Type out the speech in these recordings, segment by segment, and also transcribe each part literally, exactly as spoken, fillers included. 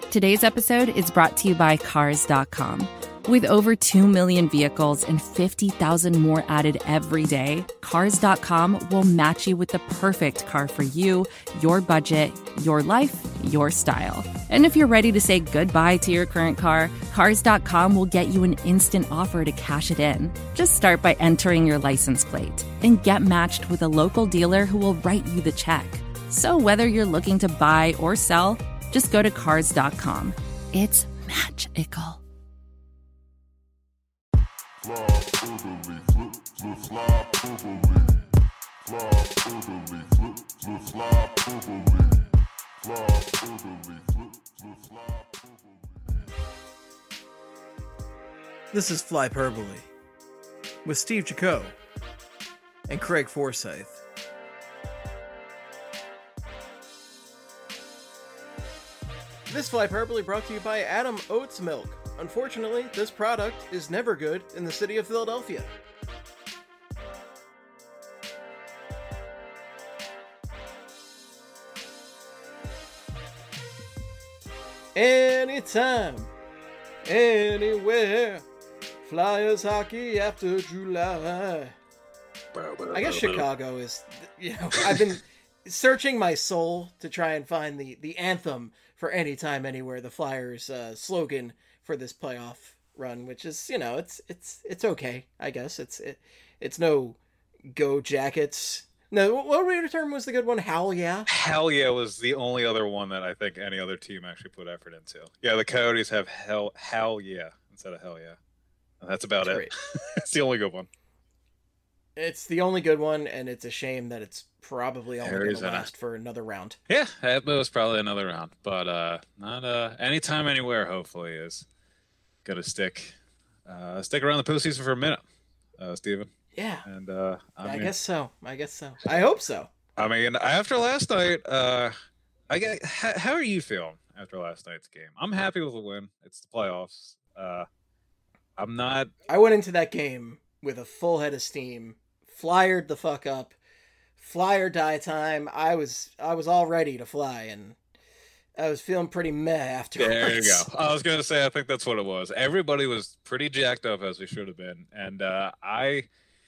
Today's episode is brought to you by Cars dot com. With over two million vehicles and fifty thousand more added every day, Cars dot com will match you with the perfect car for you, your budget, your life, your style. And if you're ready to say goodbye to your current car, Cars dot com will get you an instant offer to cash it in. Just start by entering your license plate and get matched with a local dealer who will write you the check. So whether you're looking to buy or sell, just go to Cars dot com. It's magical. This is Flyperbole with Steve Jaco and Craig Forsyth. This Flyperbole brought to you by Adam Oats Milk. Unfortunately, this product is never good in the city of Philadelphia. Anytime, anywhere, Flyers hockey after July. I guess Chicago is, you know, I've been searching my soul to try and find the, the anthem for Anytime, Anywhere, the Flyers uh, slogan for this playoff run, which is, you know, it's it's it's okay, I guess. It's it, it's no Go Jackets. No, what what term was the good one? Hell yeah. Hell yeah was the only other one that I think any other team actually put effort into. Yeah, the Coyotes have hell hell yeah instead of hell yeah. And that's about Great. it. It's the only good one. It's the only good one, and it's a shame that it's probably only going to last for another round. Yeah, it was probably another round, but uh, not uh, anytime, anywhere. Hopefully, is gonna stick uh, stick around the postseason for a minute, uh, Steven. Yeah, and uh, I, I mean, guess so. I guess so. I hope so. I mean, after last night, uh, I get. How, how are you feeling after last night's game? I'm happy with the win. It's the playoffs. Uh, I'm not. I went into that game with a full head of steam. Flyered the fuck up. Fly or die time. I was I was all ready to fly, and I was feeling pretty meh afterwards. There you go. I was gonna say I think that's what it was. Everybody was pretty jacked up, as we should have been, and uh, I,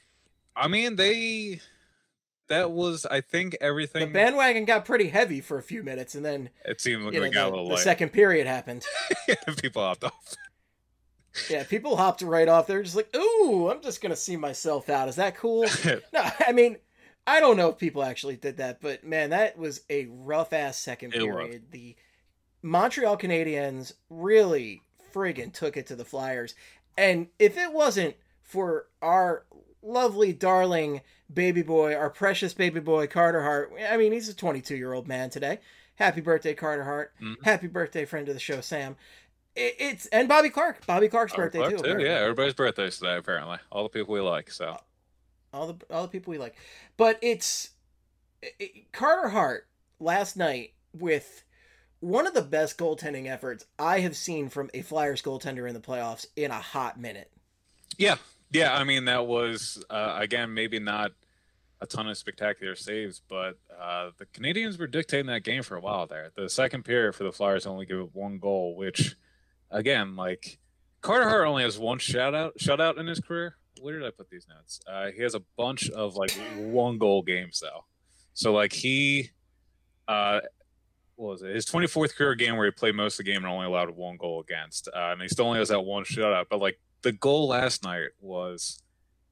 I mean they, that was I think everything. The bandwagon got pretty heavy for a few minutes, and then it seemed like you know, we got the, a little the light. second period happened. People hopped off. Yeah, people hopped right off. They're just like, "Ooh, I'm just gonna see myself out. Is that cool?" No, I mean. I don't know if people actually did that, but man, that was a rough ass second period. The Montreal Canadiens really friggin' took it to the Flyers. And if it wasn't for our lovely, darling baby boy, our precious baby boy, Carter Hart, I mean, he's a twenty-two year old man today. Happy birthday, Carter Hart. Mm-hmm. Happy birthday, friend of the show, Sam. It, it's, and Bobby Clark. Bobby Clark's Bobby birthday Clark too. too. Yeah, everybody's birthdays today, apparently. All the people we like, so. All the all the people we like. But it's it, Carter Hart last night with one of the best goaltending efforts I have seen from a Flyers goaltender in the playoffs in a hot minute. Yeah. Yeah, I mean, that was, uh, again, maybe not a ton of spectacular saves, but uh, the Canadians were dictating that game for a while there. The second period for the Flyers only give up one goal, which, again, like, Carter Hart only has one shutout, shutout in his career. Where did I put these notes? Uh, he has a bunch of like one goal games though. So like he, uh, what was it? His twenty-fourth career game where he played most of the game and only allowed one goal against. Uh, and he still only has that one shutout. But like the goal last night was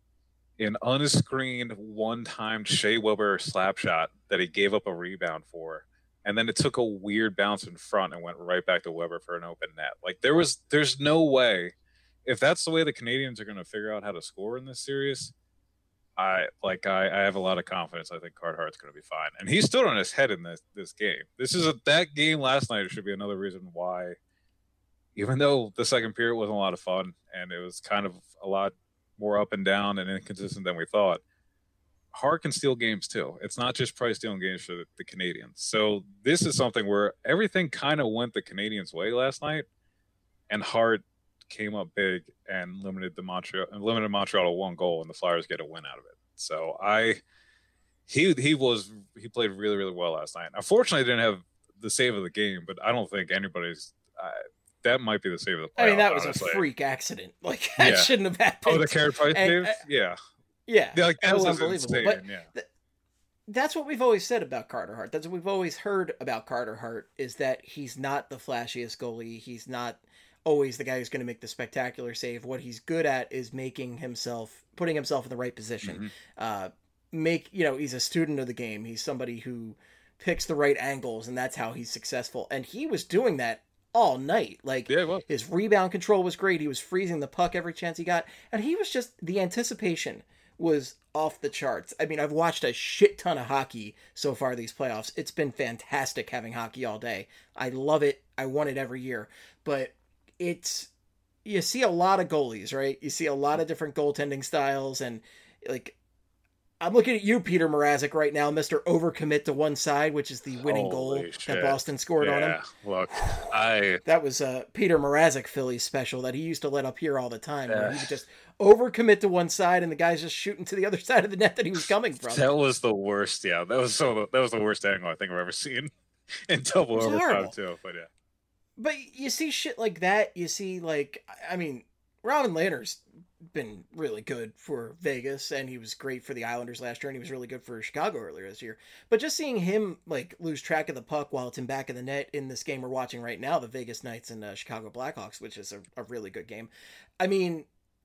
an unscreened one-time Shea Weber slap shot that he gave up a rebound for. And then it took a weird bounce in front and went right back to Weber for an open net. Like there was, there's no way. If that's the way the Canadians are going to figure out how to score in this series, I like I, I have a lot of confidence. I think Carter Hart's going to be fine, and he stood on his head in this this game. This is a, that game last night should be another reason why, even though the second period wasn't a lot of fun and it was kind of a lot more up and down and inconsistent than we thought, Hart can steal games too. It's not just Price stealing games for the, the Canadians. So this is something where everything kind of went the Canadians' way last night, and Hart came up big and limited the Montreal and limited Montreal to one goal, and the Flyers get a win out of it. So I, he he was he played really really well last night. Unfortunately, didn't have the save of the game, but I don't think anybody's. uh, that might be the save of the playoff. I mean, that was honestly. a freak accident. Like that Yeah. shouldn't have happened. Oh, the Carey Price And, save? uh, Yeah. Yeah, Yeah, like, that, that was was unbelievable. insane. But yeah. th- that's what we've always said about Carter Hart. That's what we've always heard about Carter Hart, is that he's not the flashiest goalie. He's not always the guy who's going to make the spectacular save. What he's good at is making himself, putting himself in the right position. Mm-hmm. Uh, make, you know, he's a student of the game. He's somebody who picks the right angles, and that's how he's successful. And he was doing that all night. Like, Yeah, well. his rebound control was great. He was freezing the puck every chance he got. And he was just, the anticipation was off the charts. I mean, I've watched a shit ton of hockey so far these playoffs. It's been fantastic having hockey all day. I love it. I want it every year. But it's, you see a lot of goalies, right? You see a lot of different goaltending styles, and like, I'm looking at you, Peter Mrazek, right now, Mister Overcommit to one side, which is the winning Holy goal shit. that Boston scored yeah. on him. Look, I That was a Peter Mrazek Phillies special that he used to let up here all the time. Where Yeah. he would just overcommit to one side, and the guy's just shooting to the other side of the net that he was coming from. that was the worst. Yeah, that was so. That was the worst angle I think I've ever seen in double It's overtime horrible. too. But yeah, But you see shit like that. You see, like, I mean, Robin Lehner's been really good for Vegas, and he was great for the Islanders last year, and he was really good for Chicago earlier this year. But just seeing him, like, lose track of the puck while it's in back of the net in this game we're watching right now, the Vegas Knights and uh, Chicago Blackhawks, which is a, a really good game. I mean,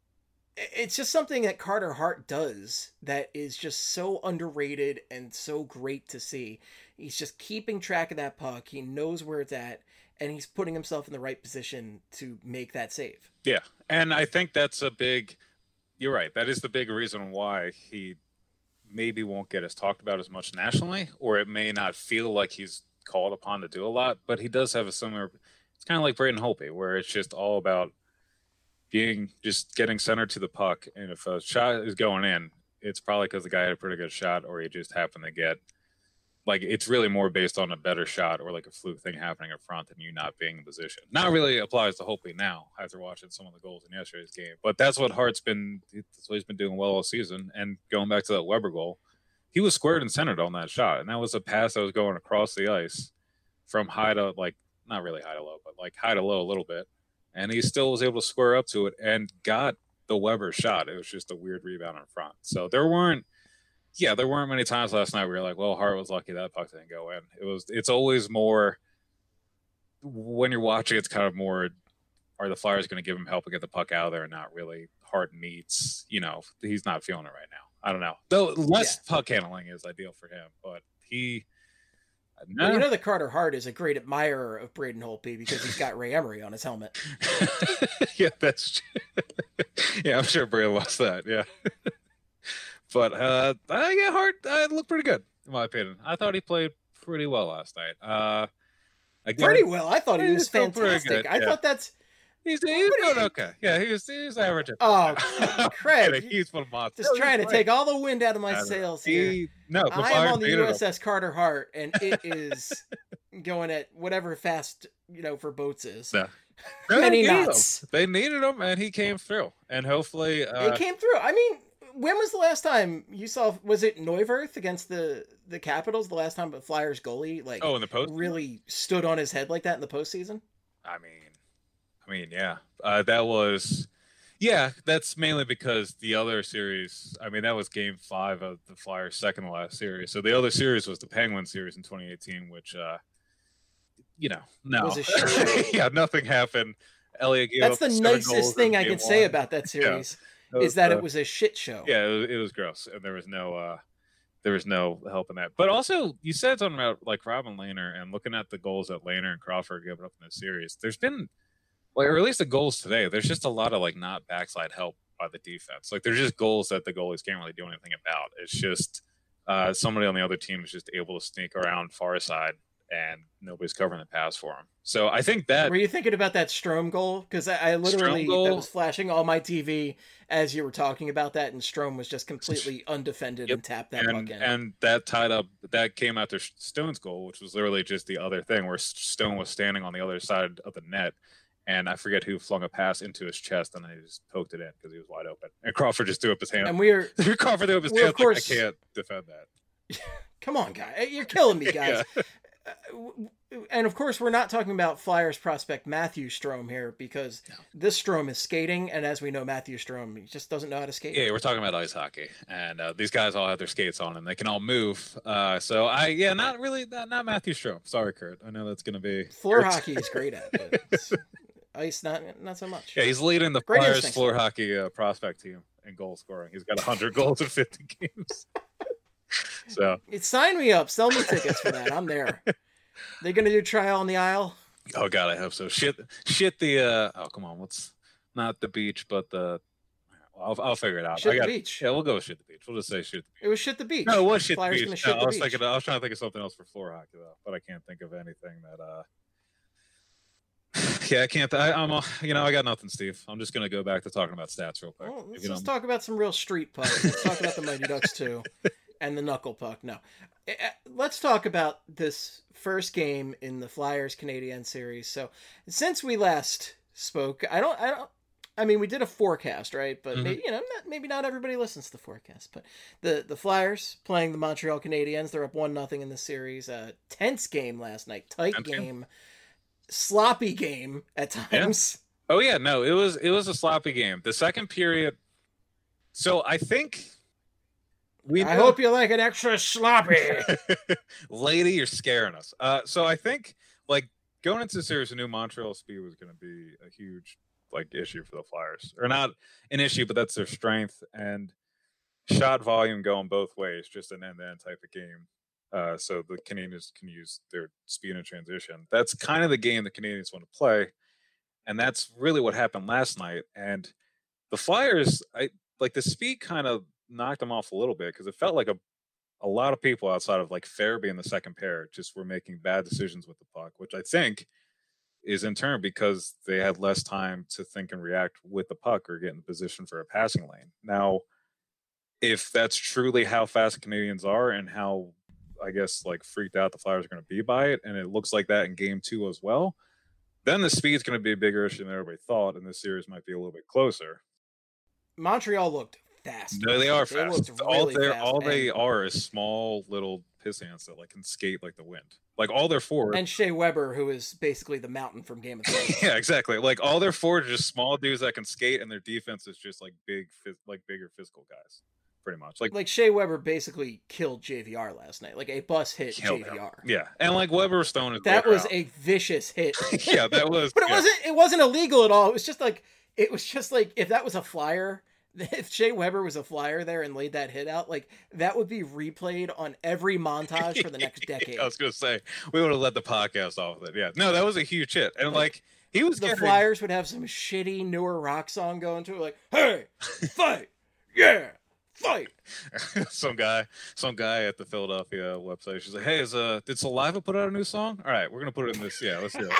it's just something that Carter Hart does that is just so underrated and so great to see. He's just keeping track of that puck. He knows where it's at, and he's putting himself in the right position to make that save. yeah, and I think that's a big. You're right. That is the big reason why he maybe won't get as talked about as much nationally, or it may not feel like he's called upon to do a lot. But he does have a similar. It's kind of like Braden Holtby, where it's just all about being just getting centered to the puck, and if a shot is going in, it's probably because the guy had a pretty good shot, or he just happened to get. Like, it's really more based on a better shot or like a fluke thing happening in front than you not being in position. Not really applies to Holtby now after watching some of the goals in yesterday's game, but that's what Hart's been. That's what he's been doing well all season. And going back to that Weber goal, he was squared and centered on that shot, and that was a pass that was going across the ice from high to like not really high to low, but like high to low a little bit, and he still was able to square up to it and got the Weber shot. It was just a weird rebound in front. So there weren't. Yeah, there weren't many times last night where you're like, well, Hart was lucky that puck didn't go in. It was, it's always more, when you're watching, it's kind of more, are the Flyers going to give him help to get the puck out of there? And not really. Hart needs, you know, he's not feeling it right now. I don't know. Though less yeah. puck handling is ideal for him, but he. Well, you know that Carter Hart is a great admirer of Braden Holtby because he's got Ray Emery on his helmet. yeah, that's true. yeah, I'm sure Braden lost that. Yeah. But uh, uh, yeah, Hart uh, looked pretty good in my opinion. I thought he played pretty well last night. Uh, again, pretty well. I thought he was fantastic. I yeah. thought that's he's he's doing okay. Yeah, he was he's average. Oh, Craig, he's one monster. Just trying to take all the wind out of my sails here. He, no, the I am on the U S S him. Carter Hart, and it is going at whatever fast you know for boats is. No. Many they knots. Him. They needed him, and he came through. And hopefully, uh, he came through. I mean. When was the last time you saw? Was it Neuwirth against the the Capitals? The last time a Flyers goalie like oh in the post really stood on his head like that in the postseason. I mean, I mean, yeah, uh, that was, yeah, that's mainly because the other series. I mean, that was Game Five of the Flyers' second to last series. So the other series was the Penguins series in twenty eighteen, which, uh, you know, no, was a shit yeah, nothing happened. Elliott gave That's up the seven nicest thing I can one. say about that series. Yeah. Is that uh, it was a shit show? Yeah, it was, it was gross, and there was no, uh, there was no help in that. But also, you said something about like Robin Lehner and looking at the goals that Lehner and Crawford gave up in this series. There's been, well, or at least the goals today. There's just a lot of like not backside help by the defense. Like there's just goals that the goalies can't really do anything about. It's just uh, somebody on the other team is just able to sneak around far side, and nobody's covering the pass for him. So I think that. Were you thinking about that Strome goal? Because I, I literally that was flashing on my T V as you were talking about that, and Strome was just completely undefended yep. and tapped that and, puck in. And that tied up. That came after Stone's goal, which was literally just the other thing where Stone was standing on the other side of the net, and I forget who flung a pass into his chest, and I just poked it in because he was wide open. And Crawford just threw up his hand. And we're Crawford threw up his hand. Course, like, I can't defend that. Come on, guy, you're killing me, guys. yeah. and of course, we're not talking about Flyers prospect Matthew Strome here, because no. this Strome is skating, and as we know, Matthew Strome, he just doesn't know how to skate. Yeah, we're talking about ice hockey, and uh, these guys all have their skates on, and they can all move. Uh, so I, yeah, not really, not, not Matthew Strome. Sorry, Kurt. I know that's going to be floor hockey. He's great at, but it's ice, not not so much. Yeah, he's leading the great Flyers floor so. hockey uh, prospect team in goal scoring. He's got one hundred goals in fifty games. So it sign me up, sell me tickets for that. I'm there. They gonna do trial on the aisle? Oh God, I hope so. Shit, shit. The uh, oh come on, what's not the beach, but the well, I'll I'll figure it out. Shit I got, the beach. Yeah, we'll go with shit the beach. We'll just say shit the beach. It was shit the beach. No, it was shit Flyers the beach. No, I was beach. thinking. I was trying to think of something else for floor hockey though, but I can't think of anything that. uh Yeah, I can't. I, I'm. A, you know, I got nothing, Steve. I'm just gonna go back to talking about stats real quick. Well, let's just talk about some real street puck. Let's talk about the Mighty Ducks too. And the knuckle puck. No, let's talk about this first game in the Flyers Canadiens series. So, since we last spoke, I don't, I don't, I mean, we did a forecast, right? But mm-hmm. maybe, you know, not, maybe not everybody listens to the forecast. But the the Flyers playing the Montreal Canadiens, they're up one nothing in the series. Uh, tense game last night, tight tense game, game, sloppy game at times. Yeah. Oh yeah, no, it was it was a sloppy game. The second period. So I think. We I hope you like it extra sloppy. Lady, you're scaring us. Uh, so I think, like, going into the series, I knew Montreal speed was going to be a huge, like, issue for the Flyers. Or not an issue, but that's their strength. And shot volume going both ways, just an end-to-end type of game. Uh, so the Canadians can use their speed and transition. That's kind of the game the Canadians want to play. And that's really what happened last night. And the Flyers, I like, the speed kind of knocked them off a little bit because it felt like a a lot of people outside of like Farabee in the second pair just were making bad decisions with the puck, which I think is in turn because they had less time to think and react with the puck or get in the position for a passing lane. Now, if that's truly how fast the Canadians are and how, I guess, like freaked out the Flyers are going to be by it, and it looks like that in game two as well, then the speed's going to be a bigger issue than everybody thought, and this series might be a little bit closer. Montreal looked fast. No, they are they fast. Really all they fast. all they are is small little piss ants that like can skate like the wind. Like all their forwards. And Shea Weber, who is basically the mountain from Game of Thrones. Yeah, exactly. Like all their forwards are just small dudes that can skate, and their defense is just like big, like bigger physical guys, pretty much. Like like Shea Weber basically killed J V R last night. Like a bus hit J V R. Him. Yeah, and like Weber Stone is that was out. a vicious hit. Yeah, that was. But it yeah. wasn't. It wasn't illegal at all. It was just like it was just like if that was a Flyer. If Shea Weber was a Flyer there and laid that hit out, like that would be replayed on every montage for the next decade. I was gonna say we would have let the podcast off with it. Yeah, no, that was a huge hit, and like, like he was the getting... Flyers would have some shitty newer rock song going to it, like "Hey, fight, yeah, fight." some guy, some guy at the Philadelphia website, she's like, "Hey, is uh, did Saliva put out a new song? All right, we're gonna put it in this. Yeah, let's do it."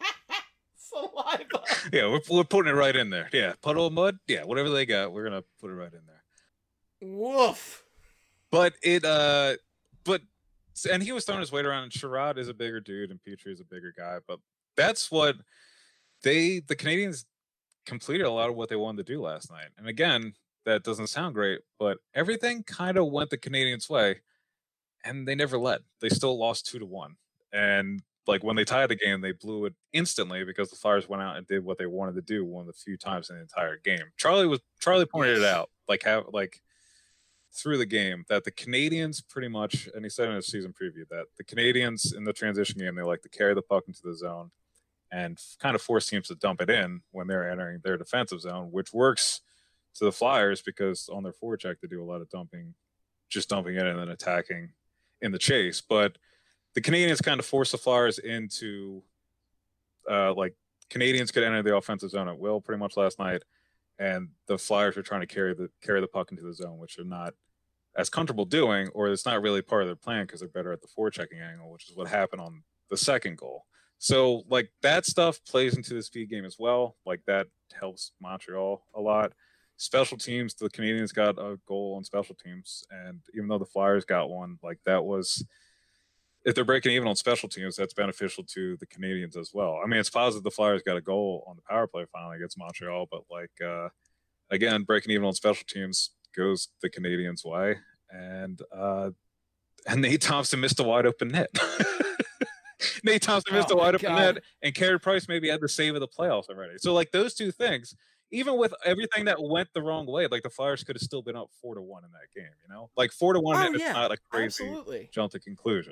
Saliva. Yeah, we're we're putting it right in there. Yeah, Puddle of Mud. Yeah, whatever they got, we're gonna put it right in there. Woof. But it, uh, but and he was throwing his weight around. And Sherrod is a bigger dude, and Petrie is a bigger guy. But that's what they, the Canadians, completed a lot of what they wanted to do last night. And again, that doesn't sound great, but everything kind of went the Canadians' way, and they never led. They still lost two to one, and. Like when they tied the game, they blew it instantly because the Flyers went out and did what they wanted to do one of the few times in the entire game. Charlie was Charlie pointed it out, like how like through the game that the Canadians pretty much, and he said in his season preview that the Canadians in the transition game they like to carry the puck into the zone and kind of force teams to dump it in when they're entering their defensive zone, which works to the Flyers because on their forecheck they do a lot of dumping, just dumping it and then attacking in the chase, but. The Canadians kind of forced the Flyers into, uh, like, Canadians could enter the offensive zone at will pretty much last night, and the Flyers were trying to carry the carry the puck into the zone, which they're not as comfortable doing, or it's not really part of their plan because they're better at the forechecking angle, which is what happened on the second goal. So, like, that stuff plays into the speed game as well. Like, that helps Montreal a lot. Special teams, the Canadians got a goal on special teams, and even though the Flyers got one, like, that was... If they're breaking even on special teams, that's beneficial to the Canadians as well. I mean, it's positive the Flyers got a goal on the power play finally against Montreal, but like uh, again, breaking even on special teams goes the Canadians' way, and uh, and Nate Thompson missed a wide open net. Nate Thompson missed Oh a my wide open God. net, and Carey Price maybe had the save of the playoffs already. So like those two things, even with everything that went the wrong way, like the Flyers could have still been up four to one in that game. You know, like four to one. Oh It's yeah, not a crazy absolutely. jump to conclusion.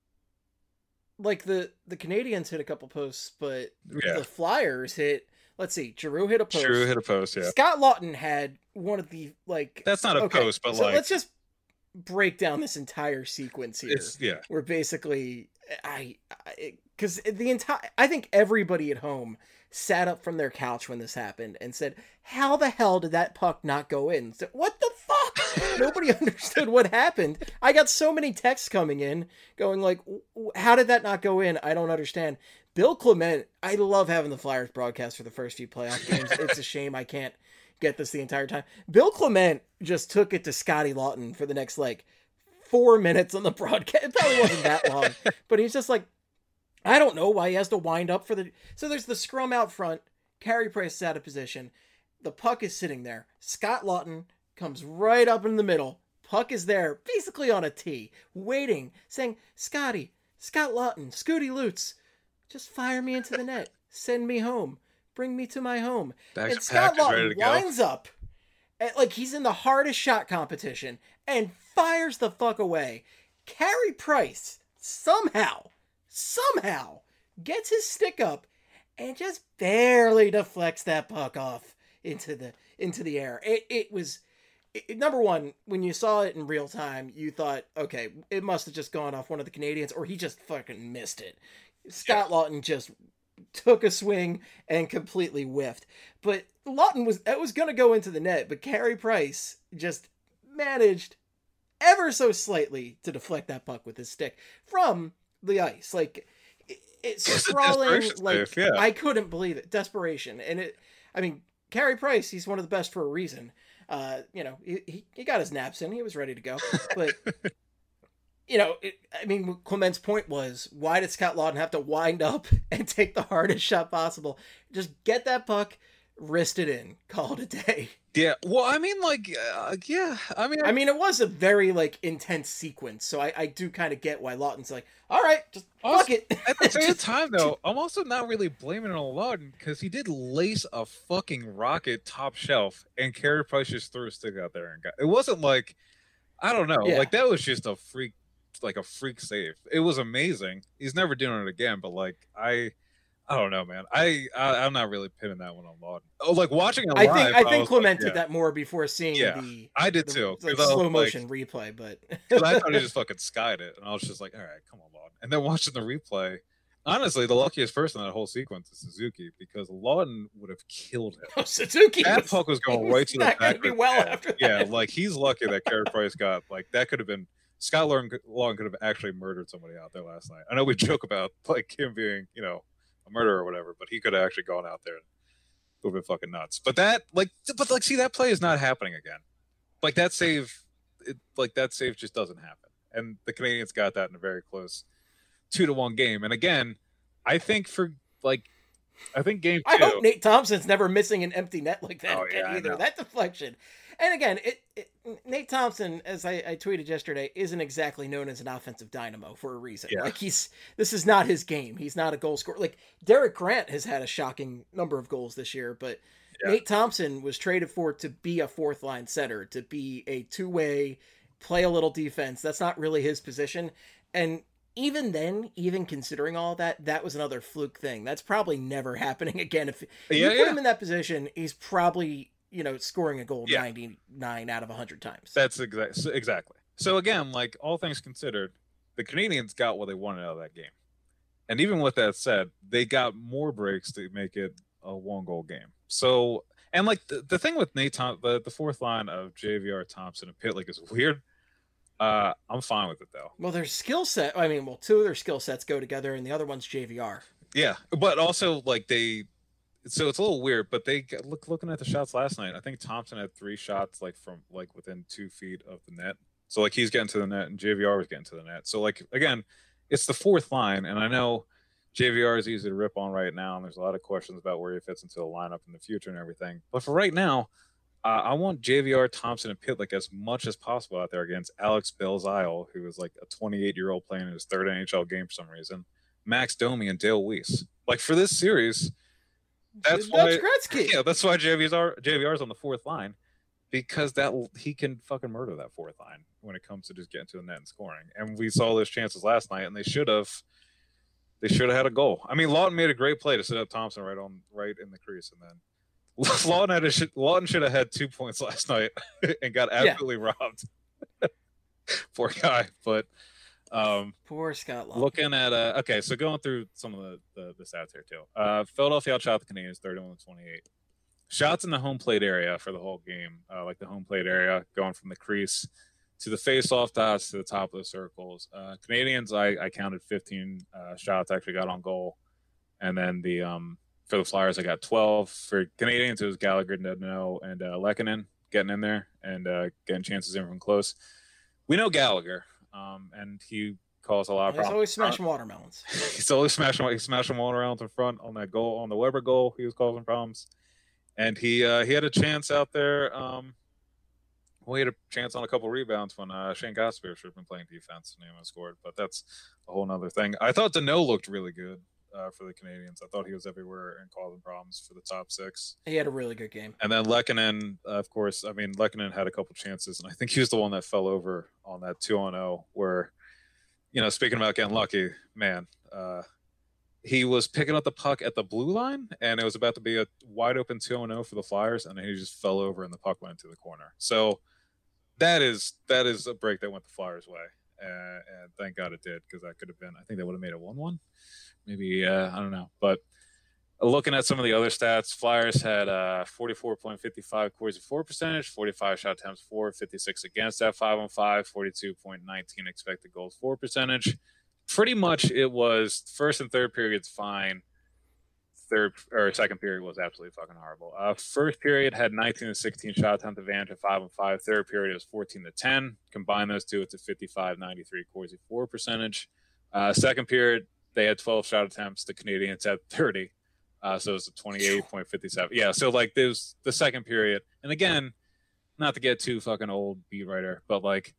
Like the the Canadians hit a couple posts, but Yeah. the Flyers hit. Let's see, Giroux hit a post. Giroux hit a post. Yeah, Scott Lawton had one of the like. that's not a okay, post, but so like let's just break down this entire sequence here. it's yeah. Where basically I because the entire I think everybody at home sat up from their couch when this happened and said, "How the hell did that puck not go in?" So, what the fuck? Nobody understood what happened. I got so many texts coming in going like, "How did that not go in? I don't understand." Bill Clement, I love having the Flyers broadcast for the first few playoff games. It's a shame I can't get this the entire time. Bill Clement just took it to Scotty Lawton for the next like four minutes on the broadcast. It probably wasn't that long, but he's just like, I don't know why he has to wind up for the. So there's the scrum out front. Carey Price is out of position. The puck is sitting there. Scott Lawton comes right up in the middle. Puck is there, basically on a tee, waiting, saying, Scotty, Scott Lawton, Scooty Lutz, just fire me into the net. Send me home. Bring me to my home. Bags and Scott packed, Lawton winds up, at, like he's in the hardest shot competition, and fires the fuck away. Carey Price, somehow, somehow, gets his stick up, and just barely deflects that puck off into the into the air. It it was it, number one, when you saw it in real time, you thought, okay, it must have just gone off one of the Canadians, or he just fucking missed it. Scott yeah. Lawton just took a swing and completely whiffed. But Lawton was that was going to go into the net, but Carey Price just managed ever so slightly to deflect that puck with his stick from the ice. Like it, it's sprawling. Like yeah. I couldn't believe it. Desperation, and it. I mean, Carey Price, he's one of the best for a reason. Uh, you know, he he got his naps in. He was ready to go, but. You know, it, I mean, Clement's point was, why did Scott Lawton have to wind up and take the hardest shot possible? Just get that puck, wrist it in, call it a day. Yeah, well, I mean, like, uh, yeah, I mean... I mean, it was a very, like, intense sequence, so I, I do kind of get why Lawton's like, all right, just also, fuck it. At the same time, though, I'm also not really blaming it on Lawton, because he did lace a fucking rocket top shelf, and Carey Price just threw a stick out there and got... It wasn't like, I don't know, yeah. like, that was just a freak like a freak save. It was amazing. He's never doing it again, but like I I don't know, man. I, I I'm not really pinning that one on Lawton. Oh, like watching it live, I think I think I Clement like, did yeah. that more before seeing yeah, the I did the, too. Like, slow motion like, replay, but I thought he just fucking skied it, and I was just like, all right, come on, Lawton. And then watching the replay, honestly, the luckiest person in that whole sequence is Suzuki, because Lawton would have killed him. Oh, Suzuki, that was, puck was going right to the back. Not be well yeah, after that. Yeah, like he's lucky that Carey Price got like that. Could have been Scott Lawton could have actually murdered somebody out there last night. I know we joke about like him being, you know, a murderer or whatever, but he could have actually gone out there and would have been fucking nuts. But that, like, but like, see, that play is not happening again. Like that save, it, like that save just doesn't happen. And the Canadians got that in a very close two to one game. And again, I think for like, I think game two. I hope Nate Thompson's never missing an empty net like that oh, again yeah, either. That deflection. And again, it, it Nate Thompson, as I, I tweeted yesterday, isn't exactly known as an offensive dynamo for a reason. Yeah. Like he's this is not his game. He's not a goal scorer. Like Derek Grant has had a shocking number of goals this year, but yeah. Nate Thompson was traded for to be a fourth line center, to be a two way, play a little defense. That's not really his position. And even then, even considering all that, that was another fluke thing. That's probably never happening again. If yeah, you put yeah. him in that position, he's probably, you know, scoring a goal yeah. ninety-nine out of one hundred times. That's exactly exactly. So again, like all things considered, the Canadians got what they wanted out of that game. And even with that said, they got more breaks to make it a one goal game. So, and like the, the thing with Nate Thompson, the, the fourth line of J V R, Thompson, and Pitlick is weird. Uh, I'm fine with it though. Well, their skill set, I mean, well, two of their skill sets go together and the other one's J V R. Yeah. But also like they, so it's a little weird, but they look looking at the shots last night. I think Thompson had three shots like from like within two feet of the net. So like he's getting to the net and J V R was getting to the net. So like again, it's the fourth line, and I know J V R is easy to rip on right now, and there's a lot of questions about where he fits into the lineup in the future and everything. But for right now, uh, I want J V R, Thompson, and Pitlick as much as possible out there against Alex Belzile, who is like a twenty-eight year old playing in his third N H L game for some reason. Max Domi and Dale Weiss. Like for this series, that's Dutch why Gretzky. Yeah, that's why J V R J V R's on the fourth line, because that he can fucking murder that fourth line when it comes to just getting to the net and scoring. And we saw those chances last night, and they should have they should have had a goal. I mean, Lawton made a great play to set up Thompson right on right in the crease, and then Lawton had a, Lawton should have had two points last night and got absolutely yeah. robbed. Poor guy, but um, poor Scott Lawton. Looking at uh, okay, so going through some of the the, the stats here too. Uh, Philadelphia outshot the Canadiens thirty-one to twenty-eight. Shots in the home plate area for the whole game, uh, like the home plate area, going from the crease to the face-off dots to the top of the circles. Uh, Canadians, I, I counted fifteen uh, shots actually got on goal, and then the um, for the Flyers, I got twelve. For Canadians, it was Gallagher, Dedeno, and uh, Lehkonen getting in there and uh, getting chances in from close. We know Gallagher, um, and he calls a lot of He's problems. always smashing watermelons. He's always smashing, he's smashing watermelons in front on that goal, on the Weber goal. He was causing problems. And he uh, he had a chance out there. Um, well, he had a chance on a couple rebounds when uh, Shane Gosper should have been playing defense and he would have scored. But that's a whole other thing. I thought Danault looked really good uh, for the Canadians. I thought he was everywhere and causing problems for the top six. He had a really good game. And then Lehkonen, uh, of course, I mean, Lehkonen had a couple chances. And I think he was the one that fell over on that two on oh where, you know, speaking about getting lucky, man, uh, he was picking up the puck at the blue line, and it was about to be a wide open two on oh for the Flyers, and he just fell over, and the puck went to the corner. So that is that is a break that went the Flyers' way, uh, and thank God it did, because that could have been – I think they would have made it one one. Maybe uh, – I don't know. But looking at some of the other stats, Flyers had uh, forty-four point five five Corsi for percentage, forty-five shot attempts for, fifty-six against that five on five, forty-two point one nine expected goals for percentage. Pretty much it was first and third periods fine. Third or second period was absolutely fucking horrible. Uh, first period had nineteen to sixteen shot attempt advantage at five on five. Third period was fourteen to ten. Combine those two, it's a fifty-five ninety-three Corsi for percentage. Uh, second period, they had twelve shot attempts. The Canadians had thirty. Uh, so it was a twenty-eight point five seven. Yeah, so like there's the second period. And again, not to get too fucking old beat writer, but like,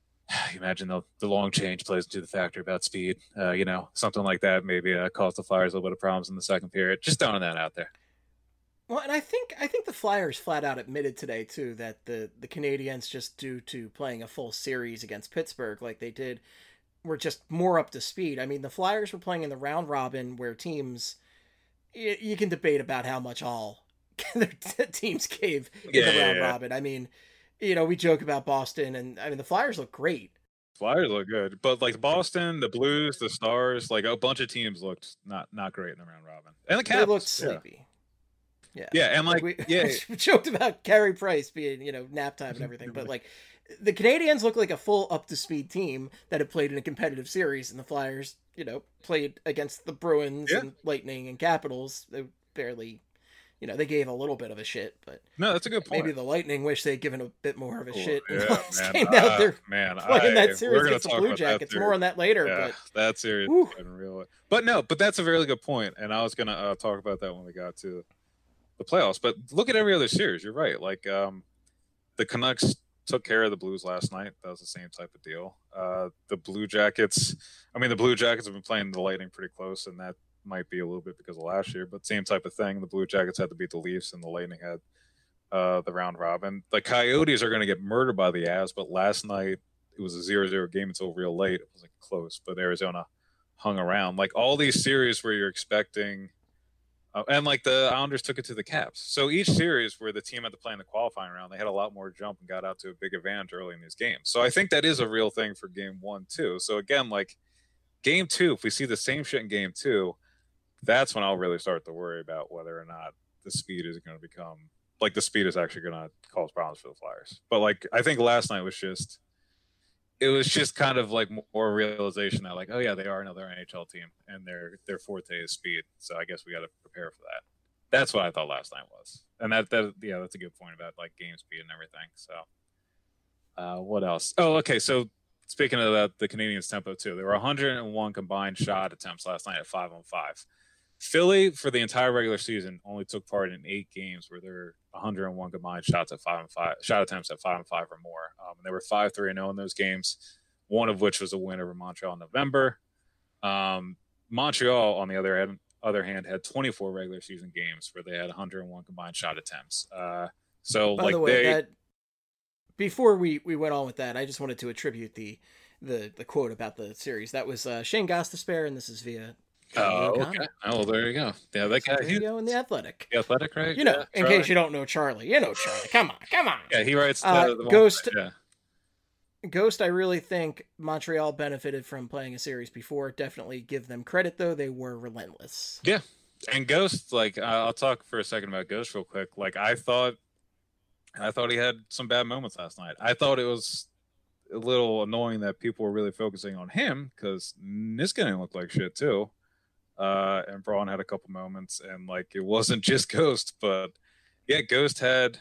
you imagine the, the long change plays into the factor about speed, uh, you know, something like that maybe uh, caused the Flyers a little bit of problems in the second period. Just throwing that out there. Well, and I think I think the Flyers flat out admitted today too that the the Canadiens, just due to playing a full series against Pittsburgh like they did, were just more up to speed. I mean, the Flyers were playing in the round robin where teams, you, you can debate about how much all their teams gave in yeah, the yeah, round yeah. robin. I mean. You know, we joke about Boston, and I mean, the Flyers look great. Flyers look good, but like Boston, the Blues, the Stars, like a bunch of teams looked not not great in the round robin, and the Caps they looked sleepy. Yeah, yeah, yeah and like, like we, yeah, we joked about Carey Price being, you know, nap time and everything, but like the Canadians look like a full up to speed team that had played in a competitive series, and the Flyers, you know, played against the Bruins yeah. and Lightning and Capitals. They barely. You know, they gave a little bit of a shit, but no, that's a good point. Maybe the Lightning wish they'd given a bit more of a cool. shit. Yeah, man. Came out uh, there man, playing I, that series against the Blue Jackets. More on that later. Yeah, but that series in real. But no, but that's a really good point, and I was gonna uh, talk about that when we got to the playoffs. But look at every other series. You're right. Like um, the Canucks took care of the Blues last night. That was the same type of deal. Uh, the Blue Jackets. I mean, the Blue Jackets have been playing the Lightning pretty close, and that might be a little bit because of last year, but same type of thing. The Blue Jackets had to beat the Leafs, and the Lightning had uh, the round robin. The Coyotes are going to get murdered by the Avs, but last night it was a zero zero game until real late. It was like close, but Arizona hung around. Like all these series where you're expecting, uh, and like the Islanders took it to the Caps. So each series where the team had to play in the qualifying round, they had a lot more jump and got out to a big advantage early in these games. So I think that is a real thing for game one too. So again, like game two, if we see the same shit in game two, that's when I'll really start to worry about whether or not the speed is going to become like the speed is actually going to cause problems for the Flyers. But like, I think last night was just, it was just kind of like more realization that like, oh yeah, they are another N H L team and their, their forte is speed. So I guess we got to prepare for that. That's what I thought last night was. And that, that, yeah, that's a good point about like game speed and everything. So uh, what else? Oh, okay. So speaking of that, the Canadiens tempo too, there were one hundred one combined shot attempts last night at five on five. Philly, for the entire regular season, only took part in eight games where there were one hundred one combined shots at five and five, shot attempts at five and five or more. Um, and they were five three and zero in those games. One of which was a win over Montreal in November. Um, Montreal, on the other hand, other hand, had twenty-four regular season games where they had one hundred one combined shot attempts. Uh, so By like the way, they, that before we, we went on with that, I just wanted to attribute the the, the quote about the series. That was uh, Shane Gostisbehere, and this is via. Oh, okay. Oh, there you go. Yeah, that guy. He, in the Athletic. The Athletic, right? You know, yeah, in Charlie. case you don't know Charlie, you know Charlie. Come on, come on. Yeah, he writes the, uh, the Ghost. Yeah. Ghost, I really think Montreal benefited from playing a series before. Definitely give them credit, though. They were relentless. Yeah. And Ghost, like, I'll talk for a second about Ghost real quick. Like, I thought, I thought he had some bad moments last night. I thought it was a little annoying that people were really focusing on him because Niskanen looked like shit, too. Uh, and Braun had a couple moments, and, like, it wasn't just Ghost, but, yeah, Ghost had,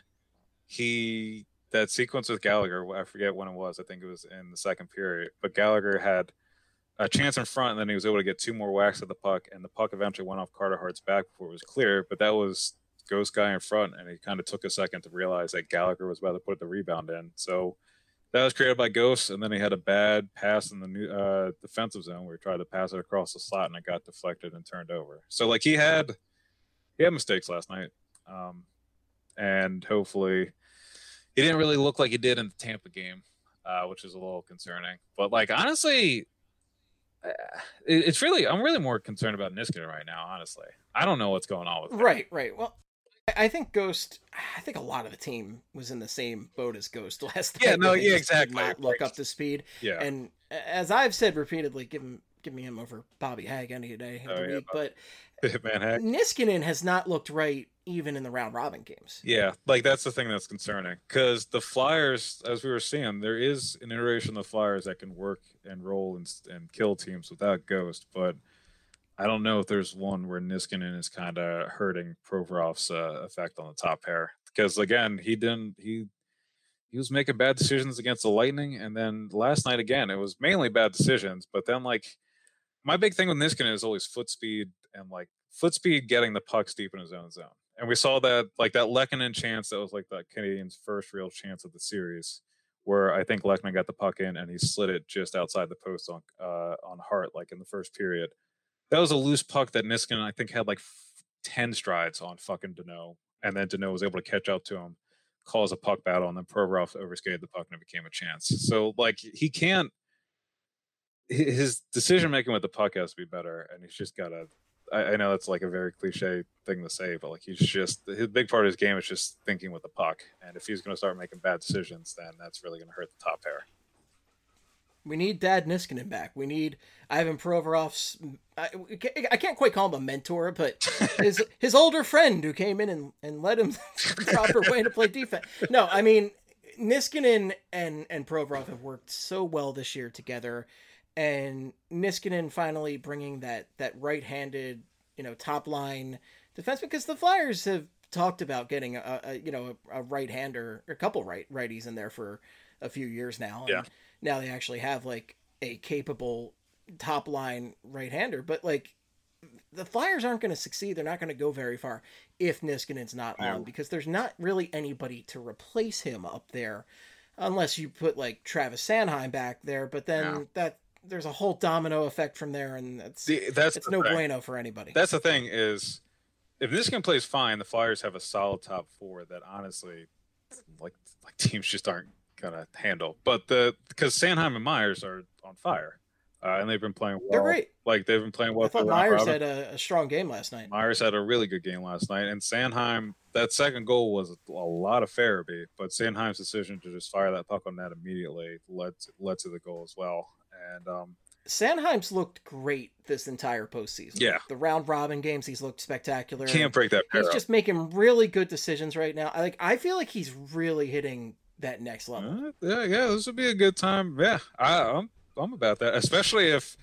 he... that sequence with Gallagher, I forget when it was. I think it was in the second period. But Gallagher had a chance in front, and then he was able to get two more whacks at the puck, and the puck eventually went off Carter Hart's back before it was clear. But that was Ghost guy in front, and he kind of took a second to realize that Gallagher was about to put the rebound in. So that was created by Ghost, and then he had a bad pass in the new uh, defensive zone where he tried to pass it across the slot, and it got deflected and turned over. So like he had he had mistakes last night, um, and hopefully. He didn't really look like he did in the Tampa game, uh, which is a little concerning. But, like, honestly, uh, it's really – I'm really more concerned about Niskanen right now, honestly. I don't know what's going on with him. Right, right. Well, I think Ghost – I think a lot of the team was in the same boat as Ghost last night. Yeah, no, yeah, exactly. Not look up to speed. Yeah. And as I've said repeatedly, give him, give me him over Bobby Hagg any day of oh, the yeah, week. But Man, Hagg. Niskanen has not looked right even in the round robin games. Yeah, like that's the thing that's concerning because the Flyers, as we were seeing, there is an iteration of the Flyers that can work and roll and, and kill teams without Ghost, but I don't know if there's one where Niskanen is kind of hurting Provorov's uh, effect on the top pair because again, he didn't he he was making bad decisions against the Lightning, and then last night again, it was mainly bad decisions, but then like my big thing with Niskanen is always foot speed and like foot speed getting the pucks deep in his own zone. And we saw that, like that Lehkonen chance, that was like the Canadiens' first real chance of the series, where I think Lehkonen got the puck in and he slid it just outside the post on uh, on Hart, like in the first period. That was a loose puck that Niskanen, I think, had like ten strides on fucking Danault, and then Danault was able to catch up to him, cause a puck battle, and then Provorov overskated the puck and it became a chance. So, like, he can't. His decision making with the puck has to be better, and he's just got to. I, I know that's like a very cliche thing to say, but like he's just his big part of his game is just thinking with the puck, and if he's going to start making bad decisions, then that's really going to hurt the top pair. We need Dad Niskanen back. We need Ivan Provorov's. I, I can't quite call him a mentor, but his his older friend who came in and, and led him the proper way to play defense. No, I mean Niskanen and and Provorov have worked so well this year together. And Niskanen finally bringing that, that right-handed, you know, top line defense, because the Flyers have talked about getting a, a you know a, a right-hander, a couple right righties in there for a few years now. And yeah. Now they actually have like a capable top line right-hander, but like the Flyers aren't going to succeed. They're not going to go very far if Niskanen's not no. on, because there's not really anybody to replace him up there, unless you put like Travis Sanheim back there. But then no. that. There's a whole domino effect from there, and it's the, that's it's no thing. bueno for anybody. That's the thing is, if Niskanen plays fine, the Flyers have a solid top four that honestly, like like teams just aren't gonna handle. But the because Sanheim and Myers are on fire, uh, and they've been playing well. They're great. Like they've been playing well. I thought Myers had a, a strong game last night. Myers had a really good game last night, and Sanheim. That second goal was a lot of Farabee, but Sanheim's decision to just fire that puck on net immediately led to, led to the goal as well. And um, Sanheim's looked great this entire postseason. Yeah, the round robin games, he's looked spectacular. Can't break that pair He's up. just making really good decisions right now. I like. I feel like he's really hitting that next level. Uh, yeah, yeah, this would be a good time. Yeah, I, I'm I'm about that, especially if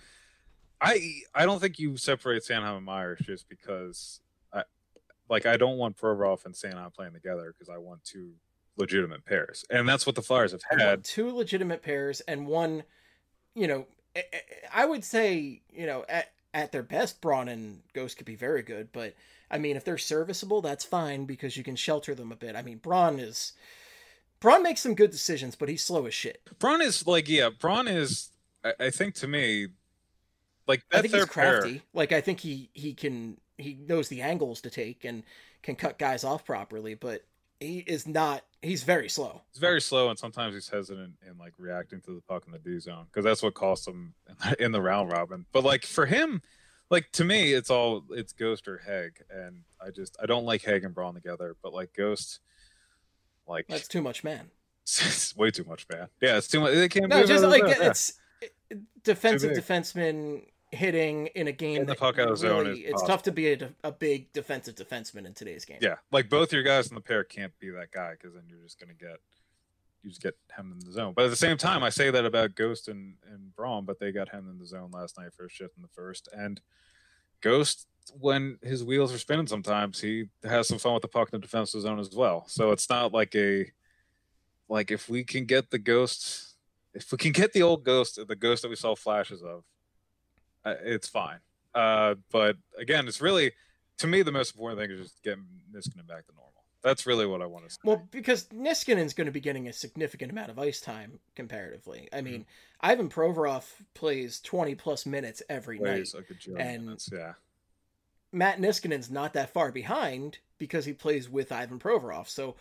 I I don't think you separate Sanheim and Myers just because I like I don't want Provorov and Sanheim playing together because I want two legitimate pairs, and that's what the Flyers have had. Two legitimate pairs and one. You know, I would say, you know, at, at their best, Braun and Ghost could be very good. But, I mean, if they're serviceable, that's fine because you can shelter them a bit. I mean, Braun is... Braun makes some good decisions, but he's slow as shit. Braun is, like, yeah, Braun is, I, I think to me, like that I think third he's crafty. pair, Like I think he he can he knows the angles to take and can cut guys off properly, but he is not. He's very slow. he's very slow, and sometimes he's hesitant in like reacting to the puck in the D zone because that's what cost him in the round robin. But like for him, like to me, it's all it's Ghost or Heg, and I just I don't like Heg and Braun together. But like Ghost, like That's too much, man. it's way too much, man. Yeah, it's too much. They can't. No, just like yeah. it's defensive defenseman hitting in a game in the that puck out of zone. really, Is it's possible. tough to be a, a big defensive defenseman in today's game. Yeah, like both your guys in the pair can't be that guy because then you're just gonna get you just get him in the zone. But at the same time, I say that about Ghost and and Braun, but they got him in the zone last night for a shift in the first. And Ghost, when his wheels are spinning, sometimes he has some fun with the puck in the defensive zone as well. So it's not like a like if we can get the Ghost, if we can get the old Ghost, the Ghost that we saw flashes of, uh, it's fine. Uh, but again, it's really, to me, the most important thing is just getting Niskanen back to normal. That's really what I want to say. Well, because Niskanen's going to be getting a significant amount of ice time comparatively. I mean, mm-hmm. Ivan Provorov plays twenty plus minutes every plays night, like a and minutes, yeah. Matt Niskanen's not that far behind because he plays with Ivan Provorov. So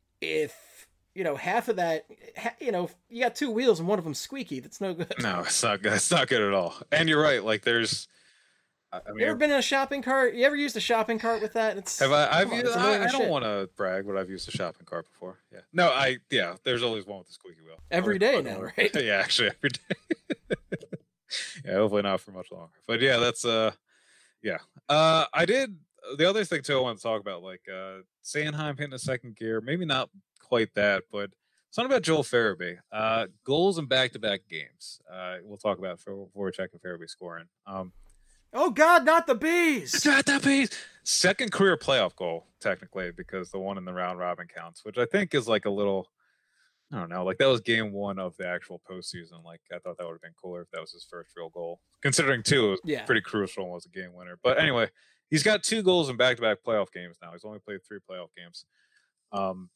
if you know half of that, you know, you got two wheels and one of them squeaky, that's no good. No, it's not good. It's not good at all. And you're right. Like there's. I mean, you ever been in a shopping cart? You ever used a shopping cart with that? It's have I? I've on, used, I, I don't want to brag, but I've used a shopping cart before. Yeah. No, I yeah. There's always one with the squeaky wheel. Every day now, right? Yeah, actually every day. Yeah, hopefully not for much longer. But yeah, that's uh, yeah. Uh, I did the other thing too. I want to talk about like uh, Sanheim hitting a second gear. Maybe not quite that, but something about Joel Farabee. Uh, goals in back-to-back games. Uh, we'll talk about for Voracek and Farabee scoring. Um. Oh God, not the bees! Not the bees. Second career playoff goal, technically, because the one in the round robin counts, which I think is like a little, I don't know, like that was game one of the actual postseason. Like I thought that would have been cooler if that was his first real goal. Considering two, it was yeah. pretty crucial and was a game winner. But anyway, he's got two goals in back-to-back playoff games now. He's only played three playoff games. Um,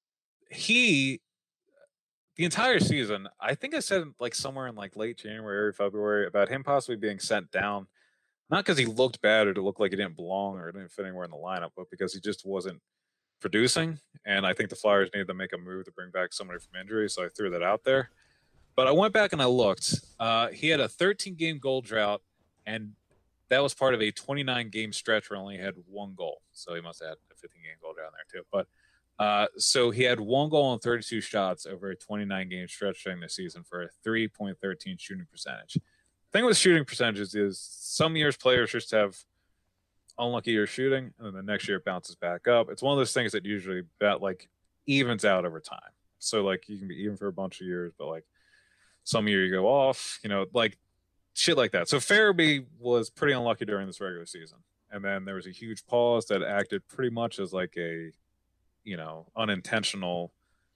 he, the entire season, I think I said like somewhere in like late January, February about him possibly being sent down. Not because he looked bad or to look like he didn't belong or didn't fit anywhere in the lineup, but because he just wasn't producing. And I think the Flyers needed to make a move to bring back somebody from injury, so I threw that out there. But I went back and I looked. Uh, he had a thirteen-game goal drought, and that was part of a twenty-nine-game stretch where he only had one goal. So he must have had a fifteen-game goal drought there too. But uh, so he had one goal and thirty-two shots over a twenty-nine-game stretch during the season for a three point one three shooting percentage. The thing with shooting percentages is some years players just have unlucky years shooting, and then the next year it bounces back up. It's one of those things that usually that like evens out over time. So like you can be even for a bunch of years, but like some year you go off, you know, like shit like that. So Farabee was pretty unlucky during this regular season, and then there was a huge pause that acted pretty much as like a, you know, unintentional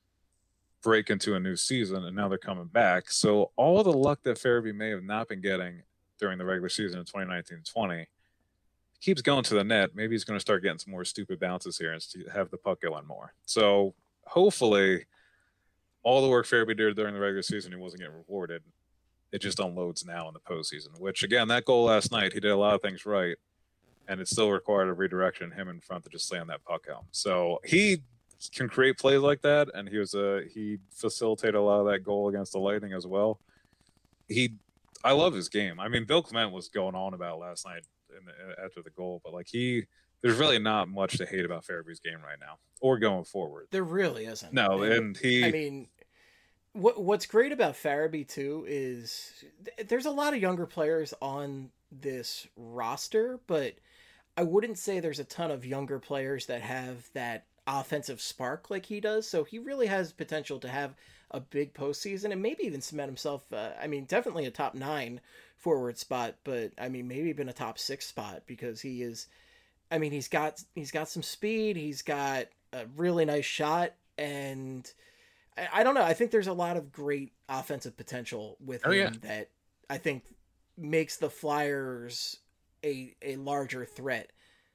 break into a new season, and now they're coming back. So all of the luck that Farabee may have not been getting during the regular season in twenty nineteen twenty keeps going to the net. Maybe he's going to start getting some more stupid bounces here and have the puck going more. So hopefully all the work Farabee did during the regular season, he wasn't getting rewarded. It just unloads now in the postseason, which again, that goal last night, he did a lot of things right, and it still required a redirection, him in front to just slam that puck home. So he can create plays like that, and he was a he facilitated a lot of that goal against the Lightning as well. He, I love his game. I mean, Bill Clement was going on about last night in the, after the goal, but like he, there's really not much to hate about Farabee's game right now or going forward. There really isn't. No, and, and he. I mean, what what's great about Farabee too is th- there's a lot of younger players on this roster, but I wouldn't say there's a ton of younger players that have that offensive spark like he does. So he really has potential to have a big postseason and maybe even cement himself. Uh, I mean, definitely a top nine forward spot, but I mean, maybe even a top six spot because he is, I mean, he's got, he's got some speed. He's got a really nice shot. And I, I don't know. I think there's a lot of great offensive potential with oh, him yeah. that I think makes the Flyers a, a larger threat.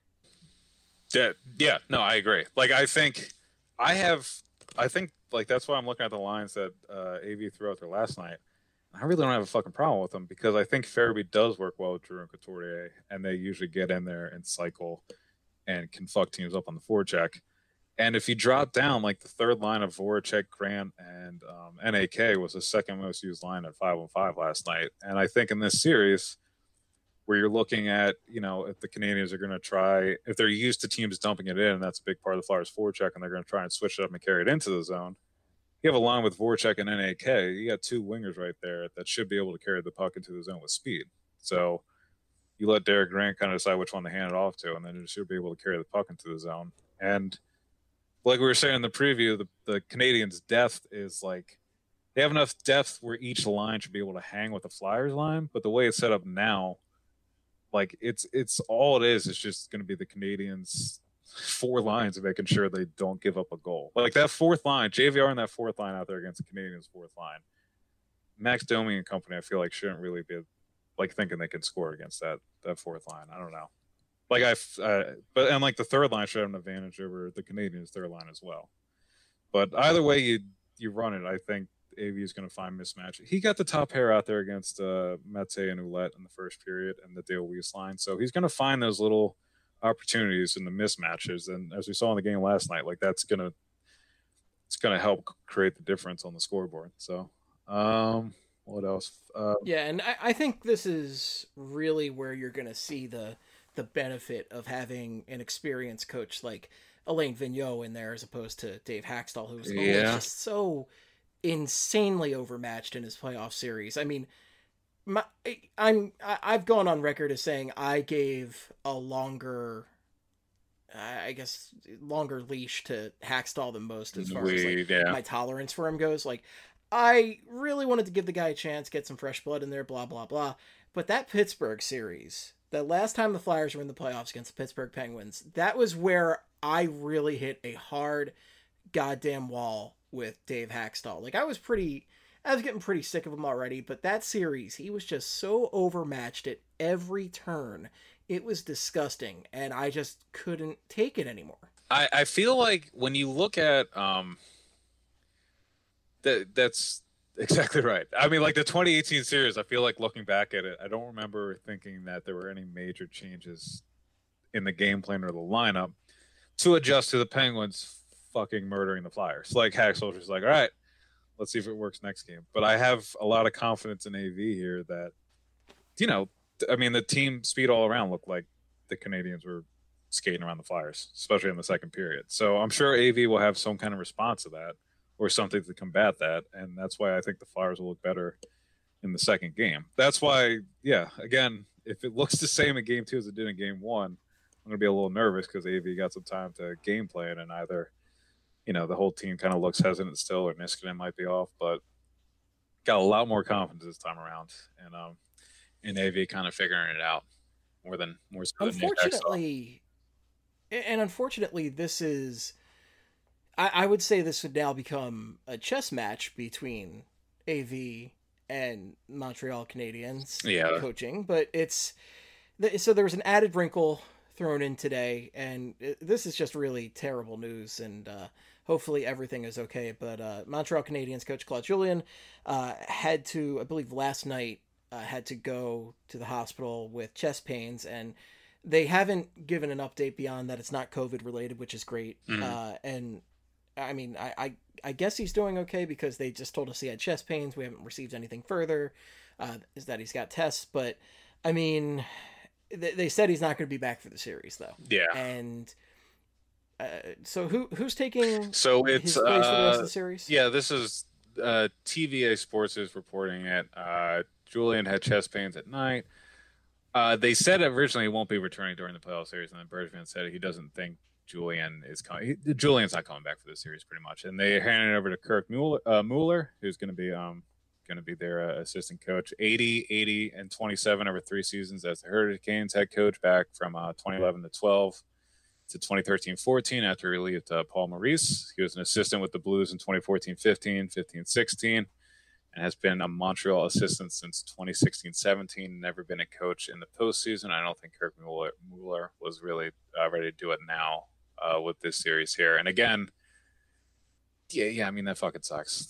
Yeah, yeah, no, I agree. Like, I think I have, I think, like, that's why I'm looking at the lines that uh, A V threw out there last night. I really don't have a fucking problem with him because I think Farabee does work well with Drew and Couturier, and they usually get in there and cycle and can fuck teams up on the forecheck. And if you drop down, like the third line of Voracek, Grant, and um, N A K was the second most used line at five on five last night. And I think in this series, where you're looking at, you know, if the Canadians are going to try, if they're used to teams dumping it in, and that's a big part of the Flyers' forecheck, and they're going to try and switch it up and carry it into the zone. You have a line with Voracek and N A K. You got two wingers right there that should be able to carry the puck into the zone with speed. So you let Derek Grant kind of decide which one to hand it off to, and then you should be able to carry the puck into the zone. And like we were saying in the preview, the, the Canadians' depth is like they have enough depth where each line should be able to hang with the Flyers line. But the way it's set up now, like it's it's all it is. It's just going to be the Canadians' four lines of making sure they don't give up a goal. Like that fourth line, J V R and that fourth line out there against the Canadians' fourth line. Max Domi and company, I feel like shouldn't really be like thinking they can score against that that fourth line. I don't know. Like I, uh, but and like the third line should have an advantage over the Canadians' third line as well. But either way you you run it, I think A V is going to find mismatch. He got the top pair out there against uh, Mete and Ouellette in the first period and the Dale Weiss line, so he's going to find those little opportunities in the mismatches. And as we saw in the game last night, like that's gonna it's gonna help create the difference on the scoreboard. So, um, what else? Uh, yeah, and I, I think this is really where you're going to see the the benefit of having an experienced coach like Alain Vigneault in there as opposed to Dave Haxtell, who's Yeah. always just so insanely overmatched in his playoff series. I mean, my, I'm I- I've gone on record as saying I gave a longer, I guess, longer leash to Haxtell than most as far as We, like, yeah. my tolerance for him goes. Like, I really wanted to give the guy a chance, get some fresh blood in there, blah blah blah. But that Pittsburgh series, the last time the Flyers were in the playoffs against the Pittsburgh Penguins, that was where I really hit a hard goddamn wall with Dave Haxtell. Like, I was pretty, I was getting pretty sick of him already, but that series, he was just so overmatched at every turn. It was disgusting, and I just couldn't take it anymore. I, I feel like when you look at um that that's exactly right. I mean, like the twenty eighteen series, I feel like looking back at it, I don't remember thinking that there were any major changes in the game plan or the lineup to adjust to the Penguins fucking murdering the Flyers. Like Haxtell was like, all right, let's see if it works next game. But I have a lot of confidence in A V here that, you know, I mean, the team speed all around looked like the Canadians were skating around the Flyers, especially in the second period. So I'm sure A V will have some kind of response to that or something to combat that. And that's why I think the Flyers will look better in the second game. That's why, yeah, again, if it looks the same in game two as it did in game one, I'm going to be a little nervous because A V got some time to game plan and either, you know, the whole team kind of looks hesitant still or Niskanen might be off, but got a lot more confidence this time around. And, um, in A V kind of figuring it out more than more so than Unfortunately, and unfortunately, this is, I, I would say this would now become a chess match between A V and Montreal Canadiens Yeah. coaching, but it's, so there was an added wrinkle thrown in today, and it, this is just really terrible news, and uh, hopefully everything is okay, but uh, Montreal Canadiens coach Claude Julien uh, had to, I believe last night, uh, had to go to the hospital with chest pains, and they haven't given an update beyond that it's not COVID related, which is great. Mhm. Uh, and I mean, I, I, I guess he's doing okay because they just told us he had chest pains. We haven't received anything further, uh, is that he's got tests, but I mean, they, they said he's not going to be back for the series though. Yeah. And uh, so who, who's taking So his it's place for the rest uh, of the series? yeah, this is uh, T V A Sports is reporting it. Uh, Julian had chest pains at night. Uh, they said originally he won't be returning during the playoff series, and then Bergevin said he doesn't think Julian is coming. He, Julian's not coming back for this series, pretty much. And they handed it over to Kirk Mueller, uh, Mueller who's going to be um going to be their uh, assistant coach. eighty, eighty, and twenty-seven over three seasons as the Hurricanes head coach back from uh, twenty eleven to twelve to twenty thirteen fourteen after he relieved uh, Paul Maurice. He was an assistant with the Blues in twenty fourteen fifteen, fifteen sixteen. And has been a Montreal assistant since twenty sixteen seventeen, never been a coach in the postseason. I don't think Kirk Mueller, Mueller was really uh, ready to do it now uh, with this series here. And again, yeah, yeah, I mean, that fucking sucks. Like,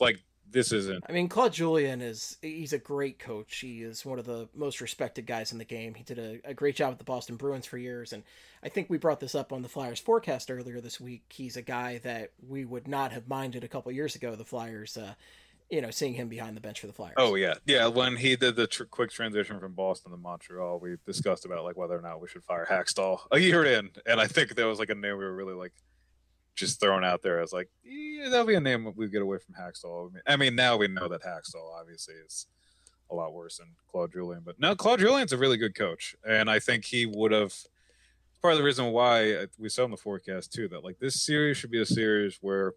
this isn't. I mean, Claude Julien is he's a great coach. He is one of the most respected guys in the game. He did a, a great job with the Boston Bruins for years, and I think we brought this up on the Flyers forecast earlier this week. He's a guy that we would not have minded a couple years ago. The Flyers, uh, you know, seeing him behind the bench for the Flyers. Oh yeah, yeah. When he did the tr- quick transition from Boston to Montreal, we discussed about like whether or not we should fire Hackstall a year in, and I think there was like a name we were really like. Just thrown out there as like, yeah, that'll be a name we get away from Hackstall. I mean, I mean, now we know that Hackstall obviously is a lot worse than Claude Julien, but no, Claude Julien's a really good coach, and I think he would have. Part of the reason why we saw in the forecast too that like this series should be a series where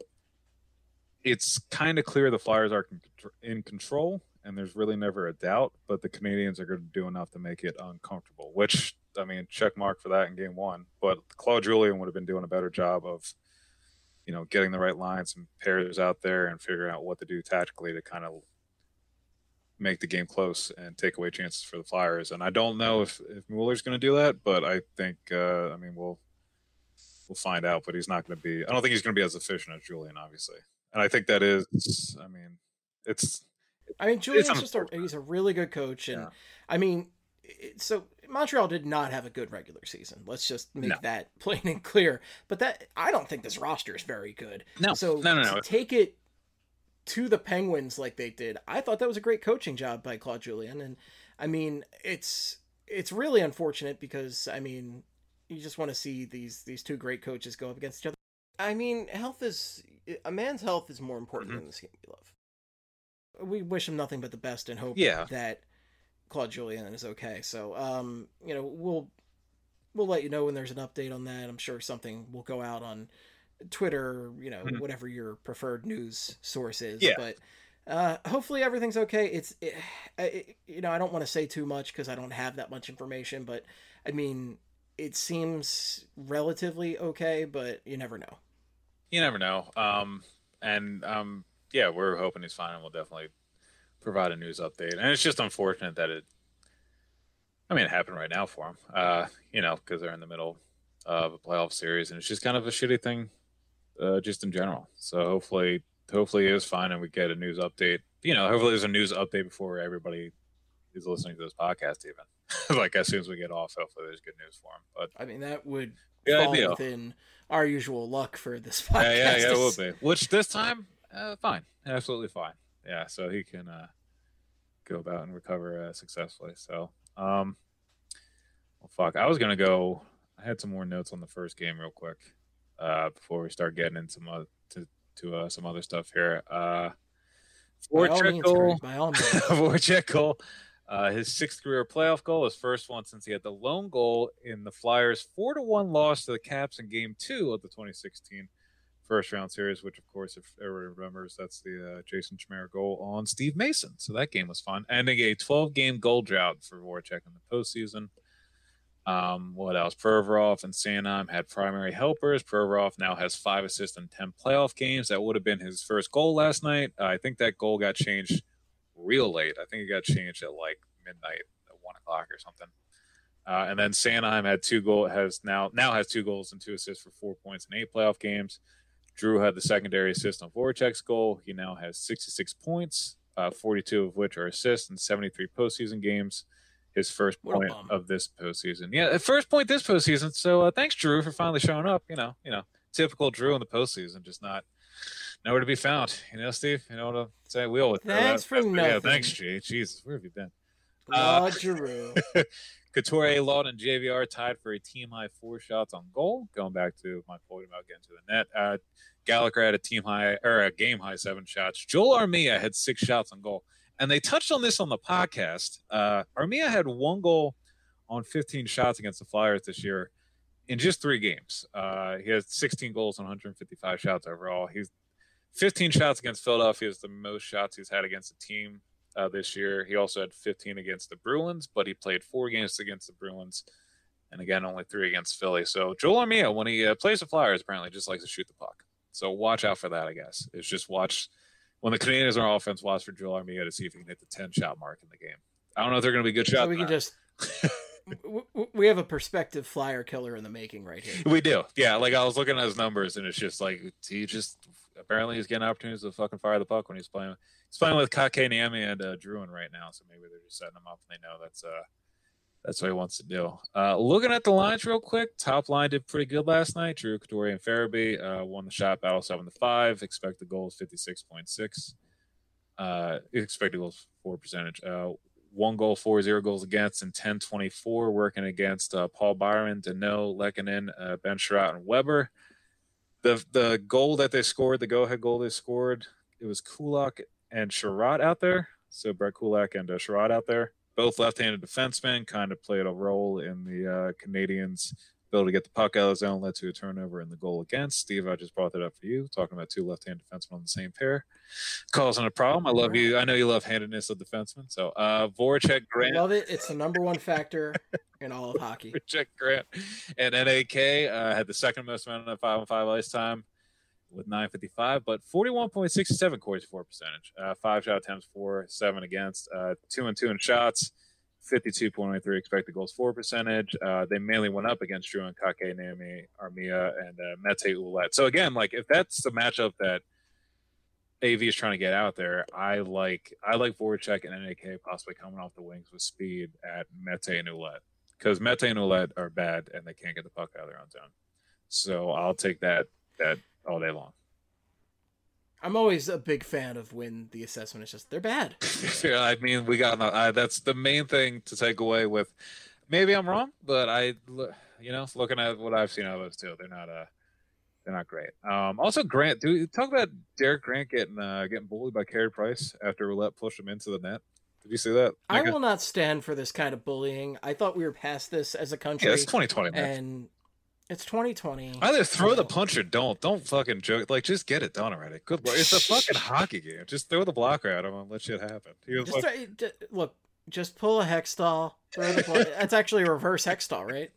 it's kind of clear the Flyers are in control, and there's really never a doubt, but the Canadians are going to do enough to make it uncomfortable. Which I mean, check mark for that in Game One, but Claude Julien would have been doing a better job of. You know, getting the right lines and pairs out there and figuring out what to do tactically to kind of make the game close and take away chances for the Flyers. And I don't know if, if Mueller's going to do that, but I think, uh, I mean, we'll we'll find out. But he's not going to be. I don't think he's going to be as efficient as Julien, obviously. And I think that is. I mean, it's. I mean, Julien's just a, he's a really good coach, and yeah. I mean, it, so. Montreal did not have a good regular season. Let's just make no. that plain and clear. But that I don't think this roster is very good. No, so no, no, no. to take it to the Penguins like they did, I thought that was a great coaching job by Claude Julien. And I mean, it's it's really unfortunate because I mean, you just want to see these these two great coaches go up against each other. I mean, health is a man's health is more important mm-hmm. than this game we love. We wish him nothing but the best and hope yeah. that. Claude Julien is okay. So, um, you know, we'll we'll let you know when there's an update on that. I'm sure something will go out on Twitter, you know, mm-hmm. whatever your preferred news source is. Yeah. But uh, hopefully everything's okay. It's, it, it, you know, I don't want to say too much because I don't have that much information. But, I mean, it seems relatively okay, but you never know. You never know. Um, and, um, yeah, we're hoping he's fine, and we'll definitely provide a news update. And it's just unfortunate that it I mean it happened right now for him, uh you know, because they're in the middle of a playoff series, and it's just kind of a shitty thing uh just in general. So hopefully hopefully it is fine and we get a news update, you know. Hopefully there's a news update before everybody is listening to this podcast even. Like as soon as we get off, hopefully there's good news for him. But I mean that would fall ideal. Within our usual luck for this podcast. Yeah, yeah, yeah, it will be. Which this time uh, fine, absolutely fine. Yeah, so he can uh, go about and recover uh, successfully. So, um, well, fuck. I was gonna go. I had some more notes on the first game, real quick, uh, before we start getting into some uh, to to uh, some other stuff here. Uh, Voracek, by all means, Voracek, uh, his sixth career playoff goal, his first one since he had the lone goal in the Flyers' four to one loss to the Caps in Game Two of the twenty sixteen. First round series, which of course, if everyone remembers, that's the uh, Jason Chimera goal on Steve Mason. So that game was fun. Ending a twelve game goal drought for Voracek in the postseason. Um, what else? Provorov and Sanheim had primary helpers. Provorov now has five assists in ten playoff games. That would have been his first goal last night. Uh, I think that goal got changed real late. I think it got changed at like midnight, at one o'clock or something. Uh, and then Sanheim had two goal has now now has two goals and two assists for four points in eight playoff games. Drew had the secondary assist on Voracek's goal. He now has sixty-six points, uh, forty-two of which are assists in seventy-three postseason games. His first point of this postseason. Yeah, first point this postseason. So uh, thanks, Drew, for finally showing up. You know, you know, typical Drew in the postseason, just not nowhere to be found. You know, Steve. You know what I'm saying? We always thanks for nothing. Yeah, thanks, Jay. Jesus, where have you been? Uh, Drew. Couture, Lawton, and J V R tied for a team high four shots on goal. Going back to my point about getting to the net, uh, Gallagher had a team high or a game high seven shots. Joel Armia had six shots on goal, and they touched on this on the podcast. Uh, Armia had one goal on fifteen shots against the Flyers this year in just three games. Uh, he has sixteen goals on one hundred fifty-five shots overall. He's fifteen shots against Philadelphia is the most shots he's had against a team. Uh, this year. He also had fifteen against the Bruins, but he played four games against the Bruins, and again, only three against Philly. So Joel Armia, when he uh, plays the Flyers, apparently just likes to shoot the puck. So watch out for that, I guess. It's just watch, when the Canadians are on offense, watch for Joel Armia to see if he can hit the ten-shot mark in the game. I don't know if they're going to be good shots. So we can just... we have a prospective Flyer killer in the making right here. We do. Yeah, like I was looking at his numbers, and it's just like, he just apparently he's getting opportunities to fucking fire the puck when he's playing. He's playing with Kotkaniemi and uh, Druin right now, so maybe they're just setting him up and they know that's uh that's what he wants to do. Uh, looking at the lines real quick, top line did pretty good last night. Drew Couture and Farabee uh, won the shot battle seven to five. Expected goals fifty six point six. Uh, expected goals for percentage. Uh, one goal, four zero goals against, and ten twenty-four working against uh, Paul Byron, Deneau, Lehkonen, uh, Ben Sherratt, and Weber. The the goal that they scored, the go ahead goal they scored, it was Kulak and Sherratt out there. So Brett Kulak and uh, Sherratt out there. Both left-handed defensemen kind of played a role in the uh, Canadiens' ability to get the puck out of the zone, led to a turnover in the goal against. Steve, I just brought that up for you, talking about two left-handed defensemen on the same pair. Causing a problem. I love you. I know you love handedness of defensemen. So uh, Voracek, Grant. I love it. It's the number one factor in all of hockey. Voracek, Grant, and N A K uh, had the second most amount of five on five ice time with nine fifty-five, but forty-one point six seven Corey's for percentage. Uh, five shot attempts, four, seven against, uh, two and two in shots, fifty-two point eight three expected goals for percentage. Uh, they mainly went up against Drew and Kotkaniemi, Armia, and uh, Mete Ouellette. So again, like if that's the matchup that A V is trying to get out there, I like I like Voracek and N A K possibly coming off the wings with speed at Mete and Ouellette, because Mete and Ouellette are bad and they can't get the puck out of their own zone. So I'll take that that. all day long. I'm always a big fan of when the assessment is just they're bad. Yeah, I mean, we got uh, that's the main thing to take away with. Maybe I'm wrong, but I, you know, looking at what I've seen out of those two, they're not uh they're not great. Um, also, Grant, do talk about Derek Grant getting uh, getting bullied by Carey Price after Roulette pushed him into the net. Did you see that? I will not stand for this kind of bullying. I thought we were past this as a country. Yeah, it's twenty twenty, man. And it's twenty twenty. Either throw the punch or don't. Don't fucking joke. Like, just get it done already. Good Lord. It's a fucking hockey game. Just throw the blocker at him and let shit happen. Just like... throw, just, look, just pull a Hextall. Throw the ball. That's actually a reverse Hextall, right?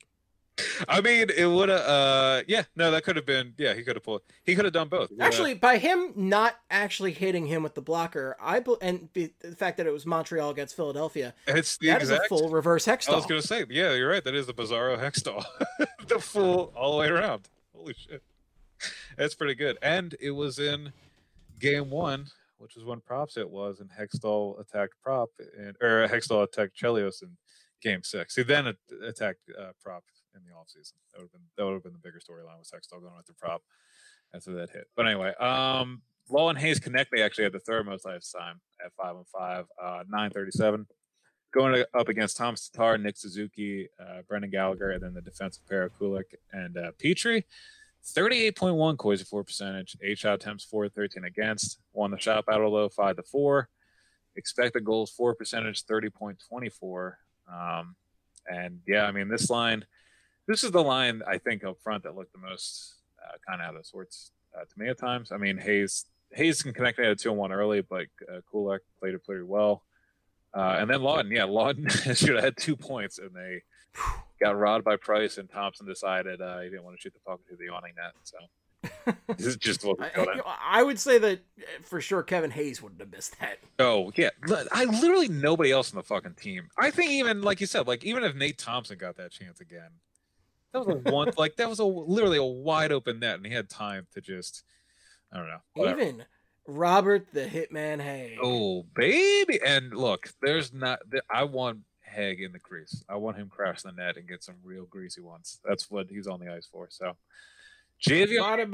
I mean, it would have. Uh, yeah, no, that could have been. Yeah, he could have pulled. He could have done both. Actually, by him not actually hitting him with the blocker, I and the fact that it was Montreal against Philadelphia, it's the that exact, is a full reverse Hextall. I was gonna say, yeah, you're right. That is the Bizarro Hextall, the full all the way around. Holy shit, that's pretty good. And it was in game one, which is when Props it was, and Hextall attacked Prop, and or Hextall attacked Chelios in game six. He then attacked uh, Prop in the offseason. That would have been that would have been the bigger storyline with Hextall going after Prop after that hit. But anyway, um Law and Hayes Connect, they actually had the third most ice time at five on five, uh nine thirty-seven. Going up against Tom Tatar, Nick Suzuki, uh, Brendan Gallagher, and then the defensive pair of Kulik and uh, Petrie. thirty-eight point one Corey's for percentage, eight shot attempts, four thirteen against. Won the shot battle though, five to four. Expected goals for percentage, thirty point two four. Um and yeah, I mean this line This is the line, I think, up front that looked the most uh, kind of out of sorts uh, to me at times. I mean, Hayes Hayes can connect at a two and one early, but uh, Kulak played it pretty well. Uh, and then Lawton, yeah, Lawton should have had two points, and they got robbed by Price, and Thompson decided uh, he didn't want to shoot the puck into the awning net. So this is just what I, I would say that for sure Kevin Hayes wouldn't have missed that. Oh, yeah. I literally nobody else on the fucking team. I think even, like you said, like even if Nate Thompson got that chance again, that was a one, like that was a literally a wide open net, and he had time to just, I don't know. Whatever. Even Robert the Hitman Haig. Oh baby, and look, there's not. I want Haig in the crease. I want him crash the net and get some real greasy ones. That's what he's on the ice for. So, J V R,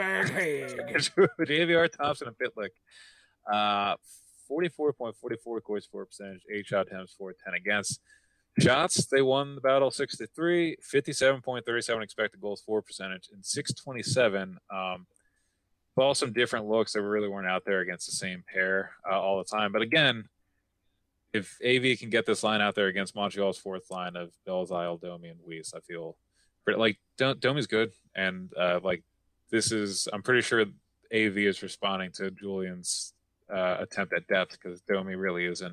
J V R Thompson and Pitlick, uh, forty-four point four four Corey's for percentage, eight shot attempts, four ten against. Shots, they won the battle six to three, fifty-seven point three seven expected goals for percentage, and six twenty-seven. Um, all some different looks that really weren't out there against the same pair uh, all the time. But again, if A V can get this line out there against Montreal's fourth line of Belzile, Domi, and Weiss, I feel pretty, like Domi's good, and uh, like this is, I'm pretty sure A V is responding to Julian's uh, attempt at depth because Domi really isn't.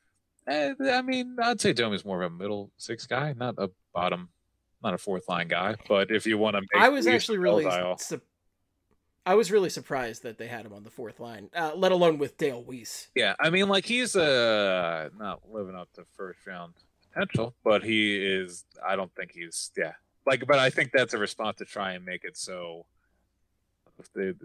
I mean, I'd say Domi's more of a middle six guy, not a bottom, not a fourth line guy. But if you want to, make I was actually really, su- I was really surprised that they had him on the fourth line, uh, let alone with Dale Weiss. Yeah, I mean, like he's uh, not living up to first round potential, but he is. I don't think he's. Yeah, like, but I think that's a response to try and make it so. If they,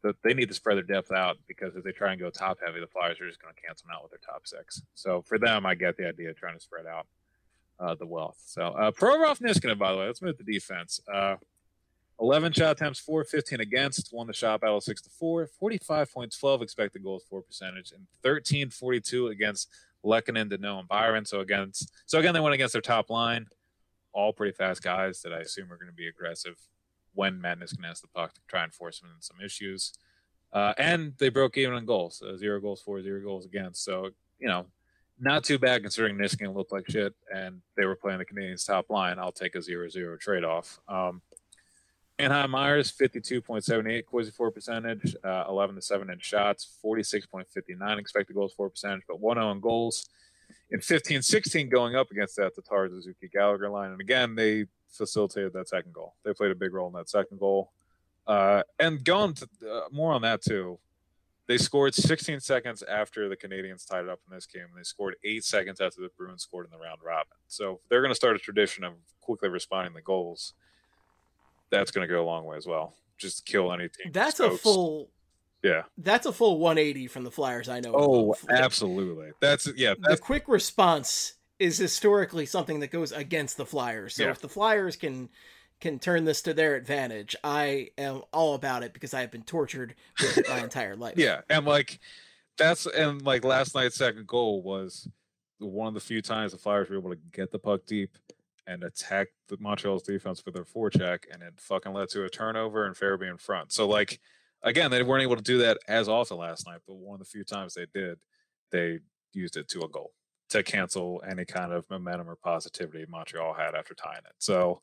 the, they need to spread their depth out, because if they try and go top heavy, the Flyers are just going to cancel them out with their top six. So for them, I get the idea of trying to spread out uh, the wealth. So uh, Provorov Niskanen, by the way, let's move to defense. Uh, eleven shot attempts, four fifteen against, won the shot battle six to four, forty-five point one two expected goals for percentage, and thirteen forty-two against Lehkonen, Danault, and Byron. So against, so again, they went against their top line, all pretty fast guys that I assume are going to be aggressive when Matt Niskanen has the puck to try and force him into some issues. Uh, and they broke even on goals, uh, zero goals for, zero goals against. So, you know, not too bad considering Niskanen looked like shit and they were playing the Canadiens' top line. I'll take a zero zero trade-off. Um, Anaheim Myers, fifty-two point seven eight Corsi for percentage, uh, eleven to seven in shots, forty-six point five nine expected goals for percentage, but one oh in goals. In fifteen sixteen going up against that Tatar Suzuki Gallagher line. And again, they facilitated that second goal. They played a big role in that second goal. Uh, and going to uh, more on that too, they scored sixteen seconds after the Canadiens tied it up in this game, and they scored eight seconds after the Bruins scored in the round robin. So they're going to start a tradition of quickly responding to goals. That's going to go a long way as well. Just kill any team. That's a full... Yeah, that's a full one eighty from the Flyers I know. Oh, absolutely. That's yeah. That's... The quick response is historically something that goes against the Flyers. So yeah. If the Flyers can can turn this to their advantage, I am all about it, because I have been tortured with it my entire life. Yeah, and like that's and like last night's second goal was one of the few times the Flyers were able to get the puck deep and attack the Montreal's defense with their forecheck, and it fucking led to a turnover and Farabee in front. So like. Again, they weren't able to do that as often last night, but one of the few times they did, they used it to a goal to cancel any kind of momentum or positivity Montreal had after tying it. So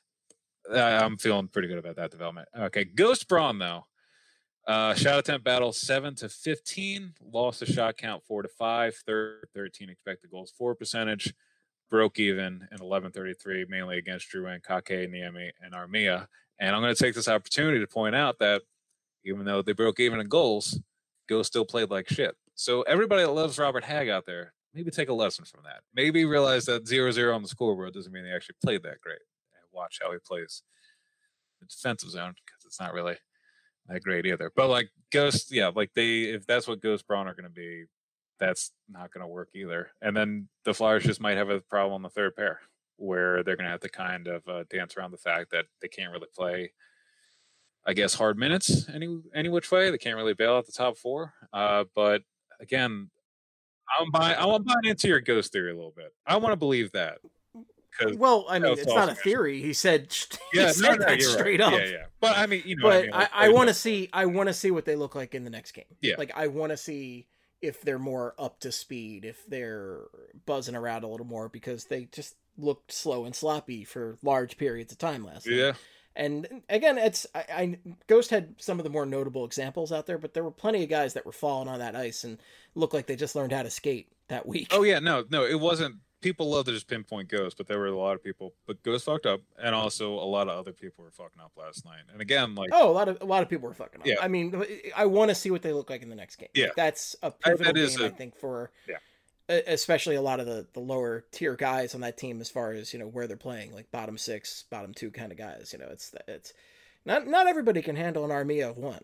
I'm feeling pretty good about that development. Okay, Ghost Braun, though. Uh, shot attempt battle seven to fifteen, lost the shot count four to five, thirteen expected goals for percentage, broke even in eleven thirty-three, mainly against Drouin, Kake, Niemi, and Armia. And I'm going to take this opportunity to point out that even though they broke even in goals, Ghost still played like shit. So everybody that loves Robert Hagg out there, maybe take a lesson from that. Maybe realize that zero zero on the scoreboard doesn't mean they actually played that great. And watch how he plays the defensive zone, because it's not really that great either. But like Ghost, yeah, like they, if that's what Ghost Braun are going to be, that's not going to work either. And then the Flyers just might have a problem on the third pair, where they're going to have to kind of uh, dance around the fact that they can't really play, I guess, hard minutes any any which way. They can't really bail out the top four. Uh, but again, I'm buying I'm buying into your Ghost theory a little bit. I want to believe that. Well, I mean, it's not a theory. He said, he yeah, said no, no, that straight right. up. Yeah, yeah. But I mean, you know, but I, mean, like, I, I want to see, I want to see what they look like in the next game. Yeah. Like, I want to see if they're more up to speed, if they're buzzing around a little more, because they just looked slow and sloppy for large periods of time last night. Yeah. And again, it's I, I Ghost had some of the more notable examples out there, but there were plenty of guys that were falling on that ice and looked like they just learned how to skate that week. Oh yeah, no, no, it wasn't. People love to just pinpoint Ghost, but there were a lot of people. But Ghost fucked up, and also a lot of other people were fucking up last night. And again, like oh, a lot of a lot of people were fucking up. Yeah. I mean, I want to see what they look like in the next game. Yeah, like, that's a pivotal that is game, a, I think, for yeah. especially a lot of the, the lower tier guys on that team, as far as, you know, where they're playing, like bottom six, bottom two kind of guys. You know, it's it's not not everybody can handle an army of one.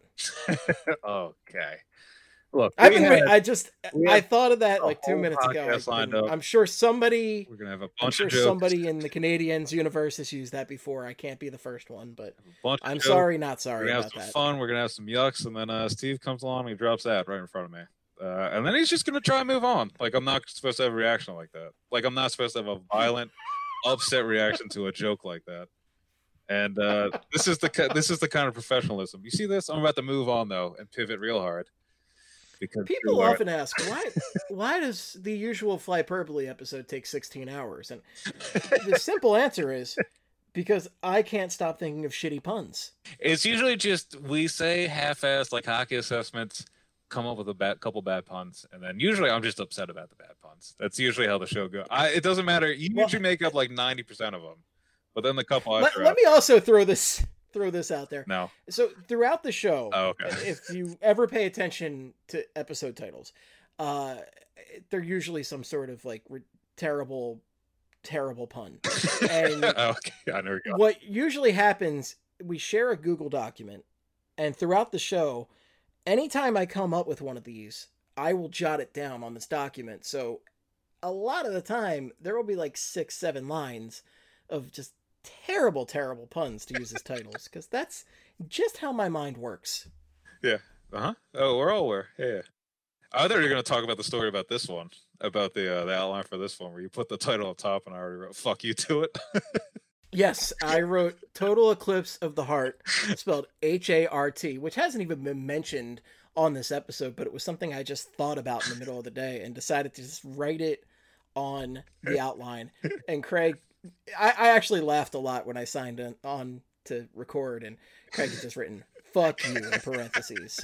Okay. Look, I've been, had, I just I thought of that like two minutes ago. Been, I'm sure somebody we're gonna have a bunch I'm sure of jokes. Somebody in the Canadiens universe has used that before. I can't be the first one, but I'm jokes. sorry, not sorry we're gonna about have some that. Fun. We're gonna have some yucks, and then uh, Steve comes along and he drops that right in front of me, uh, and then he's just gonna try and move on. Like, I'm not supposed to have a reaction like that. Like, I'm not supposed to have a violent, upset reaction to a joke like that. And uh, this is the this is the kind of professionalism. You see this? I'm about to move on though and pivot real hard. Because people often ask, why why does the usual Flyperbole episode take sixteen hours? And the simple answer is because I can't stop thinking of shitty puns. It's usually just we say half-assed like hockey assessments, come up with a bad, couple bad puns, and then usually I'm just upset about the bad puns. That's usually how the show goes. I, it doesn't matter. You well, usually make up like ninety percent of them, but then the couple. Let, let me also throw this. Throw this out there. No. So throughout the show, oh, okay. if you ever pay attention to episode titles, uh, they're usually some sort of like re- terrible, terrible pun. And okay, I know. What usually happens, we share a Google document, and throughout the show, anytime I come up with one of these, I will jot it down on this document. So a lot of the time, there will be like six, seven lines of just terrible, terrible puns to use as titles, because that's just how my mind works. Yeah. Uh-huh. Oh, we're all aware. Yeah. I thought you were going to talk about the story about this one, about the uh, the outline for this one, where you put the title on top and I already wrote, fuck you to it. Yes, I wrote Total Eclipse of the Heart, spelled H A R T, which hasn't even been mentioned on this episode, but it was something I just thought about in the middle of the day and decided to just write it on the outline. And Craig, I, I actually laughed a lot when I signed on, on to record, and Craig had just written, fuck you, in parentheses.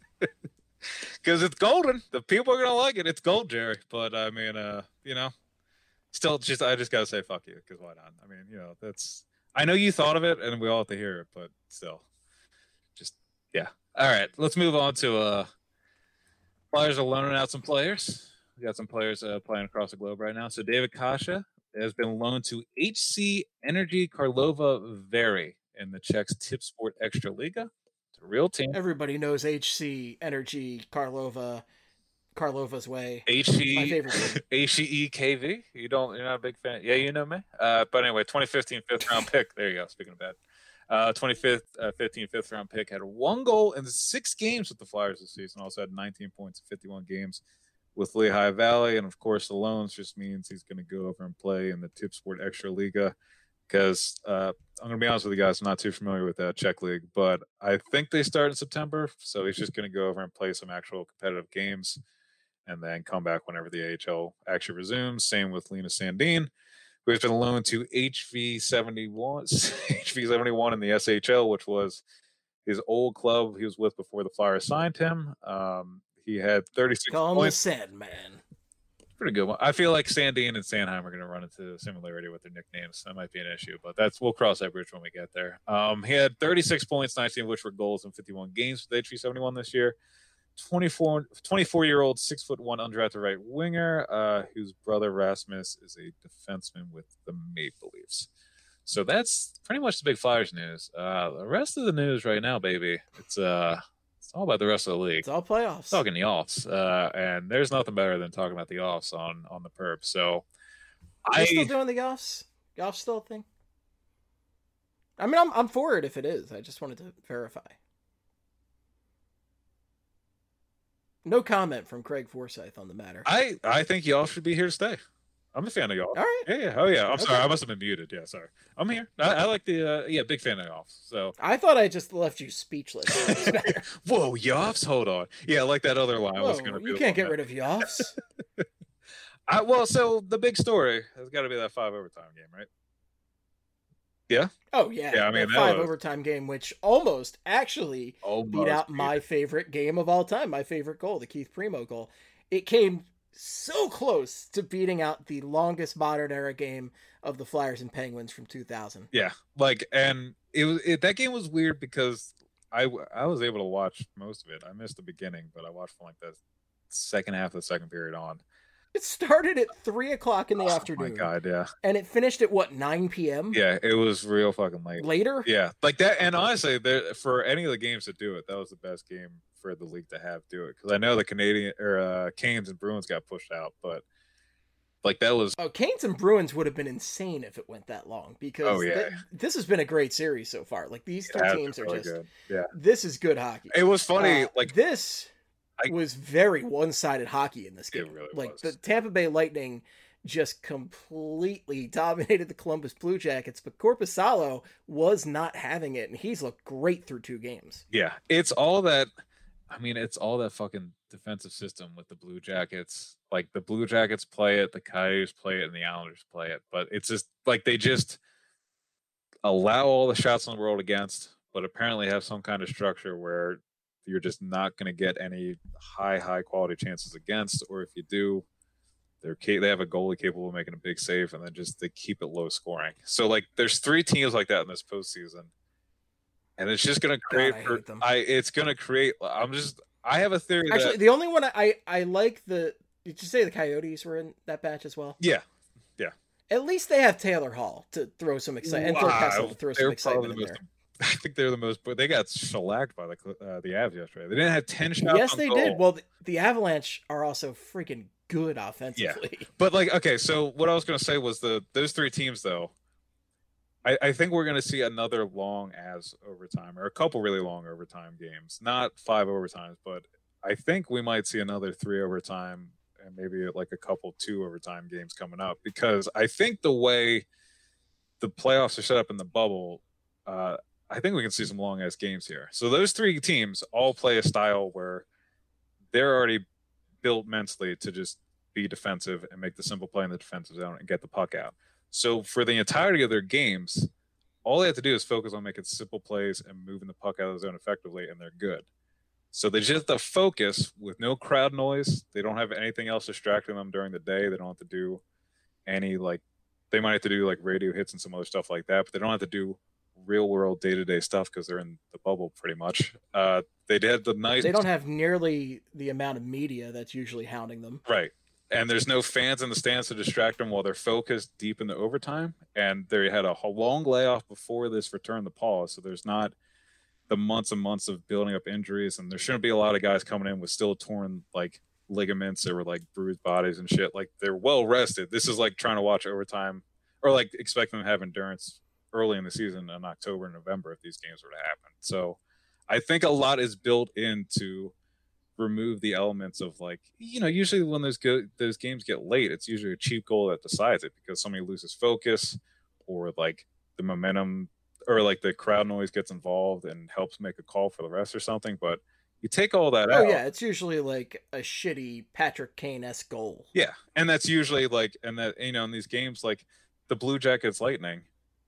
Because it's golden. The people are going to like it. It's gold, Jerry. But, I mean, uh, you know, still, just I just got to say fuck you, because why not? I mean, you know, that's... I know you thought of it, and we all have to hear it, but still. Just, yeah. All right, let's move on to... uh Flyers are loaning out some players. We got some players uh, playing across the globe right now. So David Kasha has been loaned to H C Energy Karlova Vary in the Czech's Tipsport Extraliga. It's a real team. Everybody knows H C Energy Karlova, Karlova's way. H C, my favorite team. H C E K V. You don't, you're not a big fan. Yeah, you know me. Uh, but anyway, twenty fifteen fifth round pick. There you go. Speaking of bad. Uh, twenty-fifth, uh, fifteen fifth round pick, had one goal in six games with the Flyers this season. Also had nineteen points in fifty-one games with Lehigh Valley. And of course, the loans just means he's going to go over and play in the Tipsport Extraliga. Because uh, I'm going to be honest with you guys, I'm not too familiar with that Czech league, but I think they start in September. So he's just going to go over and play some actual competitive games and then come back whenever the A H L actually resumes. Same with Linus Sandin, who has been loaned to H V seventy-one, H V seventy-one in the S H L, which was his old club he was with before the Flyers signed him. Um, he had thirty-six Call points. Call him the Sandman. Pretty good one. I feel like Sandin and Sandheim are going to run into similarity with their nicknames. That might be an issue, but that's we'll cross that bridge when we get there. Um, he had thirty-six points, nineteen of which were goals in fifty-one games with H V seventy-one this year. twenty-four, twenty-four-year-old, six foot one undrafted right winger, uh, whose brother Rasmus is a defenseman with the Maple Leafs. So that's pretty much the big Flyers news. Uh, the rest of the news right now, baby, it's uh, it's all about the rest of the league. It's all playoffs. Talking the offs, uh, and there's nothing better than talking about the offs on on the perp. So, Are I you still doing the offs? The offs still a thing? I mean, I'm I'm for it if it is. I just wanted to verify. No comment from Craig Forsyth on the matter. I, I think y'all should be here to stay. I'm a fan of y'all. All right. Yeah, yeah. Oh, yeah. I'm okay. sorry. I must have been muted. Yeah, sorry. I'm here. I, I like the, uh, yeah, big fan of y'all. So I thought I just left you speechless. Whoa, Yoffs? Hold on. Yeah, I like that other line. Whoa, was gonna you can't get rid of Yoffs. I, well, so the big story has got to be that five overtime game, right? Yeah. Oh yeah. Yeah, I mean, that five was... overtime game, which almost actually almost beat out beat my it. favorite game of all time, my favorite goal, the Keith Primo goal. It came so close to beating out the longest modern era game of the Flyers and Penguins from two thousand. Yeah, like, and it was it, that game was weird because I I was able to watch most of it. I missed the beginning, but I watched from like the second half of the second period on. It started at three o'clock in the oh afternoon. My God, yeah. And it finished at what, nine p.m. Yeah, it was real fucking late. Later. Yeah, like that. And honestly, there for any of the games to do it, that was the best game for the league to have do it. Because I know the Canadian or uh, Canes and Bruins got pushed out, but like that was. Oh, Canes and Bruins would have been insane if it went that long. Because oh, yeah. th- this has been a great series so far. Like these two yeah, teams are really just. good. Yeah. This is good hockey. It was funny. Uh, like this. I, was very one-sided hockey in this game. It really like was. The Tampa Bay Lightning just completely dominated the Columbus Blue Jackets, but Korpisalo was not having it, and he's looked great through two games. Yeah, it's all that. I mean, it's all that fucking defensive system with the Blue Jackets. Like the Blue Jackets play it, the Coyotes play it, and the Islanders play it. But it's just like they just allow all the shots in the world against, but apparently have some kind of structure where you're just not going to get any high, high quality chances against, or if you do, they're they have a goalie capable of making a big save, and then just they keep it low scoring. So like, there's three teams like that in this postseason, and it's just going to create. God, I hate them. I it's going to create. I'm just. I have a theory. Actually, that, the only one I I like the. Did you say the Coyotes were in that batch as well? Yeah, yeah. At least they have Taylor Hall to throw some excitement, wow. and Phil Kessel to throw They're some excitement the in most there. I think they're the most, but they got shellacked by the uh, the Avs yesterday. They didn't have ten shots. Yes, on they goal. did. Well, the, the Avalanche are also freaking good offensively. Yeah, but like, okay, so what I was going to say was the those three teams though. I, I think we're going to see another long as overtime, or a couple really long overtime games. Not five overtimes, but I think we might see another three overtime and maybe like a couple two overtime games coming up, because I think the way the playoffs are set up in the bubble, uh, I think we can see some long ass games here. So those three teams all play a style where they're already built mentally to just be defensive and make the simple play in the defensive zone and get the puck out. So for the entirety of their games, all they have to do is focus on making simple plays and moving the puck out of the zone effectively, and they're good. So they just have to focus with no crowd noise. They don't have anything else distracting them during the day. They don't have to do any, like, they might have to do like radio hits and some other stuff like that, but they don't have to do real world day-to-day stuff because they're in the bubble pretty much. Uh, they did the nice. They don't have nearly the amount of media that's usually hounding them. Right. And there's no fans in the stands to distract them while they're focused deep in the overtime. And they had a long layoff before this return to pause. So there's not the months and months of building up injuries. And there shouldn't be a lot of guys coming in with still torn like ligaments or like bruised bodies and shit. Like, they're well rested. This is like trying to watch overtime, or like expecting them to have endurance early in the season in October and November if these games were to happen. So I think a lot is built into remove the elements of, like, you know, usually when those go- those games get late, it's usually a cheap goal that decides it because somebody loses focus, or like the momentum, or like the crowd noise gets involved and helps make a call for the rest or something. But you take all that oh, out. Oh yeah, it's usually like a shitty Patrick Kane-esque goal. Yeah, and that's usually like, and that, you know, in these games like the Blue Jackets Lightning,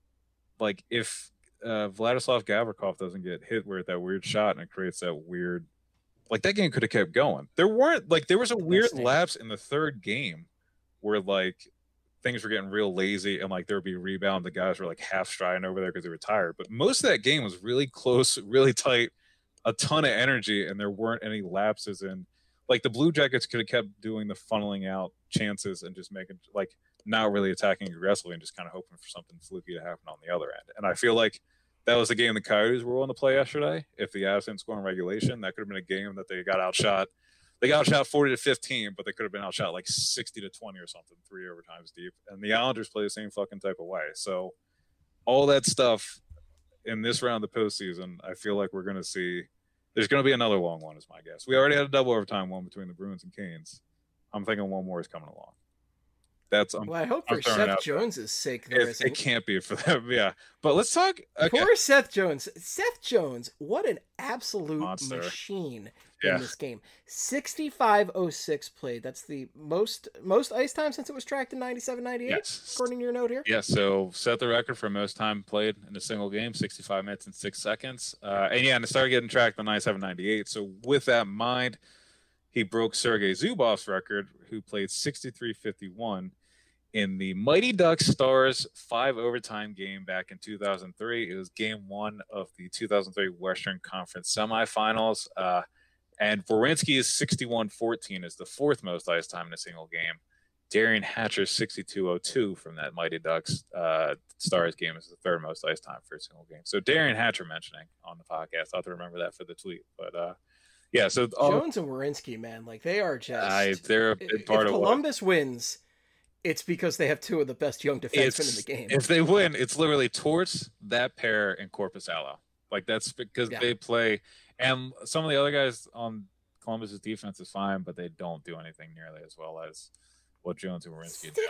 like if uh, Vladislav Gavrikov doesn't get hit with that weird shot and it creates that weird, like, that game could have kept going. There weren't, like, there was a weird lapse in the third game where, like, things were getting real lazy and, like, there would be rebound. The guys were, like, half striding over there because they were tired. But most of that game was really close, really tight, a ton of energy, and there weren't any lapses in, like, the Blue Jackets could have kept doing the funneling out chances and just making, like, not really attacking aggressively and just kind of hoping for something fluky to happen on the other end. And I feel like that was the game the Coyotes were willing to play yesterday. If the Avs didn't score in regulation, that could have been a game that they got outshot. They got outshot forty to fifteen, but they could have been outshot like sixty to twenty or something, three overtimes deep. And the Islanders play the same fucking type of way. So all that stuff in this round of the postseason, I feel like we're going to see. There's going to be another long one, is my guess. We already had a double overtime one between the Bruins and Canes. I'm thinking one more is coming along. That's um, well, I hope I'm for Seth Jones's sake there it, isn't. It can't be for them, yeah. But let's talk. Okay. Poor Seth Jones. Seth Jones, what an absolute Monster. machine Yeah. in this game. sixty-five oh six played. That's the most most ice time since it was tracked in ninety-seven ninety-eight, Yes. according to your note here. Yeah, so set the record for most time played in a single game, sixty-five minutes and six seconds. Uh, and yeah, and it started getting tracked in ninety-seven ninety-eight. So with that in mind, he broke Sergei Zubov's record, who played sixty-three fifty-one in the Mighty Ducks Stars five overtime game back in two thousand three. It was game one of the two thousand three Western Conference semifinals. Uh, and Werenski's sixty-one fourteen is the fourth most ice time in a single game. Darian Hatcher's sixty-two oh two from that Mighty Ducks uh, Stars game is the third most ice time for a single game. So Darian Hatcher mentioning on the podcast. I'll have to remember that for the tweet. But uh, yeah, so all, Jones and Werenski, man, like they are just. I, they're a big part if of Columbus what... wins. It's because they have two of the best young defensemen it's, in the game. If they win, it's literally Torts, that pair, and Corpus Allo. Like, that's because yeah. they play. And some of the other guys on Columbus's defense is fine, but they don't do anything nearly as well as what Jones and Werenski do.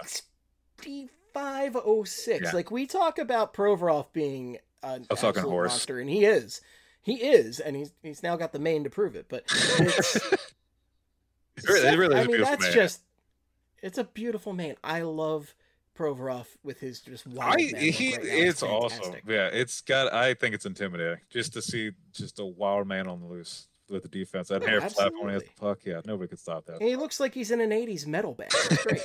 sixty-five oh six. Yeah. Like, we talk about Provorov being an a fucking horse. Monster, and he is. He is, and he's he's now got the mane to prove it. But it's, it really, it really is I mean, that's man. just. It's a beautiful man. I love Provorov with his just wild. I, man he, right it's, it's awesome. awesome. Yeah, it's got. I think it's intimidating just to see just a wild man on the loose with the defense. That oh, hair flap when he has the puck. Yeah, nobody could stop that. And he looks like he's in an eighties metal band. It's great.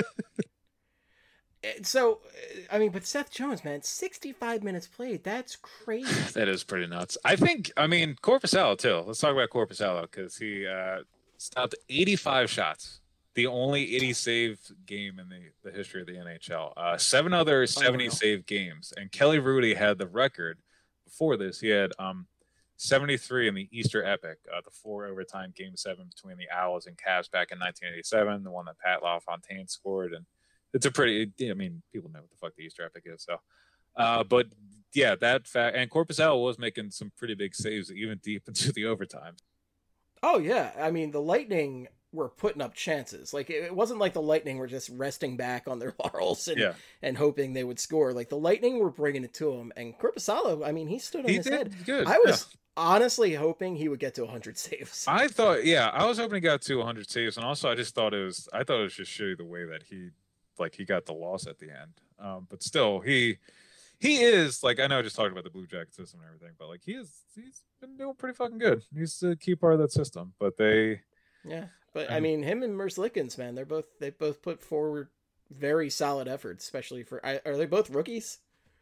So, I mean, but Seth Jones, man, sixty-five minutes played. That's crazy. That is pretty nuts. I think. I mean, Corpus Allo too. Let's talk about Corpus Allo because he uh, stopped eighty-five shots. The only eighty save game in the, the history of the N H L. Uh, seven other seventy save games. And Kelly Rudy had the record before this, he had um, seventy-three in the Easter Epic, uh, the four overtime game seven between the Owls and Cavs back in nineteen eighty-seven, the one that Pat LaFontaine scored. And it's a pretty, I mean, people know what the fuck the Easter Epic is. So, uh, but yeah, that fact, and Korpisalo was making some pretty big saves even deep into the overtime. Oh, yeah. I mean, the Lightning were putting up chances. Like, it wasn't like the Lightning were just resting back on their laurels and, yeah. and hoping they would score. Like, the Lightning were bringing it to him. And Korpisalo, I mean, he stood on he his did head. Good. I was yeah. honestly hoping he would get to one hundred saves. I thought, yeah, I was hoping he got to one hundred saves. And also, I just thought it was, I thought it was just shitty the way that he, like, he got the loss at the end. Um, but still, he, he is, like, I know I just talked about the Blue Jacket system and everything, but, like, he is, he's been doing pretty fucking good. He's a key part of that system. But they, yeah. But I mean, him and Merzlikins, man, they're both they both put forward very solid efforts, especially for. Are they both rookies?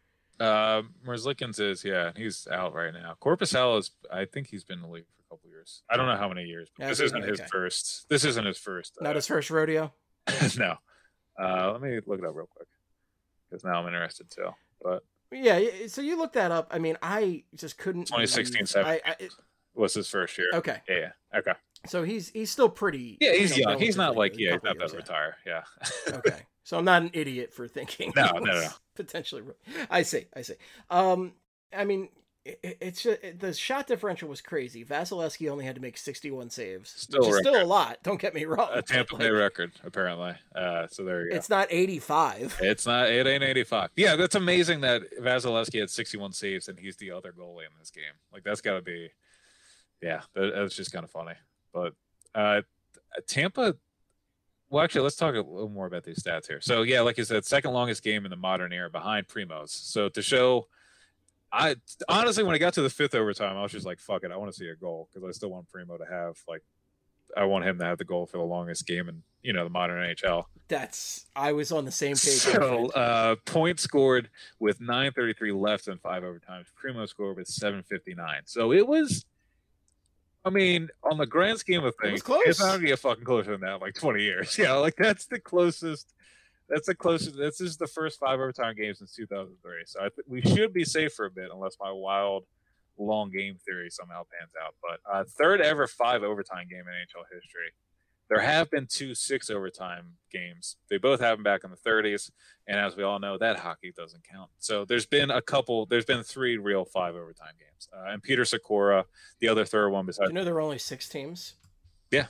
Uh, Merzlikins is, yeah, he's out right now. Korpisalo is, I think he's been in the league for a couple years. I don't know how many years, but yeah, this isn't okay. his first. This isn't his first. Not uh, his first rodeo. No. Uh, let me look it up real quick because now I'm interested too. But yeah, so you looked that up. I mean, I just couldn't. twenty sixteen seventeen was his first year. Okay. Yeah. yeah. Okay. So he's he's still pretty. Yeah, he's you know, young. He's not like yeah, he's not about to retire. Yeah. Okay, so I'm not an idiot for thinking. No, no, no. Potentially, I see. I see. Um, I mean, it, it's just, it, the shot differential was crazy. Vasilevsky only had to make sixty-one saves, still which is still a lot. Don't get me wrong. A Tampa Bay like, record, apparently. Uh, so there you go. It's not eighty-five. It's not. It ain't eighty-five. Yeah, that's amazing that Vasilevsky had sixty-one saves and he's the other goalie in this game. Like that's got to be. Yeah, that, that's just kind of funny. But uh, Tampa, well, actually, let's talk a little more about these stats here. So, yeah, like you said, second longest game in the modern era behind Primo's. So, to show, I honestly, when I got to the fifth overtime, I was just like, fuck it, I want to see a goal because I still want Primo to have, like, I want him to have the goal for the longest game in, you know, the modern N H L. That's, I was on the same page. So, uh, points scored with nine thirty-three left in five overtimes. Primo scored with seven fifty-nine. So, it was. I mean, on the grand scheme of things, it it's not going to get fucking closer than that in like twenty years. Yeah, like that's the closest. That's the closest. This is the first five overtime games since two thousand three. So I think we should be safe for a bit, unless my wild long game theory somehow pans out. But uh, third ever five overtime game in N H L history. There have been two six overtime games. They both happened back in the thirties, and as we all know, that hockey doesn't count. So there's been a couple. There's been three real five overtime games, uh, and Peter Sikora, the other third one besides. Do you know there were only six teams? Yeah,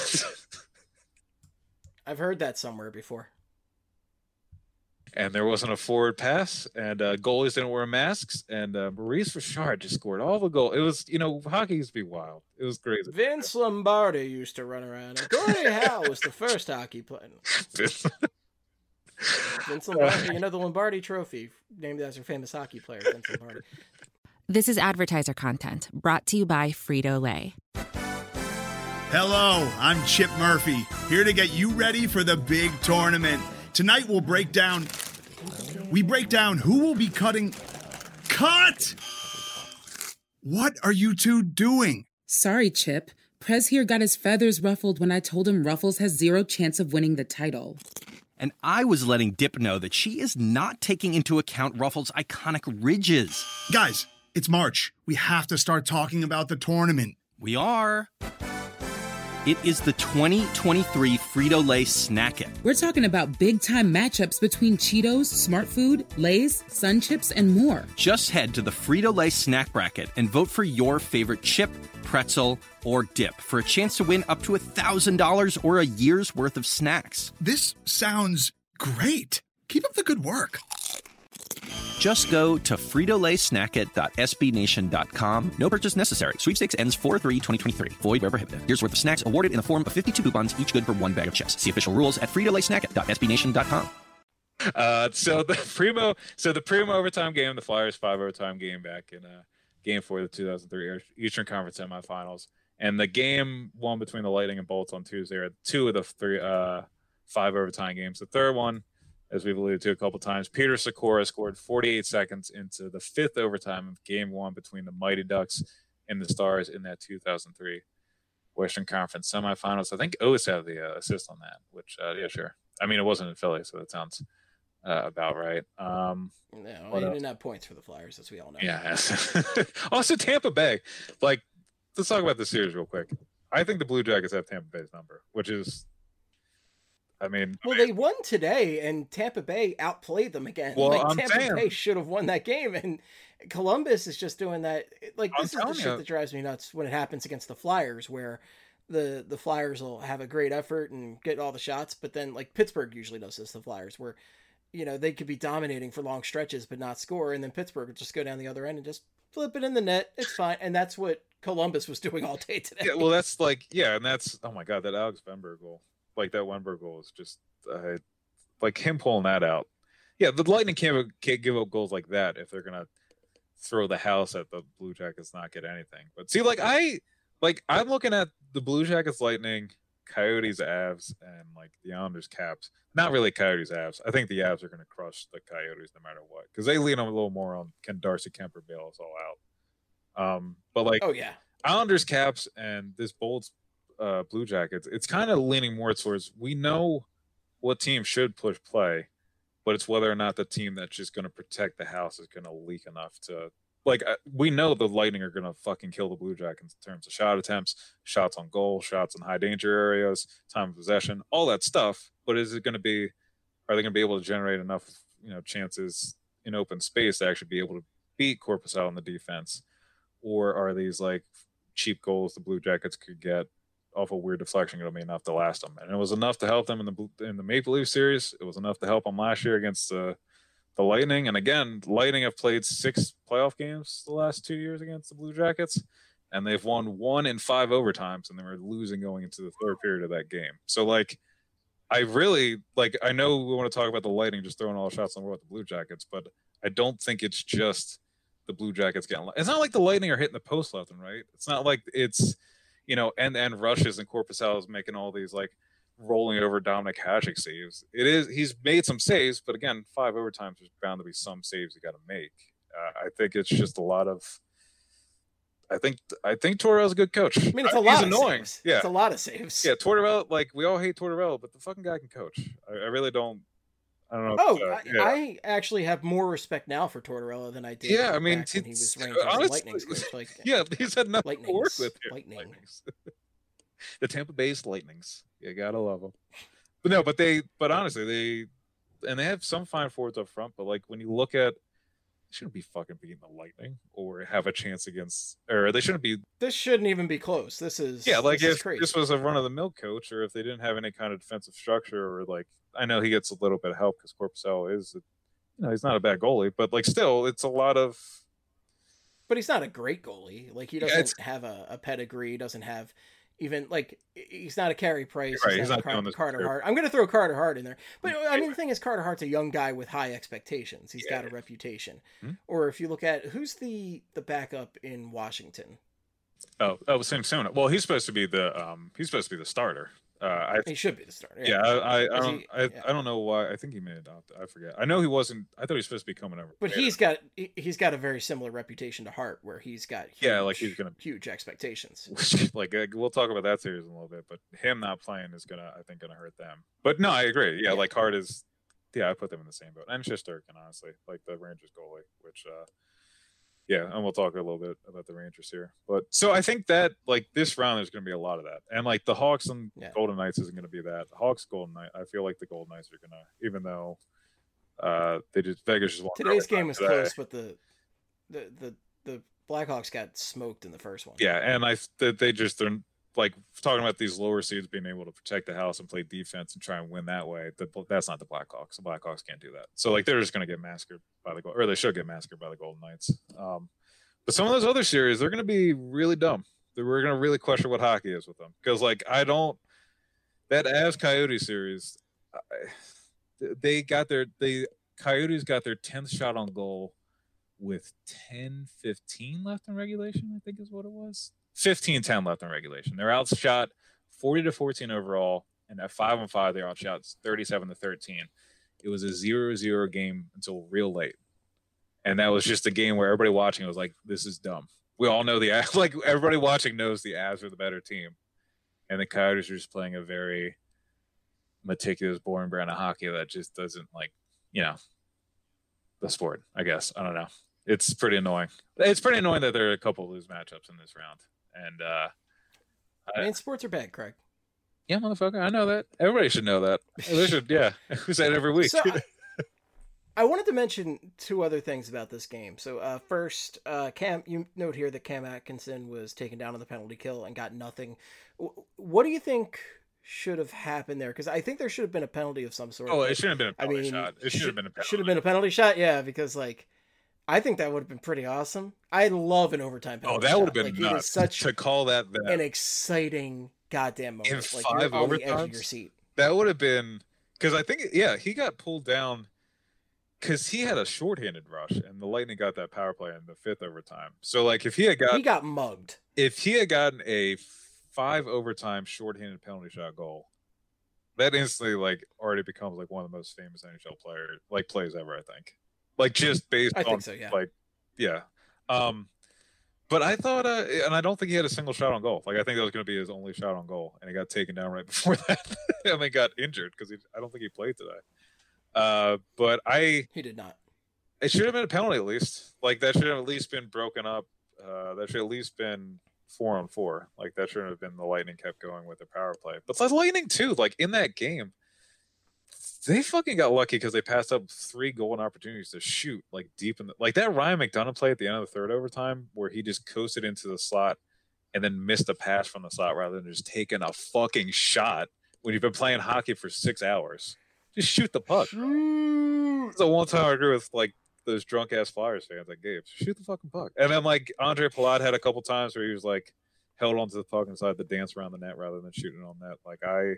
I've heard that somewhere before. And there wasn't a forward pass, and uh, goalies didn't wear masks, and uh, Maurice Richard just scored all the goals. It was, you know, hockey used to be wild. It was crazy. Vince Lombardi used to run around. And Gordie Howe was the first hockey player. Vince. Vince Lombardi, you know, the Lombardi Trophy, named after famous hockey player Vince Lombardi. This is advertiser content brought to you by Frito-Lay. Hello, I'm Chip Murphy, here to get you ready for the big tournament. Tonight we'll break down, we break down who will be cutting, cut! What are you two doing? Sorry, Chip. Prez here got his feathers ruffled when I told him Ruffles has zero chance of winning the title. And I was letting Dip know that she is not taking into account Ruffles' iconic ridges. Guys, it's March. We have to start talking about the tournament. We are. It is the twenty twenty-three Frito-Lay Snack It. We're talking about big-time matchups between Cheetos, Smart Food, Lay's, Sun Chips, and more. Just head to the Frito-Lay Snack Bracket and vote for your favorite chip, pretzel, or dip for a chance to win up to one thousand dollars or a year's worth of snacks. This sounds great. Keep up the good work. Just go to Frito Lay Snack It dot S B Nation dot com. No purchase necessary. Sweepstakes ends four three twenty twenty-three. Void where prohibited. Here's worth of snacks awarded in the form of fifty-two coupons, each good for one bag of chips. See official rules at Frito Lay Snack It dot S B Nation dot com. Uh, so the Primo, so the Primo overtime game, the Flyers five overtime game back in uh, game four of the two thousand three Eastern Conference semifinals, and the game one between the Lightning and Bolts on Tuesday are two of the three uh, five overtime games. The third one, as we've alluded to a couple times, Peter Sikora scored forty-eight seconds into the fifth overtime of game one between the Mighty Ducks and the Stars in that two thousand three Western Conference semifinals. I think Otis had the uh, assist on that, which, uh, yeah, sure. I mean, it wasn't in Philly, so that sounds uh, about right. Um, no, he didn't have points for the Flyers, as we all know. Yeah. Also, Tampa Bay. Like, let's talk about the series real quick. I think the Blue Jackets have Tampa Bay's number, which is, I mean, well, I mean, they won today, and Tampa Bay outplayed them again. Well, like I'm Tampa saying, Bay should have won that game, and Columbus is just doing that. Like this I'm is the you. shit that drives me nuts when it happens against the Flyers, where the the Flyers will have a great effort and get all the shots, but then like Pittsburgh usually does this. The Flyers, where you know they could be dominating for long stretches but not score, and then Pittsburgh would just go down the other end and just flip it in the net. It's fine, and that's what Columbus was doing all day today. Yeah, well, that's like, yeah, and that's, oh my God, that Alex Wenberg goal, like that Wenberg goal is just, uh, like him pulling that out. Yeah, the Lightning can't, can't give up goals like that if they're gonna throw the house at the Blue Jackets, not get anything. But see, like I, like I'm looking at the Blue Jackets, Lightning, Coyotes, Avs, and like the Islanders, Caps. Not really Coyotes, Avs. I think the Avs are gonna crush the Coyotes no matter what, because they lean a little more on can Darcy Kemper bail us all out. Um, but like, oh yeah, Islanders, Caps, and this bold uh, Blue Jackets, it's kind of leaning more towards we know what team should push play, but it's whether or not the team that's just going to protect the house is going to leak enough to, like, uh, we know the Lightning are going to fucking kill the Blue Jackets in terms of shot attempts, shots on goal, shots in high danger areas, time of possession, all that stuff. But is it going to be, are they going to be able to generate enough, you know, chances in open space to actually be able to beat Korpisalo in the defense? Or are these like cheap goals the Blue Jackets could get off a weird deflection going to be enough to last them? And it was enough to help them in the in the Maple Leaf series. It was enough to help them last year against the the Lightning. And again, Lightning have played six playoff games the last two years against the Blue Jackets, and they've won one in five overtimes, and they were losing going into the third period of that game. So like, I really like. I know we want to talk about the Lightning just throwing all the shots on with the Blue Jackets, but I don't think it's just the Blue Jackets getting. It's not like the Lightning are hitting the post left and right. It's not like it's, you know, end and rushes and Korpisalo is making all these like rolling over Dominic Hasek saves. It is he's made some saves, but again, five overtimes, there's bound to be some saves you got to make. Uh, I think it's just a lot of. I think I think Tortorella's a good coach. I mean, it's a he's lot annoying. of saves. Yeah, it's a lot of saves. Yeah, Tortorella. Like we all hate Tortorella, but the fucking guy can coach. I, I really don't. I don't know. Oh, uh, I, yeah. I actually have more respect now for Tortorella than I did. Yeah, I mean, back when he was ranked honestly, as Lightning's coach. Like, yeah, he's had nothing Lightnings, to work with here. Lightning. Lightnings. The Tampa Bay's Lightnings. You gotta love them. But no, but they, but honestly, they, and they have some fine forwards up front. But like when you look at, they shouldn't be fucking beating the Lightning or have a chance against, or they shouldn't be. This shouldn't even be close. This is yeah, like this if is crazy. this was a run of the mill coach, or if they didn't have any kind of defensive structure, or like I know he gets a little bit of help because Korpisalo is, you know, he's not a bad goalie, but like still, it's a lot of. But he's not a great goalie. Like he Yeah, doesn't it's- have a, a pedigree. He doesn't have even like he's not a Carey Price. Right, he's, he's not, not Car- doing this Carter career. Hart. I'm going to throw Carter Hart in there. But I mean, the thing is, Carter Hart's a young guy with high expectations. He's Yeah. got a reputation. Hmm? Or if you look at who's the the backup in Washington, Oh, oh, Sam Sona. Well, he's supposed to be the um, he's supposed to be the starter. Uh, I he should be the starter. yeah, I I, I Is don't he- I, yeah. I don't know why. I think he may adopt. I forget. I know he wasn't. I thought he was supposed to be coming over. But later. he's got he- he's got a very similar reputation to Hart, where he's got huge, Yeah, like he's gonna- huge expectations. Which, like uh, we'll talk about that series in a little bit, but him not playing is gonna, I think, gonna hurt them. But no, I agree. Yeah, Yeah. like Hart is. Yeah, I put them in the same boat, and Shesterkin, honestly, like the Rangers goalie, which. uh Yeah, and we'll talk a little bit about the Rangers here. But so I think that like this round, there's going to be a lot of that, and like the Hawks and Yeah. Golden Knights isn't going to be that. The Hawks, Golden Knights, I feel like the Golden Knights are going to, even though uh they just Vegas just won. Today's game was today. close, but the the the the Blackhawks got smoked in the first one. Yeah, and I they, they just they're like talking about these lower seeds being able to protect the house and play defense and try and win that way. The, that's not the Blackhawks. The Blackhawks can't do that. So like they're just going to get massacred by the or they should get massacred by the Golden Knights. Um, But some of those other series, they're going to be really dumb. We're going to really question what hockey is with them. Because, like, I don't – that Avs Coyote series, I, they got their – they Coyotes got their tenth shot on goal with ten fifteen left in regulation, I think is what it was. fifteen ten left in regulation. They're outshot forty to fourteen overall, and at five on five, they're outshot thirty-seven to thirteen. It was a zero zero game until real late. And that was just a game where everybody watching was like, this is dumb. We all know the Avs, like everybody watching knows the Avs are the better team. And the Coyotes are just playing a very meticulous, boring brand of hockey that just doesn't like, you know, the sport, I guess. I don't know. It's pretty annoying. It's pretty annoying that there are a couple of lose matchups in this round. And uh, I mean, sports are bad, Craig. Yeah, motherfucker. I know that. Everybody should know that. They should, yeah. We say it every week. So, I, I wanted to mention two other things about this game. So, uh, first, uh, Cam, you note here that Cam Atkinson was taken down on the penalty kill and got nothing. What do you think should have happened there? Because I think there should have been a penalty of some sort. Oh, it shouldn't have been a penalty I mean, shot. It should, should have been a penalty. Should have been a penalty shot, yeah, because, like, I think that would have been pretty awesome. I love an overtime penalty. Oh, that would have been like, nuts. It is such to call that, that an exciting goddamn moment. In like five you're on the overtimes? edge of your seat. That would have been because I think yeah he got pulled down because he had a shorthanded rush and the Lightning got that power play in the fifth overtime. So like if he had got he got mugged. If he had gotten a five overtime shorthanded penalty shot goal, that instantly like already becomes like one of the most famous N H L player like plays ever. I think like just based I on think so, yeah. like yeah. Um, But I thought, uh, and I don't think he had a single shot on goal. Like I think that was going to be his only shot on goal, and he got taken down right before that, and then got injured because I don't think he played today. Uh, but I, he did not. It should have been a penalty at least. Like that should have at least been broken up. Uh, that should have at least been four on four. Like that shouldn't have been the Lightning kept going with the power play. But the Lightning too. Like in that game, they fucking got lucky because they passed up three golden opportunities to shoot like deep in the like that Ryan McDonough play at the end of the third overtime where he just coasted into the slot and then missed a pass from the slot rather than just taking a fucking shot when you've been playing hockey for six hours. Just shoot the puck. It's the one time I agree with like those drunk ass Flyers fans like Gabe. Shoot the fucking puck. And then like Andre Palat had a couple times where he was like held onto the puck and decided to dance around the net rather than shooting on net. Like I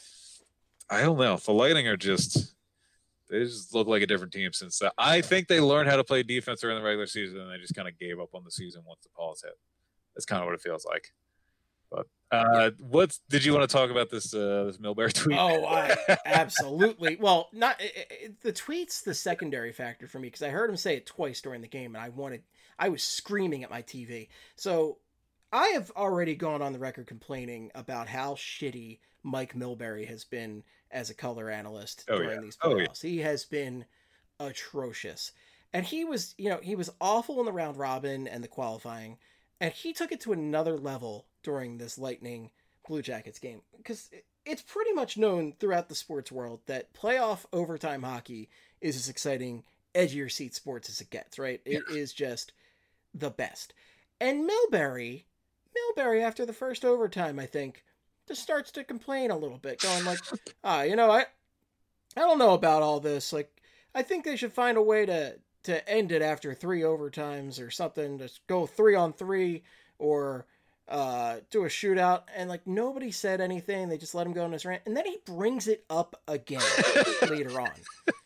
I don't know. The Lightning are just they just look like a different team since that. I think they learned how to play defense during the regular season and they just kind of gave up on the season once the calls hit. That's kind of what it feels like. But uh, what's did you want to talk about this uh, this Milbury tweet? Oh, I, absolutely. Well, not it, it, the tweet's the secondary factor for me because I heard him say it twice during the game, and I wanted I was screaming at my T V. So I have already gone on the record complaining about how shitty Mike Milbury has been as a color analyst oh, during yeah. these oh, playoffs. Yeah. He has been atrocious, and he was you know he was awful in the round robin and the qualifying. And he took it to another level during this Lightning Blue Jackets game. Because it's pretty much known throughout the sports world that playoff overtime hockey is as exciting, edgier seat sports as it gets, right? It yeah. is just the best. And Milbury, Milbury after the first overtime, I think, just starts to complain a little bit, going like, ah, you know, I, I don't know about all this. Like, I think they should find a way to... to end it after three overtimes or something, to go three on three or uh, do a shootout. And like nobody said anything. They just let him go on his rant. And then he brings it up again later on.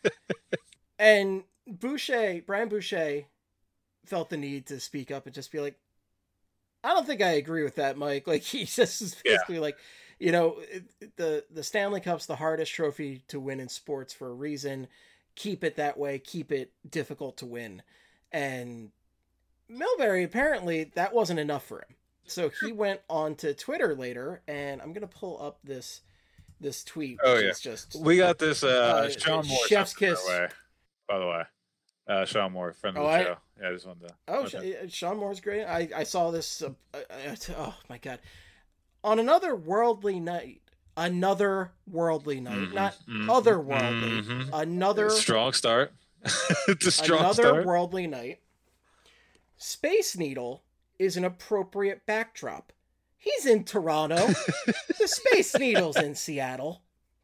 And Boucher, Brian Boucher felt the need to speak up and just be like, I don't think I agree with that, Mike. Like he just is basically yeah. like, you know, the, the Stanley Cup's the hardest trophy to win in sports for a reason. Keep it that way. Keep it difficult to win. And Milbury, apparently, that wasn't enough for him. So he went on to Twitter later, and I'm going to pull up this this tweet. Oh, which yeah. Is just, we got this uh, uh, Sean Moore. Chef's kiss. Way, by the way. Uh, Sean Moore, friend of oh, the I, show. Yeah, I just wanted to. Oh, Sh- Sean Moore's great. I, I saw this. Uh, uh, oh, my God. On another worldly night, Another worldly night, mm-hmm, not mm-hmm, otherworldly. Mm-hmm. Another strong start. It's a strong another start. worldly night. Space Needle is an appropriate backdrop. He's in Toronto. The Space Needle's in Seattle.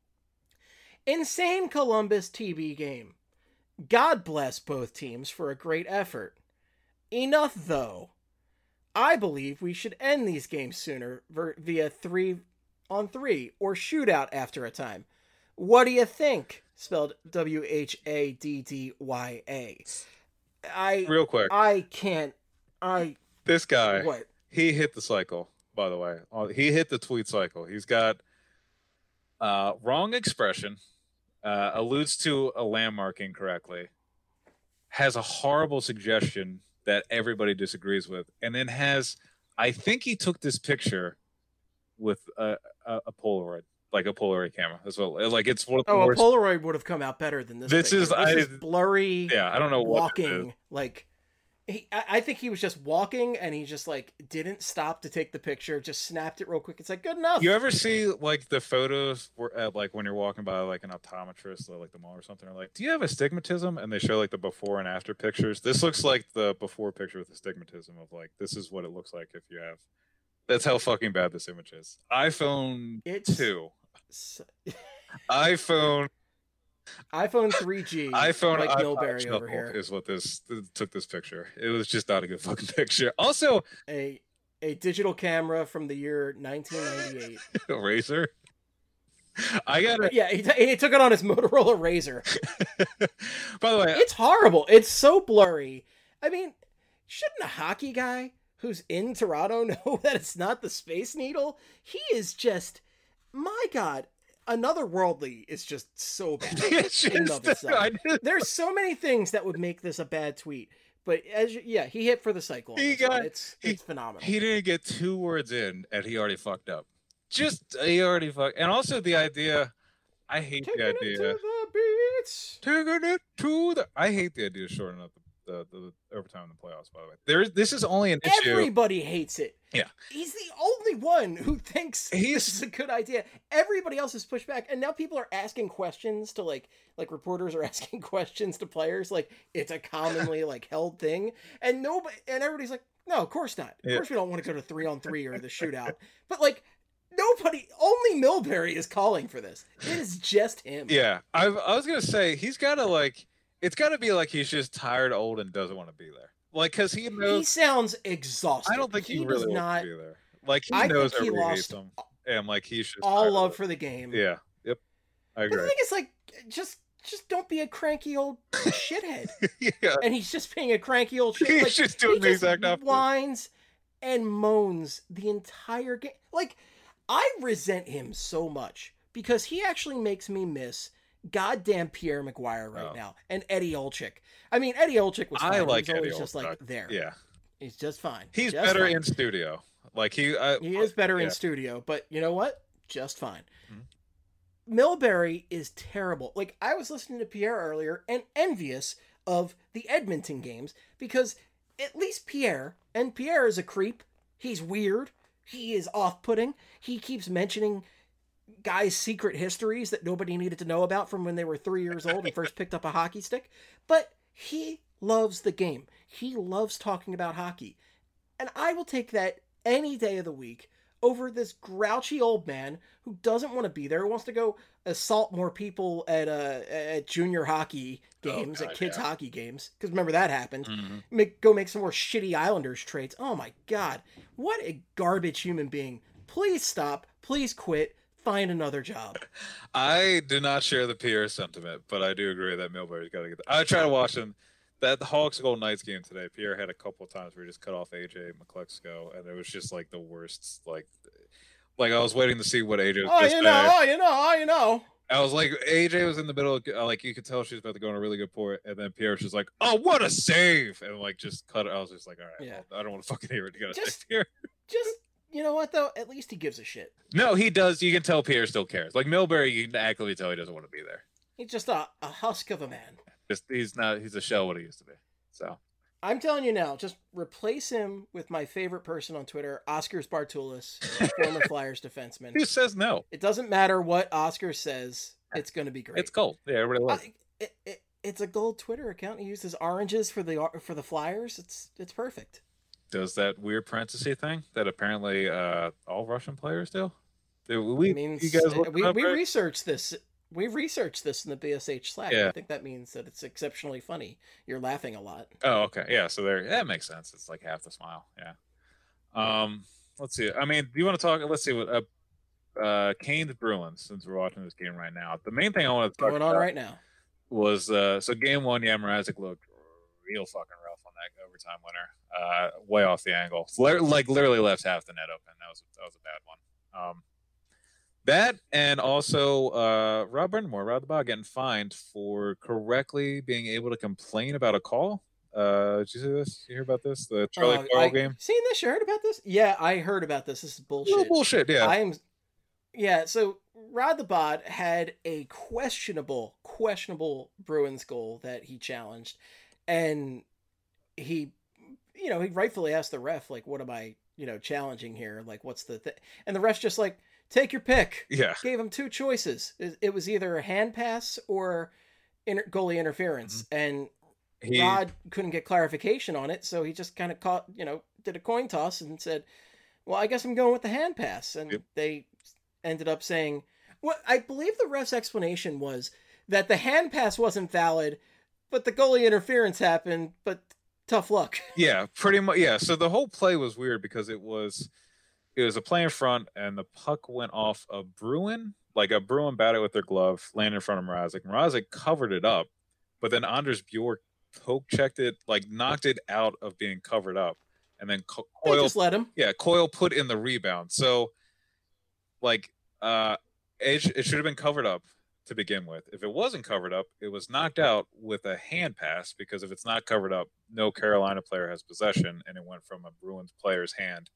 Insane Columbus T V game. God bless both teams for a great effort. Enough though. I believe we should end these games sooner via three. on three, or shootout after a time. What do you think? Spelled W H A D D Y A. I Real quick. I can't. I. This guy. What? He hit the cycle, by the way. He hit the tweet cycle. He's got uh, wrong expression, uh, alludes to a landmark incorrectly, has a horrible suggestion that everybody disagrees with, and then has, I think he took this picture with a, a, a Polaroid. like a Polaroid camera. That's what like it's one of the oh, worst. a Polaroid would have come out better than this. This thing. is this I, is blurry. Yeah, I don't know what walking like. He, I, I think he was just walking, and he just like didn't stop to take the picture. Just snapped it real quick. It's like good enough. You ever see like the photos where, at, like when you're walking by like an optometrist, or, like the mall or something? Or like, do you have astigmatism? And they show like the before and after pictures. This looks like the before picture with astigmatism of like this is what it looks like if you have. That's how fucking bad this image is. iPhone It's... two, iPhone. iPhone three G, iPhone like iPod Milbury Shuffle over here is what this took this picture. It was just not a good fucking picture. Also, a a digital camera from the year nineteen ninety-eight. A Razor. I got it. Yeah, he, t- he took it on his Motorola Razor. By the way, it's horrible. It's so blurry. I mean, shouldn't a hockey guy who's in Toronto know that it's not the Space Needle? He is just, my God. Another Worldly is just so bad in and of itself. There's so many things that would make this a bad tweet, but as you, yeah, he hit for the cycle. He got it's he, it's phenomenal. He didn't get two words in, and he already fucked up. Just he already fucked. And also the idea, I hate Taking the idea. It to the beats. Taking it to the. I hate the idea of shortening up the, the, the overtime in the playoffs. By the way, there this is only an issue. Everybody hates it. Yeah, he's the only one who thinks he's, this is a good idea. Everybody else is pushed back, and now people are asking questions to like, like reporters are asking questions to players. Like it's a commonly like held thing, and nobody, and everybody's like, no, of course not. Of yeah. course we don't want to go to three on three or the shootout. But like nobody, only Milbury is calling for this. It is just him. Yeah, I, I was gonna say he's got to like, it's got to be like he's just tired, old, and doesn't want to be there. Like, cause he knows he sounds exhausted. I don't think he, he really does wants not to be there. Like he I knows think he everybody lost hates him, and like he's just all love for the game. Yeah, yep, I agree. But the thing is, like, just just don't be a cranky old shithead. Yeah, and he's just being a cranky old shit. He's like, just doing he the just exact opposite. Whines and moans the entire game. Like, I resent him so much because he actually makes me miss goddamn Pierre Maguire right oh. now and Eddie Olczyk. I mean, Eddie Olczyk was fine. I like he was Eddie always just Olczyk. like there. Yeah, he's just fine. He's just better fine. in studio. Like he, I, he is better yeah. in studio. But you know what? Just fine. Mm-hmm. Milbury is terrible. Like I was listening to Pierre earlier and envious of the Edmonton games because at least Pierre, and Pierre is a creep. He's weird. He is off-putting. He keeps mentioning guys' secret histories that nobody needed to know about from when they were three years old and first picked up a hockey stick. But he loves the game. He loves talking about hockey. And I will take that any day of the week over this grouchy old man who doesn't want to be there, who wants to go assault more people at uh, at junior hockey games, oh, God, at kids' yeah. hockey games. Because remember that happened. Mm-hmm. Make, go make some more shitty Islanders trades. Oh my God. What a garbage human being. Please stop. Please quit. Find another job. I do not share the Pierre sentiment, but I do agree that Milbury's got to get that. I try to watch him. That the Hawks Golden Knights game today, Pierre had a couple of times where he just cut off A J McClexco, and it was just like the worst. Like, like I was waiting to see what A J was Oh, you know, oh, you know, oh, you know. I was like, A J was in the middle, of, like you could tell she was about to go on a really good point, and then Pierre was just like, "Oh, what a save!" and like just cut it. I was just like, "All right, yeah. well, I don't want to fucking hear it. You gotta just, say Pierre." Just you know what though? At least he gives a shit. No, he does. You can tell Pierre still cares. Like Milbury, you can actively tell he doesn't want to be there. He's just a, a husk of a man. Just he's not. He's a shell what he used to be. So I'm telling you now, just replace him with my favorite person on Twitter, Oscars Bartulis, former Flyers defenseman. Who says no? It doesn't matter what Oscar says. It's going to be great. It's gold. Yeah, everybody loves it. It, it. It's a gold Twitter account. He uses oranges for the for the Flyers. It's it's perfect. Does that weird parenthesis thing that apparently uh, all Russian players do? do we, means, you guys we, up, we right? researched this. We researched this in the B S H Slack. Yeah. I think that means that it's exceptionally funny. You're laughing a lot. Oh, okay. Yeah, so there that makes sense. It's like half the smile. Yeah. Um, let's see. I mean, do you want to talk? Let's see what uh, uh, Canes Bruins. Since we're watching this game right now, the main thing I want to talk going about on right now was uh, so game one. Yeah, Mrazek looked real fucking rough on that overtime winner. Uh, way off the angle, like literally left half the net open. That was that was a bad one. Um. That and also uh, Rob Brindamore, Rob the Bog, getting fined for correctly being able to complain about a call. Uh, did you see this? You hear about this? The Charlie uh, Coyle I, game? Seen this? You heard about this? Yeah, I heard about this. This is bullshit. Bullshit, yeah. I'm, yeah, so Rod the Bod had a questionable, questionable Bruins goal that he challenged, and he, you know, he rightfully asked the ref, like, what am I, you know, challenging here? Like, what's the thing? And the ref's just like, take your pick. Yeah. Gave him two choices. It, it was either a hand pass or inter- goalie interference. Mm-hmm. And he... Rod couldn't get clarification on it, so he just kind of caught, you know, did a coin toss and said, well, I guess I'm going with the hand pass. And yep. they ended up saying, well, I believe the ref's explanation was that the hand pass wasn't valid, but the goalie interference happened, but tough luck. Yeah, pretty much. Yeah. So the whole play was weird because it was, it was a play in front and the puck went off a Bruin, like a Bruin batted with their glove, landed in front of Mrazek. Mrazek covered it up, but then Anders Bjork poke checked it, like knocked it out of being covered up. And then Co- Coyle they just let him. Yeah, Coyle put in the rebound. So, like, uh, it, it should have been covered up to begin with. If it wasn't covered up, it was knocked out with a hand pass, because if it's not covered up, no Carolina player has possession, and it went from a Bruins player's hand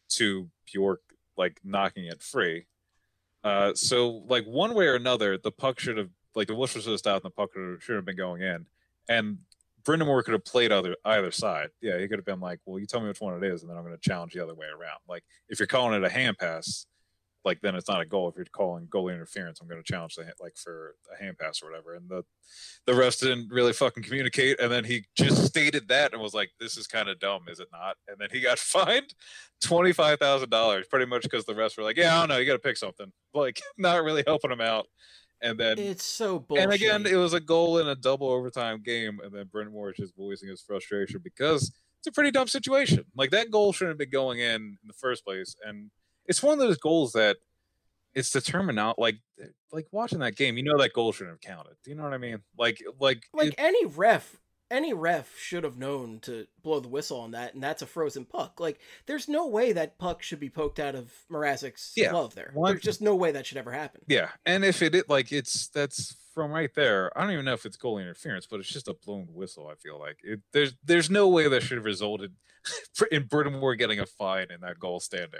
to Bjork, like, knocking it free. Uh, so, like, one way or another, the puck should have, like, the whistle should have stopped and the puck should have been going in. And Brind'Amour could have played either either side. Yeah, he could have been like, well, you tell me which one it is, and then I'm going to challenge the other way around. Like, if you're calling it a hand pass, like, then it's not a goal. If you're calling goalie interference, I'm going to challenge the, like, for a hand pass or whatever. And the the rest didn't really fucking communicate. And then he just stated that and was like, this is kind of dumb, is it not? And then he got fined twenty-five thousand dollars, pretty much because the refs were like, yeah, I don't know, you got to pick something. Like, not really helping him out. And then it's so bullshit. And again, it was a goal in a double overtime game, and then Brind'Amour is just voicing his frustration because it's a pretty dumb situation. Like, that goal shouldn't have been going in in the first place, and it's one of those goals that it's determined out. Like, like watching that game, you know that goal shouldn't have counted. Do you know what I mean? Like, like, like it, any ref. Any ref should have known to blow the whistle on that, and that's a frozen puck. Like, there's no way that puck should be poked out of Mrazek's yeah, glove there. one, There's just no way that should ever happen. Yeah, and if it, it, like, it's, that's from right there, I don't even know if it's goalie interference, but it's just a blown whistle, I feel like. It, there's there's no way that should have resulted in Brind'Amour getting a fine in that goal standing.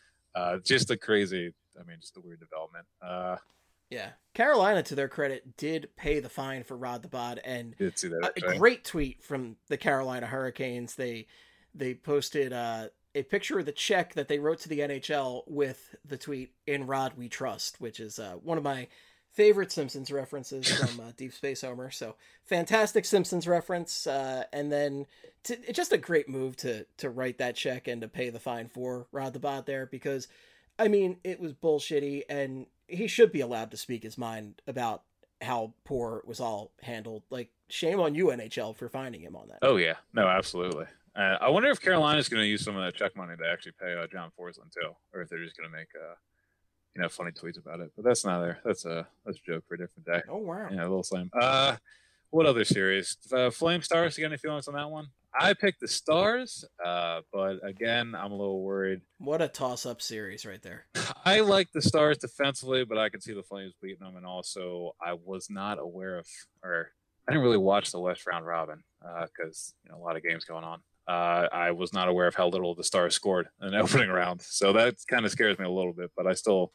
Uh, just a crazy, I mean, just a weird development. Uh, Yeah. Carolina, to their credit, did pay the fine for Rod the Bod, and did see that, a, a great tweet from the Carolina Hurricanes. They they posted uh, a picture of the check that they wrote to the N H L with the tweet, "In Rod We Trust," which is uh, one of my favorite Simpsons references from uh, Deep Space Homer. So fantastic Simpsons reference, uh, and then to, it's just a great move to to write that check and to pay the fine for Rod the Bod there, because, I mean, it was bullshitty, and he should be allowed to speak his mind about how poor it was all handled. Like, shame on you, N H L, for finding him on that. Oh, yeah. No, absolutely. Uh, I wonder if Carolina's going to use some of that check money to actually pay uh, John Forsland, too, or if they're just going to make, uh, you know, funny tweets about it. But that's not there. That's a, that's a joke for a different day. Oh, wow. Yeah, a little slam. Uh, what other series? Uh, Flame Stars, you got any feelings on that one? I picked the Stars, uh, but again, I'm a little worried. What a toss-up series right there. I like the Stars defensively, but I can see the Flames beating them. And also, I was not aware of, or I didn't really watch the West round robin because uh, you know, a lot of games going on. Uh, I was not aware of how little the Stars scored in the opening round, so that kind of scares me a little bit. But I still,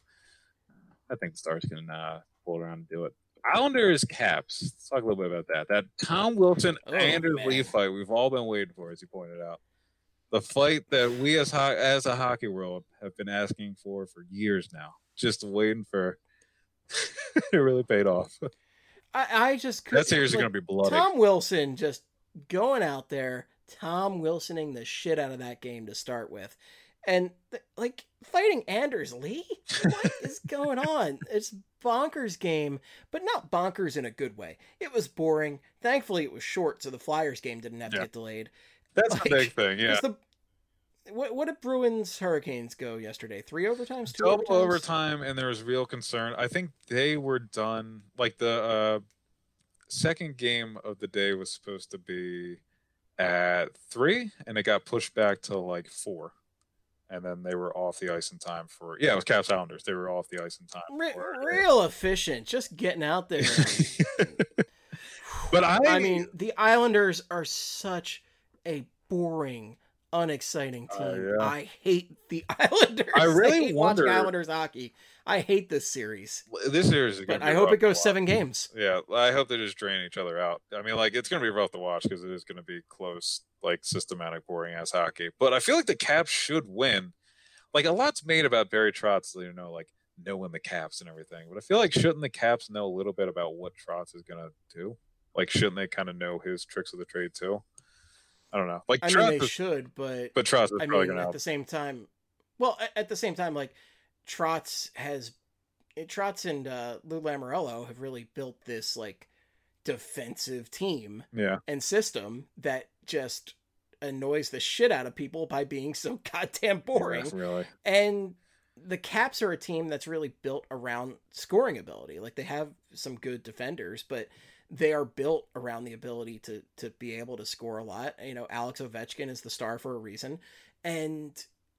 I think the Stars can uh, pull it around and do it. Islanders Caps. Let's talk a little bit about that. That Tom Wilson oh, Anders man. Lee fight we've all been waiting for, as you pointed out. The fight that we as ho- as a hockey world have been asking for for years now, just waiting for. It really paid off. I, I just couldn't. That series like, is going to be bloody. Tom Wilson just going out there, Tom Wilsoning the shit out of that game to start with. And, th- like, fighting Anders Lee? What is going on? It's bonkers game, but not bonkers in a good way. It was boring. Thankfully, it was short, so the Flyers game didn't have yeah. to get delayed. That's like, the big thing, yeah. The, what, what did Bruins Hurricanes go yesterday? Three overtimes? Two Double overtimes? overtime, and there was real concern. I think they were done, like, the uh, second game of the day was supposed to be at three, and it got pushed back to, like, four. And then they were off the ice in time for, yeah, it was Caps Islanders. They were off the ice in time. Re- for, real efficient, just getting out there. But I, I mean, the Islanders are such a boring, unexciting team. Uh, yeah. I hate the Islanders. I really I hate wonder watching Islanders hockey. I hate this series. This series is but gonna be I hope rough it goes to seven watch. games. Yeah, I hope they just drain each other out. I mean, like, it's going to be rough to watch because it is going to be close, like, systematic, boring-ass hockey. But I feel like the Caps should win. Like, a lot's made about Barry Trotz, you know, like, knowing the Caps and everything. But I feel like shouldn't the Caps know a little bit about what Trotz is going to do? Like, shouldn't they kind of know his tricks of the trade, too? I don't know. Like, I Trotz mean, they is, should, but... But Trotz is I probably mean, going to at help. the same time... Well, at the same time, like, Trotz has... Trotz and uh, Lou Lamoriello have really built this, like, defensive team Yeah. and system that just annoys the shit out of people by being so goddamn boring. Yeah, really. And the Caps are a team that's really built around scoring ability. Like, they have some good defenders, but they are built around the ability to to be able to score a lot. You know, Alex Ovechkin is the star for a reason. And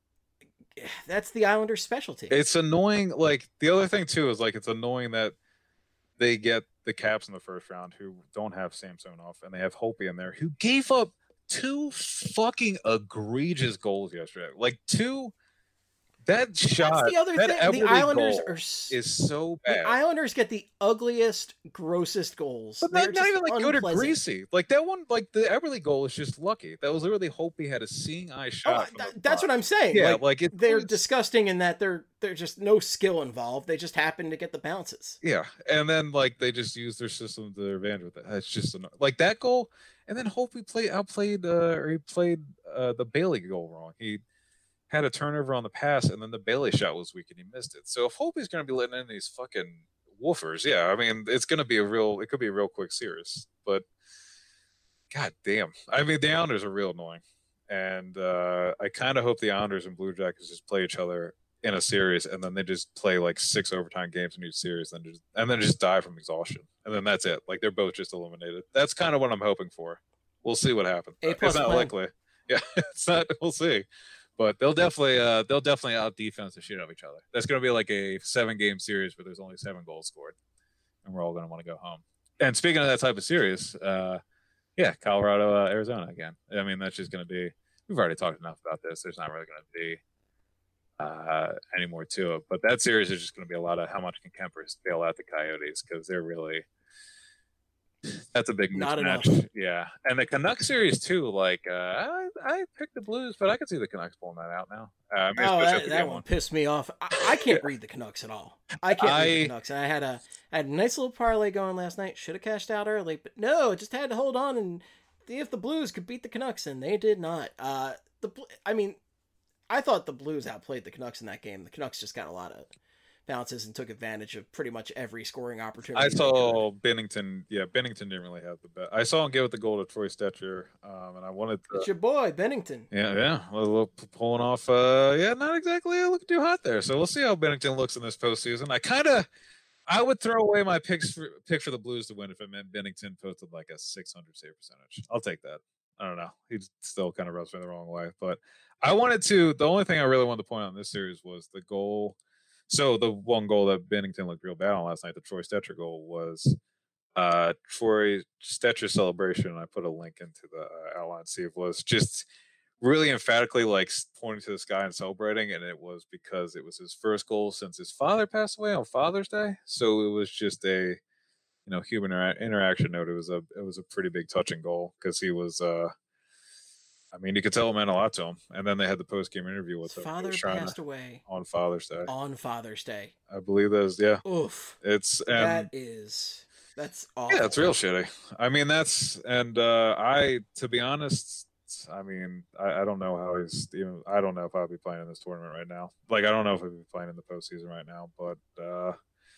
that's the Islanders' specialty. It's annoying. Like, the other thing, too, is, like, it's annoying that they get the Caps in the first round who don't have Samsonov, and they have Holtby in there, who gave up two fucking egregious goals yesterday. Like, two... That shot, That's the other that thing. The Eberle Islanders goal are is so the bad. Islanders get the ugliest, grossest goals. But They're not, not just even like good or unpleasant. greasy. Like that one, like the Eberle goal is just lucky. That was literally Holtby had a seeing eye Oh, shot. from th- the that's front. what I'm saying. Yeah, like, like it, they're it's- disgusting in that they're there's just no skill involved. They just happen to get the bounces. Yeah, and then like they just use their system to their advantage with it. It's just anno- like that goal, and then Holtby played outplayed, uh, or he played uh, the Bailey goal wrong. He had a turnover on the pass, and then the Bailey shot was weak, and he missed it. So if Holtby's going to be letting in these fucking woofers, yeah, I mean, it's going to be a real, it could be a real quick series. But god damn, I mean, the Islanders are real annoying, and uh, I kind of hope the Islanders and Blue Jackets just play each other in a series, and then they just play like six overtime games in each series, and just and then just die from exhaustion, and then that's it. Like they're both just eliminated. That's kind of what I'm hoping for. We'll see what happens. A plus it's not plan. likely. Yeah, it's not. We'll see. But they'll definitely, uh, they'll definitely out defense the shit out of each other. That's going to be like a seven game series where there's only seven goals scored, and we're all going to want to go home. And speaking of that type of series, uh, yeah, Colorado, uh, Arizona again. I mean, that's just going to be. We've already talked enough about this. There's not really going to be uh, any more to it. But that series is just going to be a lot of how much can Kemper bail out the Coyotes, because they're really. That's a big Not mismatch. enough. Yeah, and the Canucks series too. Like uh, I, I picked the Blues, but I could see the Canucks pulling that out now. Uh, I mean, Oh, especially that, if they that get one one. pissed me off. I, I can't read the Canucks at all. I can't read the I- Canucks. And I had a I had a nice little parlay going last night. Should have cashed out early, but no, just had to hold on and see if the Blues could beat the Canucks, and they did not. Uh, the Bl- I mean, I thought the Blues outplayed the Canucks in that game. The Canucks just got a lot of bounces and took advantage of pretty much every scoring opportunity. I they saw Bennington. Yeah, Bennington didn't really have the bet. I saw him give it the goal to Troy Stetcher, um, and I wanted could. It's to. your boy Bennington. Yeah, yeah, a little p- pulling off. Uh, yeah, not exactly looking too hot there. So we'll see how Bennington looks in this postseason. I kind of, I would throw away my picks for pick for the Blues to win if it meant Bennington posted like a six hundred save percentage. I'll take that. I don't know. He still kind of rubs me the wrong way, but I wanted to. The only thing I really wanted to point out in this series was the goal. So the one goal that Bennington looked real bad on last night, the Troy Stetcher goal, was uh, Troy Stetcher's celebration. And I put a link into the uh, outline to see if it was just really emphatically like pointing to the sky and celebrating, and it was because it was his first goal since his father passed away on Father's Day. So it was just a you know human intera- interaction note. It was a it was a pretty big touching goal because he was. Uh, I mean, you could tell it meant a lot to him. And then they had the post game interview with His him. He father was trying passed to- away on Father's Day. on Father's Day. I believe that is yeah. Oof. It's and that is that's awful. yeah, it's real shitty. I mean, that's and uh I to be honest, I mean, I, I don't know how he's even. I don't know if I'll be playing in this tournament right now. Like, I don't know if I'll be playing in the postseason right now. But uh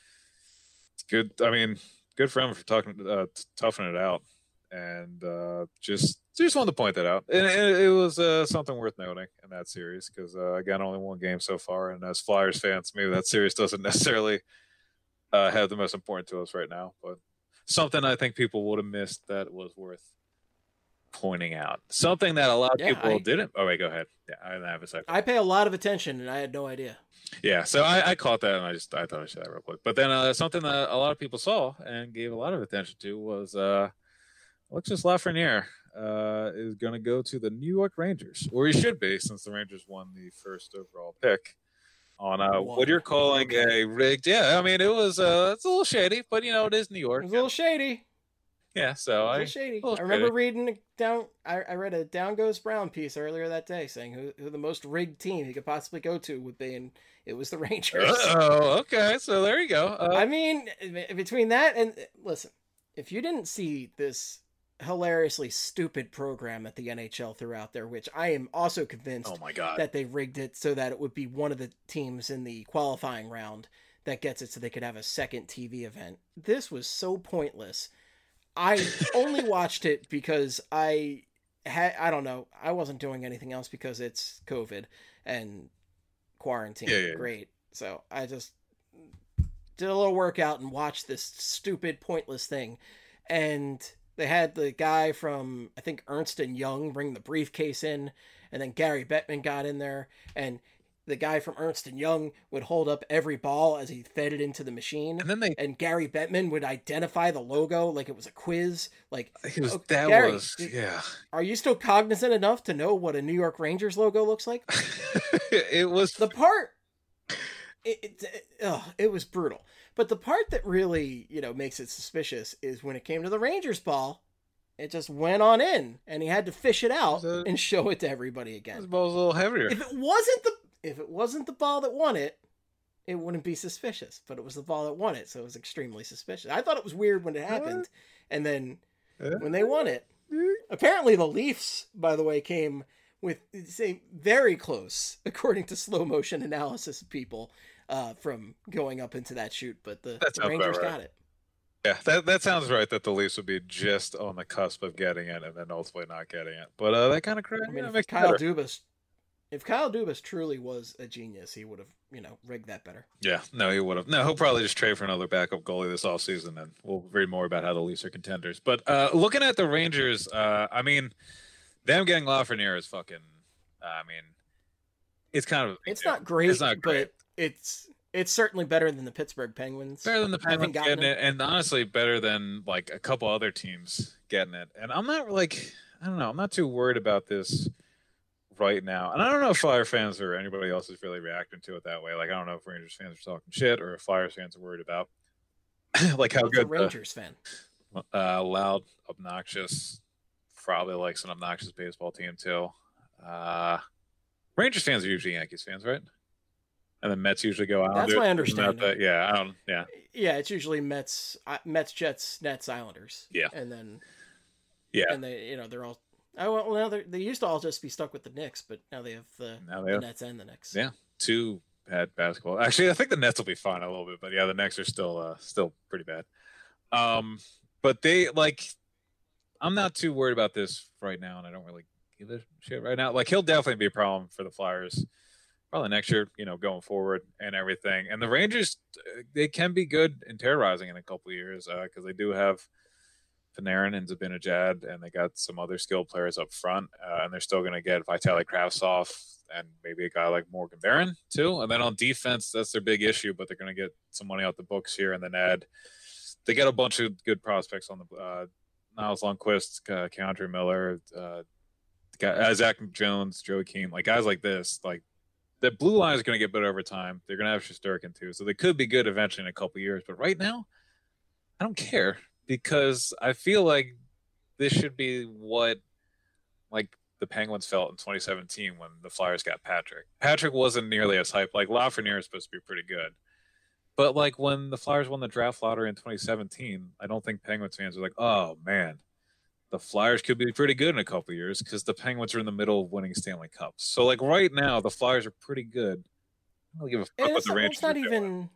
it's good. I mean, good for him for talking, uh, t- toughing it out, and uh just just wanted to point that out. And it, it was uh, something worth noting in that series because uh, again, only one game so far, and as Flyers fans, maybe that series doesn't necessarily uh, have the most important to us right now, but something I think people would have missed that was worth pointing out. Something that a lot of Yeah, people I- didn't. Oh wait, go ahead. Yeah, I didn't have a second. I pay a lot of attention, and I had no idea. Yeah, so I, I caught that, and I just I thought I'd say that real quick. But then uh, something that a lot of people saw and gave a lot of attention to was uh, Alexis Lafreniere uh, is going to go to the New York Rangers, or he should be, since the Rangers won the first overall pick on uh, what you're calling okay. a rigged. Yeah, I mean, it was uh, it's a little shady, but you know, it is New York. It was a little shady. Yeah, so I, shady. I remember shady. reading down. I, I read a Down Goes Brown piece earlier that day saying who, who the most rigged team he could possibly go to would be, and it was the Rangers. Oh, okay. So there you go. Uh, I mean, between that and listen, if you didn't see this hilariously stupid program at the N H L throughout there, which I am also convinced oh my God. that they rigged it so that it would be one of the teams in the qualifying round that gets it so they could have a second T V event. This was so pointless. I only watched it because I had, I don't know, I wasn't doing anything else because it's COVID and quarantine. Yeah, yeah, Great. So I just did a little workout and watched this stupid, pointless thing. And they had the guy from, I think, Ernst and Young bring the briefcase in, and then Gary Bettman got in there, and the guy from Ernst and Young would hold up every ball as he fed it into the machine. And then they and Gary Bettman would identify the logo like it was a quiz. Like it was, oh, that Gary, was yeah. Are you still cognizant enough to know what a New York Rangers logo looks like? It was the part. It, it, it, oh, it was brutal. But the part that really, you know, makes it suspicious is when it came to the Rangers ball, it just went on in, and he had to fish it out a, and show it to everybody again. This ball's a little heavier. If it wasn't the If it wasn't the ball that won it, it wouldn't be suspicious. But it was the ball that won it, so it was extremely suspicious. I thought it was weird when it happened, and then when they won it, apparently the Leafs, by the way, came with say very close, according to slow motion analysis people, uh, from going up into that shoot. But the, the Rangers right. got it. Yeah, that that sounds right. That the Leafs would be just on the cusp of getting it, and then ultimately not getting it. But uh, that kind of crazy. I mean, if Kyle Dubas. If Kyle Dubas truly was a genius, he would have, you know, rigged that better. Yeah, no, he would have. No, he'll probably just trade for another backup goalie this offseason, and we'll read more about how the Leafs are contenders. But uh, looking at the Rangers, uh, I mean, them getting Lafreniere is fucking, uh, I mean, it's kind of... It's not great, it's not great. But it's it's certainly better than the Pittsburgh Penguins. Better than the Penguins getting it, and honestly, better than, like, a couple other teams getting it. And I'm not, like, I don't know, I'm not too worried about this right now, and I don't know if Flyer fans or anybody else is really reacting to it that way. Like, I don't know if Rangers fans are talking shit or if Flyers fans are worried about like how What's good a Rangers the, fan, uh, loud, obnoxious, probably likes an obnoxious baseball team too. Uh, Rangers fans are usually Yankees fans, right? And then Mets usually go out. That's my understanding. That, yeah, I don't. Yeah, yeah, it's usually Mets, uh, Mets, Jets, Nets, Islanders. Yeah, and then yeah, and they, you know, they're all. Oh, well, now they used to all just be stuck with the Knicks, but now they have the, now they the have, Nets and the Knicks. Yeah, two bad basketball. Actually, I think the Nets will be fine a little bit, but yeah, the Knicks are still uh, still pretty bad. Um, but they like, I'm not too worried about this right now, and I don't really give a shit right now. Like, he'll definitely be a problem for the Flyers, probably next year, you know, going forward and everything. And the Rangers, they can be good and terrorizing in a couple of years because uh, they do have Panarin and Zibanejad, and they got some other skilled players up front, uh, and they're still going to get Vitaly Kravtsov and maybe a guy like Morgan Barron too. And then on defense, that's their big issue, but they're going to get some money out the books here and then add. They get a bunch of good prospects on the uh, Niles Lundqvist, uh, Keandre Miller, uh, guy, uh, Zach Jones, Joe Keane, like guys like this. Like the blue line is going to get better over time. They're going to have Shesterkin too, so they could be good eventually in a couple years. But right now, I don't care. Because I feel like this should be what, like, the Penguins felt in twenty seventeen when the Flyers got Patrick. Patrick wasn't nearly as hyped. Like, Lafreniere is supposed to be pretty good. But, like, when the Flyers won the draft lottery in twenty seventeen, I don't think Penguins fans are like, oh, man, the Flyers could be pretty good in a couple of years because the Penguins are in the middle of winning Stanley Cups. So, like, right now, the Flyers are pretty good. I don't give a fuck what the Rangers are doing. Even,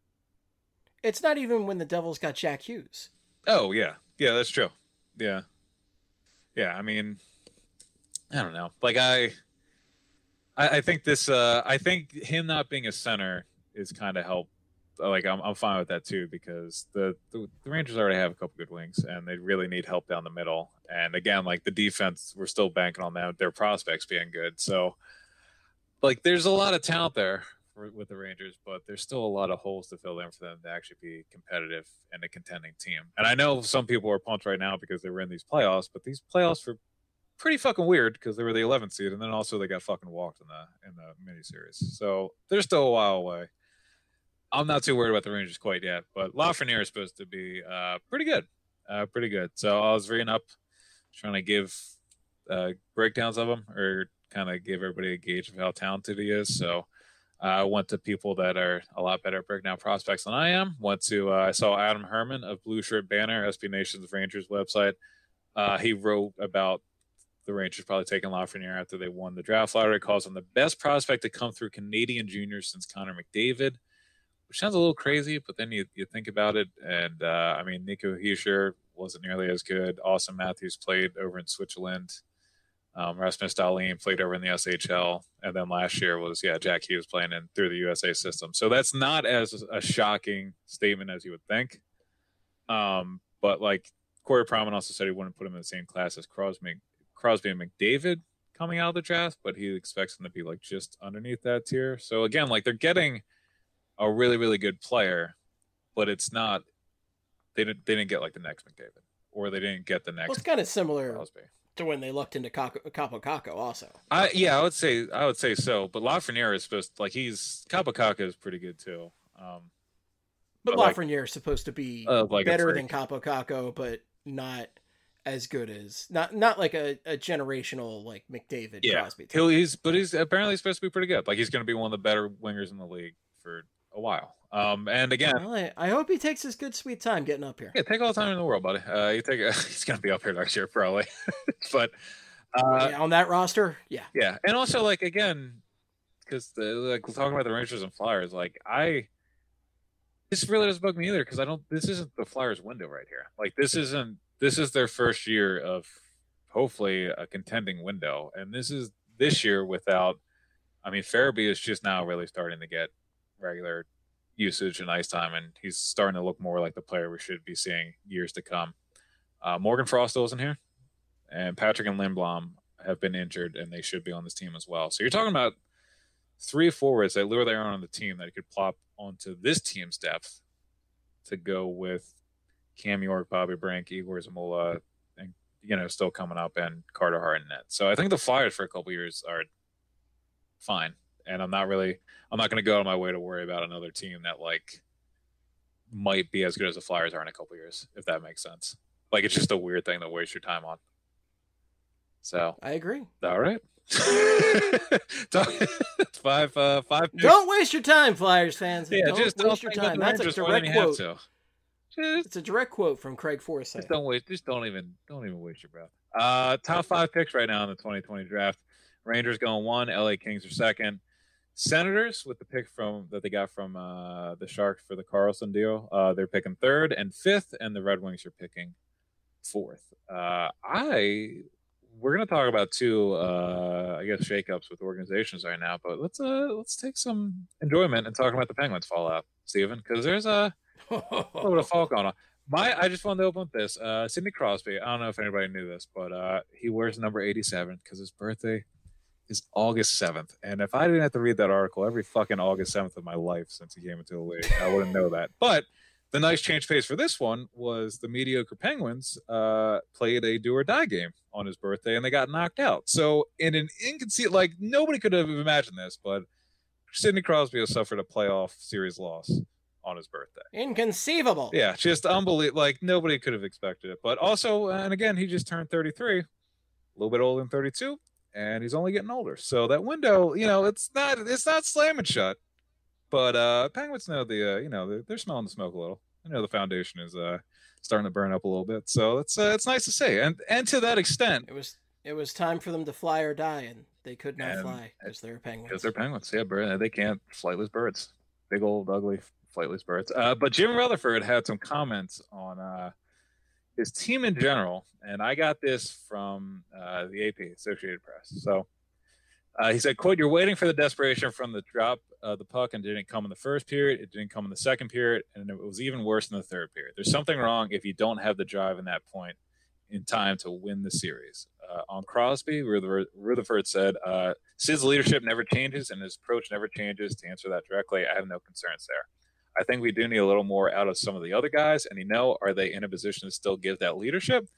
it's not even when the Devils got Jack Hughes. Oh, yeah. Yeah, that's true. Yeah. Yeah, I mean, I don't know. Like, I I, I think this, uh, I think him not being a center is kind of help. Like, I'm I'm fine with that, too, because the, the, the Rangers already have a couple good wings, and they really need help down the middle. And, again, like, the defense, we're still banking on them, their prospects being good. So, like, there's a lot of talent there with the Rangers, but there's still a lot of holes to fill in for them to actually be competitive and a contending team. And I know some people are pumped right now because they were in these playoffs, but these playoffs for pretty fucking weird because they were the eleventh seed, and then also they got fucking walked in the in the miniseries. So they're still a while away. I'm not too worried about the Rangers quite yet, but Lafreniere is supposed to be uh, pretty good, uh, pretty good. So I was reading up, trying to give uh, breakdowns of him, or kind of give everybody a gauge of how talented he is. So I uh, went to people that are a lot better at breaking down prospects than I am. Went to uh, I saw Adam Herman of Blue Shirt Banner, S B Nation's Rangers website. Uh, he wrote about the Rangers probably taking Lafreniere after they won the draft lottery. Calls him the best prospect to come through Canadian juniors since Connor McDavid. Which sounds a little crazy, but then you, you think about it, and uh, I mean, Nico Hischier wasn't nearly as good. Austin Matthews played over in Switzerland. Um, Rasmus Dahlin played over in the S H L, and then last year was yeah Jack Hughes playing in through the U S A system. So that's not as a shocking statement as you would think. Um, but like Corey Pronman also said, he wouldn't put him in the same class as Crosby, Crosby and McDavid coming out of the draft, but he expects them to be like just underneath that tier. So again, like they're getting a really, really good player, but it's not. They didn't. They didn't get like the next McDavid, or they didn't get the next. Well, it's kind of similar Crosby. to when they looked into Capo Caco also. I yeah, I would say I would say so. But Lafreniere is supposed to, like he's Capo Caco is pretty good too. Um, but, but Lafreniere like, is supposed to be uh, like better than Capo Caco, but not as good as not not like a, a generational like McDavid yeah. Crosby. He'll, he's but he's apparently supposed to be pretty good. Like he's going to be one of the better wingers in the league for a while. Um, and again, well, I, I hope he takes his good sweet time getting up here. Yeah, take all the time in the world, buddy. Uh, you take a, he's gonna be up here next year probably, but uh, yeah, on that roster, yeah, yeah, and also like again, because like talking about the Rangers and Flyers, like I, this really doesn't bug me either because I don't. This isn't the Flyers' window right here. Like this isn't. This is their first year of hopefully a contending window, and this is this year without. I mean, Farabee is just now really starting to get regular usage and ice time, and he's starting to look more like the player we should be seeing years to come. Uh, Morgan Frost isn't here, and Patrick and Lindblom have been injured, and they should be on this team as well. So you're talking about three forwards that literally are on the team that could plop onto this team's depth to go with Cam York, Bobby Brink, Igor Zamula, and you know still coming up, and Carter Hart in net. So I think the Flyers for a couple years are fine. And I'm not really, I'm not going to go out of my way to worry about another team that like might be as good as the Flyers are in a couple years, if that makes sense. Like it's just a weird thing to waste your time on. So I agree. All right. five, uh, five. Picks. Don't waste your time, Flyers fans. Yeah, don't just waste don't your think time. about the That's a Rangers direct when you quote. have to. Just, it's a direct quote from Craig Forsyth. Just don't waste. Just don't even. Don't even waste your breath. Uh, top five picks right now in the twenty twenty draft. Rangers going one. L A Kings are second. Senators with the pick from that they got from uh, the Sharks for the Carlson deal. Uh, they're picking third and fifth, and the Red Wings are picking fourth. Uh, I we're gonna talk about two, uh, I guess, shakeups with organizations right now, but let's uh let's take some enjoyment in talking about the Penguins fallout, Steven, because there's a little bit of fall going on. My I just wanted to open with this. Uh, Sidney Crosby. I don't know if anybody knew this, but uh, he wears number eighty-seven because his birthday is August seventh. And if I didn't have to read that article every fucking August seventh of my life since he came into the league, I wouldn't know that. But the nice change pace for this one was the mediocre Penguins uh, played a do or die game on his birthday and they got knocked out. So in an inconceivable, like nobody could have imagined this, but Sidney Crosby has suffered a playoff series loss on his birthday. Inconceivable. Yeah, just unbelievable. Like nobody could have expected it. But also, and again, he just turned thirty-three, a little bit older than thirty-two. And he's only getting older. So that window, you know, it's not it's not slamming shut. But uh, Penguins know the, uh, you know, they're, they're smelling the smoke a little. I know the foundation is uh, starting to burn up a little bit. So it's uh, it's nice to see. And and to that extent, it was it was time for them to fly or die, and they could not and fly because they're Penguins. Because they're Penguins, yeah, bird, they can't flightless birds, big old ugly flightless birds. Uh, but Jim Rutherford had some comments on uh, his team in general, and I got this from uh, the A P, Associated Press. So uh, he said, quote, "You're waiting for the desperation from the drop of the puck, and it didn't come in the first period, it didn't come in the second period, and it was even worse in the third period. There's something wrong if you don't have the drive in that point in time to win the series." Uh, on Crosby, Rutherford, Rutherford said, uh, "Sid's leadership never changes, and his approach never changes. To answer that directly, I have no concerns there. I think we do need a little more out of some of the other guys, and you know, are they in a position to still give that leadership?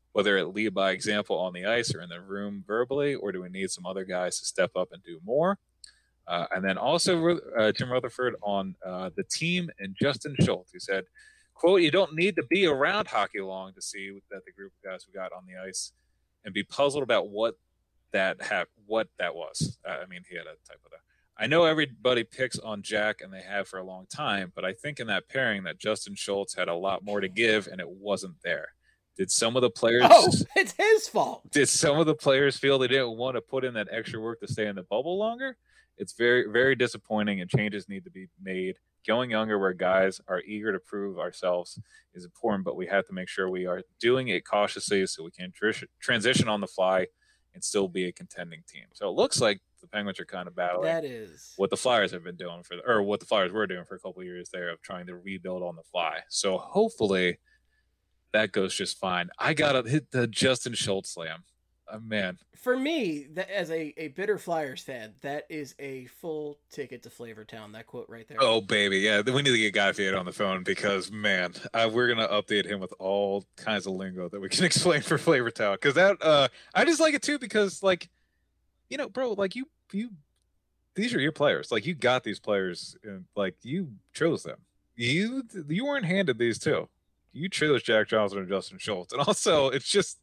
whether it lead by example on the ice or in the room verbally, or do we need some other guys to step up and do more? Uh, and then also uh, Jim Rutherford on uh, the team and Justin Schultz, who said, quote, you don't need to be around hockey long to see that the group of guys we got on the ice and be puzzled about what that ha- what that was. Uh, I mean, he had a typo there. I know everybody picks on Jack, and they have for a long time, but I think in that pairing that Justin Schultz had a lot more to give, and it wasn't there. Did some of the players... Oh, it's his fault. Did some of the players feel they didn't want to put in that extra work to stay in the bubble longer? It's very, very disappointing, and changes need to be made. Going younger where guys are eager to prove ourselves is important, but we have to make sure we are doing it cautiously so we can tr- transition on the fly and still be a contending team. So it looks like the Penguins are kind of battling that is what the Flyers have been doing for, the, or what the Flyers were doing for a couple of years there of trying to rebuild on the fly. So hopefully that goes just fine. I got to hit the Justin Schultz slam. Oh, man. For me, that, as a, a bitter Flyers fan, that is a full ticket to Flavortown, that quote right there. Oh, baby. Yeah, we need to get Guy Fiat on the phone because, man, uh, we're going to update him with all kinds of lingo that we can explain for Flavortown. Because that, uh, I just like it, too, because, like, you know, bro, like, you, you, these are your players. Like, you got these players, and, like, you chose them. You, you weren't handed these, too. You chose Jack Johnson and Justin Schultz. And also, it's just,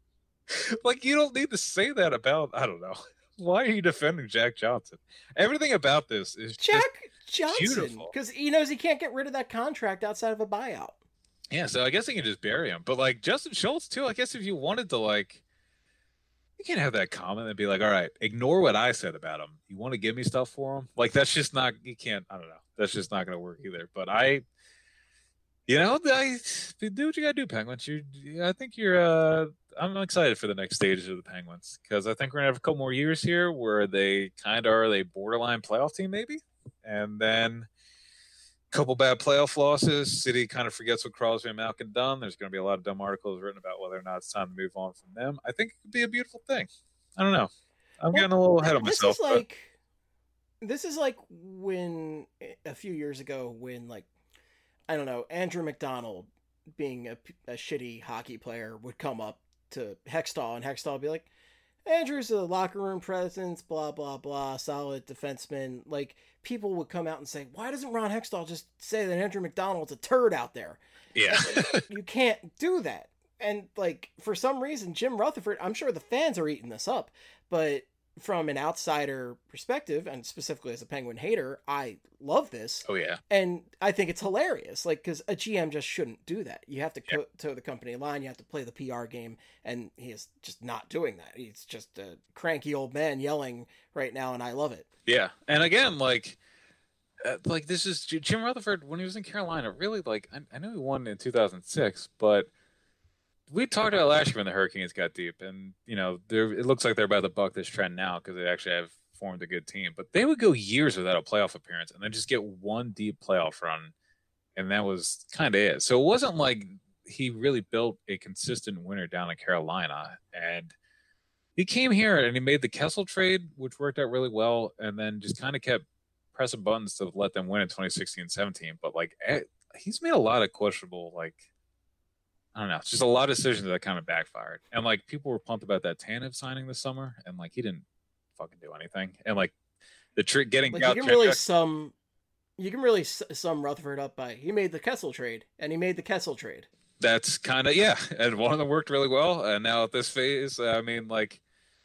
like, you don't need to say that about, I don't know. Why are you defending Jack Johnson? Everything about this is Jack just Johnson, because he knows he can't get rid of that contract outside of a buyout. Yeah, so I guess he can just bury him. But, like, Justin Schultz, too, I guess if you wanted to, like, you can't have that comment and be like, all right, ignore what I said about him. You want to give me stuff for him? Like, that's just not, you can't, I don't know. That's just not going to work either. But I, you know, I, do what you got to do, Penguins. You, I think you're, uh, I'm excited for the next stages of the Penguins because I think we're going to have a couple more years here where they kind of are a borderline playoff team maybe. And then a couple bad playoff losses. City kind of forgets what Crosby and Malkin done. There's going to be a lot of dumb articles written about whether or not it's time to move on from them. I think it could be a beautiful thing. I don't know. I'm well, getting a little ahead of this myself. Is like, but... This is like when a few years ago when, like, I don't know, Andrew McDonald being a, a shitty hockey player would come up to Hextall, and Hextall would be like, Andrew's a locker room presence, blah, blah, blah, solid defenseman. Like, people would come out and say, why doesn't Ron Hextall just say that Andrew McDonald's a turd out there? Yeah. You can't do that. And, like, for some reason, Jim Rutherford, I'm sure the fans are eating this up, but from an outsider perspective, and specifically as a Penguin hater, I love this. Oh, yeah. And I think it's hilarious, like, because a G M just shouldn't do that. You have to yep. co- toe the company line, you have to play the P R game, and he is just not doing that. He's just a cranky old man yelling right now, and I love it. Yeah, and again, like, uh, like this is Jim Rutherford, when he was in Carolina, really, like, I, I know he won in two thousand six, but we talked about last year when the Hurricanes got deep, and, you know, it looks like they're about to buck this trend now because they actually have formed a good team. But they would go years without a playoff appearance and then just get one deep playoff run, and that was kind of it. So it wasn't like he really built a consistent winner down in Carolina. And he came here and he made the Kessel trade, which worked out really well, and then just kind of kept pressing buttons to let them win in twenty sixteen seventeen. But, like, he's made a lot of questionable, like, I don't know. It's just a lot of decisions that kind of backfired. And, like, people were pumped about that Tanev signing this summer, and, like, he didn't fucking do anything. And, like, the trick getting like, you can really sum you can really sum Rutherford up by he made the Kessel trade, and he made the Kessel trade. That's kind of, yeah. And one of them worked really well. And now at this phase, I mean, like,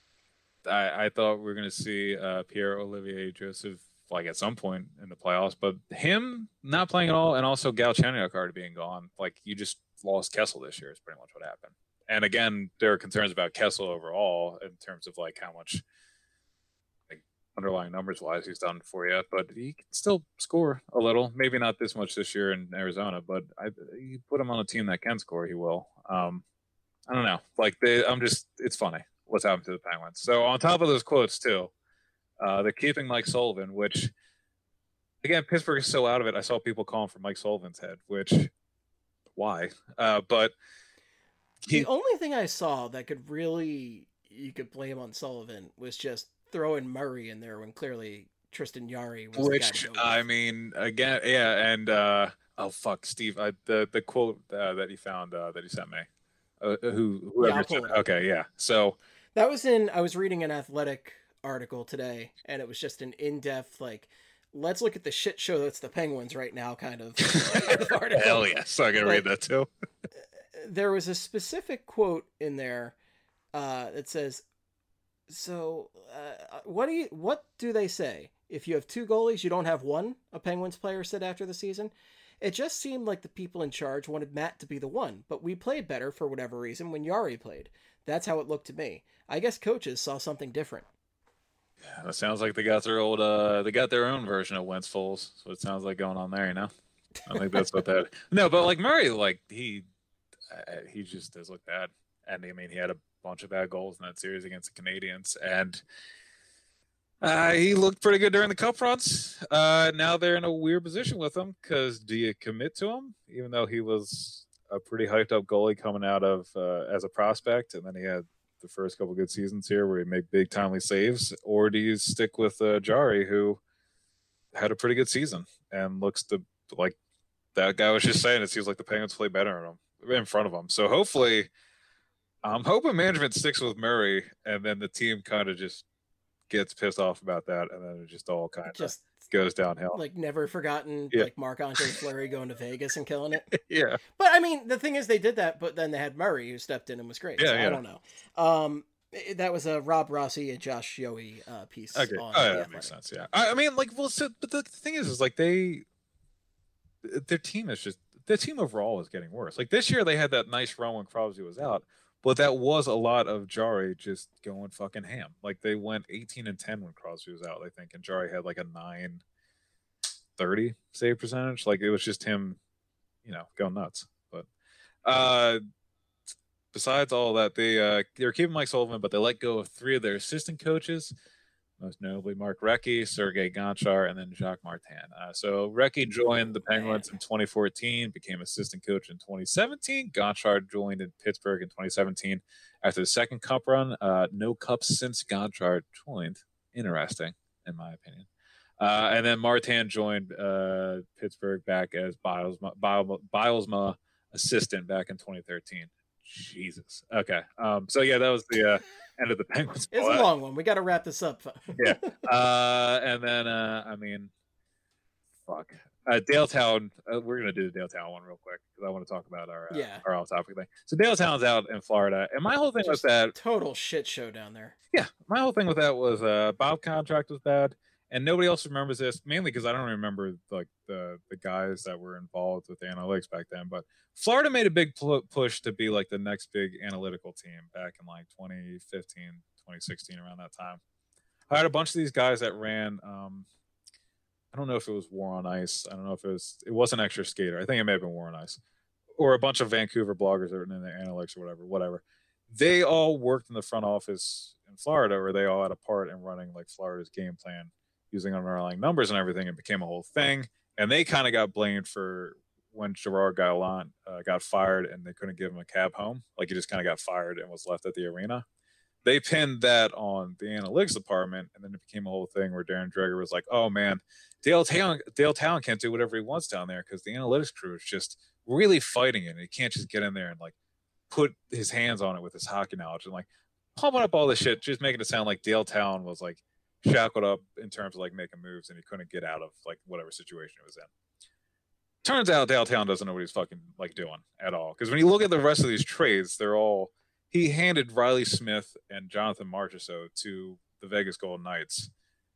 I, I thought we were going to see uh, Pierre-Olivier Joseph, like, at some point in the playoffs. But him not playing at all, and also Galchenyuk already being gone, like, you just lost Kessel this year is pretty much what happened. And again, there are concerns about Kessel overall in terms of, like, how much, like, underlying numbers wise he's done for you, but he can still score a little. Maybe not this much this year in Arizona, but I, you put him on a team that can score, he will. Um, I don't know. Like, they, I'm just, it's funny what's happened to the Penguins. So on top of those quotes too, uh, they're keeping Mike Sullivan, which, again, Pittsburgh is so out of it. I saw people calling for Mike Sullivan's head, which, why? Uh, but he, the only thing I saw that could really, you could blame on Sullivan was just throwing Murray in there when clearly Tristan Jarry was which, the guy. I mean, again, yeah, and uh, oh fuck, Steve, I, the the quote uh, that he found uh, that he sent me. Uh, who whoever yeah, said, okay, yeah. So that was in. I was reading an Athletic article today, and it was just an in-depth like, let's look at the shit show that's the Penguins right now kind of article. Hell yes, I can read that too. There was a specific quote in there uh, that says, "So, uh, what do you? What do they say? If you have two goalies, you don't have one." A Penguins player said after the season. It just seemed like the people in charge wanted Matt to be the one, but we played better for whatever reason when Jari played. That's how it looked to me. I guess coaches saw something different. Yeah, that sounds like they got their old, uh, they got their own version of Wentz Foles. So it sounds like going on there, you know. I think that's what that. No, but like Murray, like he, uh, he just does look bad, and I mean he had a bunch of bad goals in that series against the Canadiens, and. Uh, he looked pretty good during the cup runs. Uh, now they're in a weird position with him because do you commit to him, even though he was a pretty hyped up goalie coming out of uh, as a prospect, and then he had the first couple good seasons here where he made big timely saves, or do you stick with uh, Jari, who had a pretty good season and looks to like that guy was just saying it seems like the Penguins play better in him in front of him. So hopefully, I'm hoping management sticks with Murray, and then the team kind of just gets pissed off about that, and then it just all kind of just goes downhill. Like never forgotten, yeah. like Marc-Andre Fleury going to Vegas and killing it. Yeah. But I mean, the thing is, they did that, but then they had Murray who stepped in and was great. Yeah, so yeah. I don't know. Um, that was a Rob Rossi and Josh Yohe uh, piece. Okay. On oh, yeah, the that makes sense. Yeah. I, I mean, like, well, so, but the thing is, is like they, their team is just their team overall is getting worse. Like this year, they had that nice run when Crosby was out. But that was a lot of Jari just going fucking ham. Like they went eighteen and ten when Crosby was out, I think, and Jari had like a nine thirty save percentage. Like it was just him, you know, going nuts. But uh, besides all that, they uh, they were keeping Mike Sullivan, but they let go of three of their assistant coaches, most notably Mark Recchi, Sergei Gonchar, and then Jacques Martin. Uh, so Recchi joined the Penguins in twenty fourteen, became assistant coach in twenty seventeen. Gonchar joined in Pittsburgh in twenty seventeen after the second cup run. Uh, no cups since Gonchar joined. Interesting, in my opinion. Uh, and then Martin joined uh, Pittsburgh back as Bilesma, Bilesma assistant back in twenty thirteen. Jesus. Okay. Um, so yeah, that was the uh, end of the Penguins. It's a long one. We got to wrap this up. yeah. Uh, and then uh, I mean, fuck. Uh, Daletown. Uh, we're gonna do the Daletown one real quick because I want to talk about our uh, yeah. our off-topic thing. So Daletown's out in Florida, and my whole thing Just was that total shit show down there. Yeah, my whole thing with that was uh, Bob contract was bad. And nobody else remembers this, mainly because I don't remember like the the guys that were involved with the analytics back then. But Florida made a big pl- push to be like the next big analytical team back in like twenty fifteen, twenty sixteen, around that time. I had a bunch of these guys that ran. Um, I don't know if it was War on Ice. I don't know if it was. It wasn't Extra Skater. I think it may have been War on Ice, or a bunch of Vancouver bloggers that were in the analytics or whatever. Whatever. They all worked in the front office in Florida, or they all had a part in running like Florida's game plan, using underlying numbers and everything. It became a whole thing. And they kind of got blamed for when Gerard Gallant uh, got fired and they couldn't give him a cab home. Like he just kind of got fired and was left at the arena. They pinned that on the analytics department. And then it became a whole thing where Darren Dreger was like, oh man, Dale Town, Dale Town can't do whatever he wants down there because the analytics crew is just really fighting it. And he can't just get in there and like put his hands on it with his hockey knowledge and like pumping up all this shit, just making it sound like Dale Town was like shackled up in terms of like making moves and he couldn't get out of like whatever situation he was in. Turns out Dale Town doesn't know what he's fucking like doing at all. Because when you look at the rest of these trades, they're all he handed Riley Smith and Jonathan Marchessault to the Vegas Golden Knights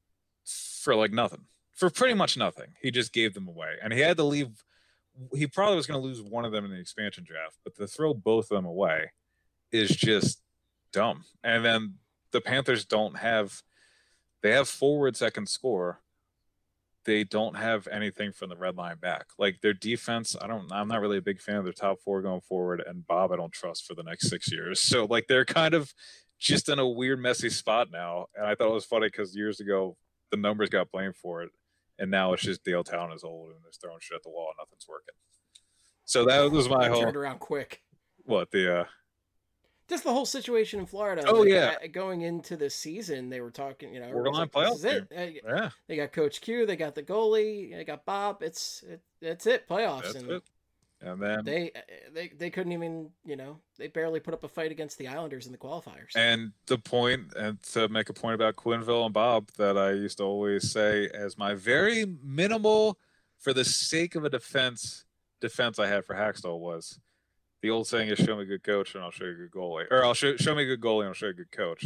for like nothing, for pretty much nothing. He just gave them away, and he had to leave. He probably was going to lose one of them in the expansion draft, but to throw both of them away is just dumb. And then the Panthers don't have. They have forwards that can score. They don't have anything from the red line back. Like their defense, I don't. I'm not really a big fan of their top four going forward, and Bob I don't trust for the next six years. So like they're kind of just in a weird, messy spot now. And I thought it was funny because years ago the numbers got blamed for it, and now it's just Dale Town is old and they're throwing shit at the wall and nothing's working. So that was my whole. Turned around quick. What the? uh Just the whole situation in Florida. Oh, like, yeah. Going into the season, they were talking, you know, Borderline like, playoff this is it. game. Yeah. They got Coach Q, they got the goalie, they got Bob. It's it, That's it, playoffs. That's and it. And then they they they couldn't even, you know, they barely put up a fight against the Islanders in the qualifiers. And the point, and to make a point about Quenneville and Bob that I used to always say as my very minimal, for the sake of a defense, defense I had for Hackstall was the old saying is show me a good coach and I'll show you a good goalie. Or I'll show, show me a good goalie and I'll show you a good coach.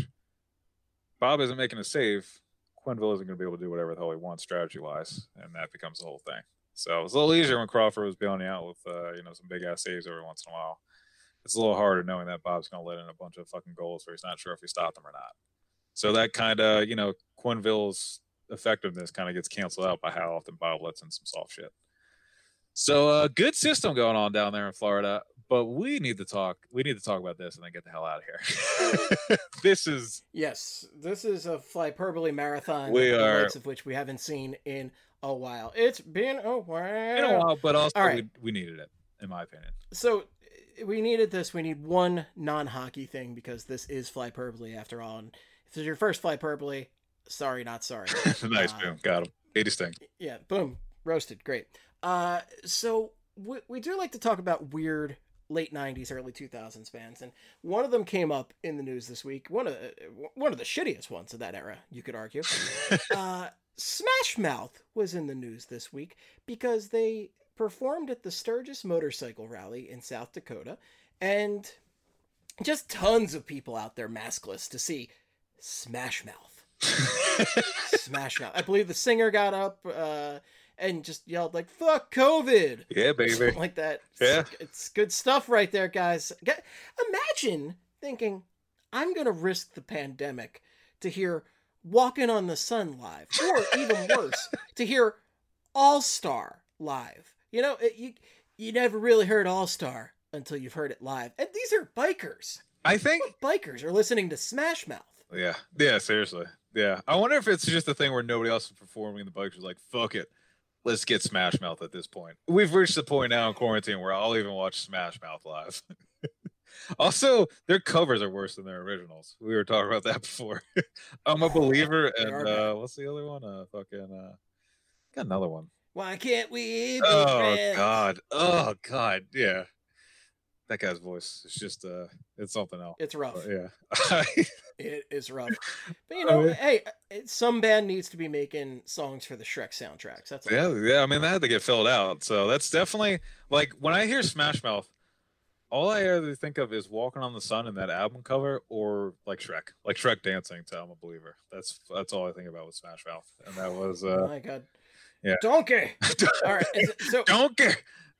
Bob isn't making a save. Quenneville isn't going to be able to do whatever the hell he wants strategy-wise, and that becomes the whole thing. So it's a little easier when Crawford was bailing out with, uh, you know, some big-ass saves every once in a while. It's a little harder knowing that Bob's going to let in a bunch of fucking goals where he's not sure if he stopped them or not. So that kind of, you know, Quenneville's effectiveness kind of gets canceled out by how often Bob lets in some soft shit. So a uh, good system going on down there in Florida, but we need to talk. We need to talk about this and then get the hell out of here. This is yes, this is a Flyperbole marathon. We the are, likes of which we haven't seen in a while. It's been a while. Been a while, but also right. we, we needed it, in my opinion. So we needed this. We need one non-hockey thing because this is Flyperbole after all. And if this is your first Flyperbole, sorry, not sorry. Nice, uh, boom, got him. eighty sting. Yeah, boom, roasted, great. Uh, so we, we do like to talk about weird late nineties, early two thousands bands, and one of them came up in the news this week. One of the, one of the shittiest ones of that era, you could argue. uh, Smash Mouth was in the news this week because they performed at the Sturgis Motorcycle Rally in South Dakota, and just tons of people out there maskless to see Smash Mouth. Smash Mouth. I believe the singer got up uh, and just yelled like, fuck COVID. Yeah, baby. Something like that. Yeah. It's, it's good stuff right there, guys. Get, imagine thinking, I'm going to risk the pandemic to hear Walking on the Sun live. Or even worse, to hear All-Star live. You know, it, you, you never really heard All-Star until you've heard it live. And these are bikers. I think What bikers are listening to Smash Mouth. Yeah, yeah, seriously, yeah. I wonder if it's just a thing where nobody else is performing, and the bikers are like, "Fuck it, let's get Smash Mouth." At this point, we've reached the point now in quarantine where I'll even watch Smash Mouth live. Also, their covers are worse than their originals. We were talking about that before. I'm a believer, and uh, what's the other one? Uh, fucking, uh, got another one. Why can't we be Oh friends? God, oh God, yeah. That guy's voice is just uh it's something else. It's rough. But yeah. It is rough. But you know, Oh, yeah. hey, some band needs to be making songs for the Shrek soundtracks. That's all. Yeah, yeah. I mean, that had to get filled out. So that's definitely like when I hear Smash Mouth, all I ever think of is Walking on the Sun and that album cover, or like Shrek, like Shrek dancing to I'm a Believer. That's that's all I think about with Smash Mouth, and that was uh, Oh my God. yeah. Donkey. All right. is it- So Don't care.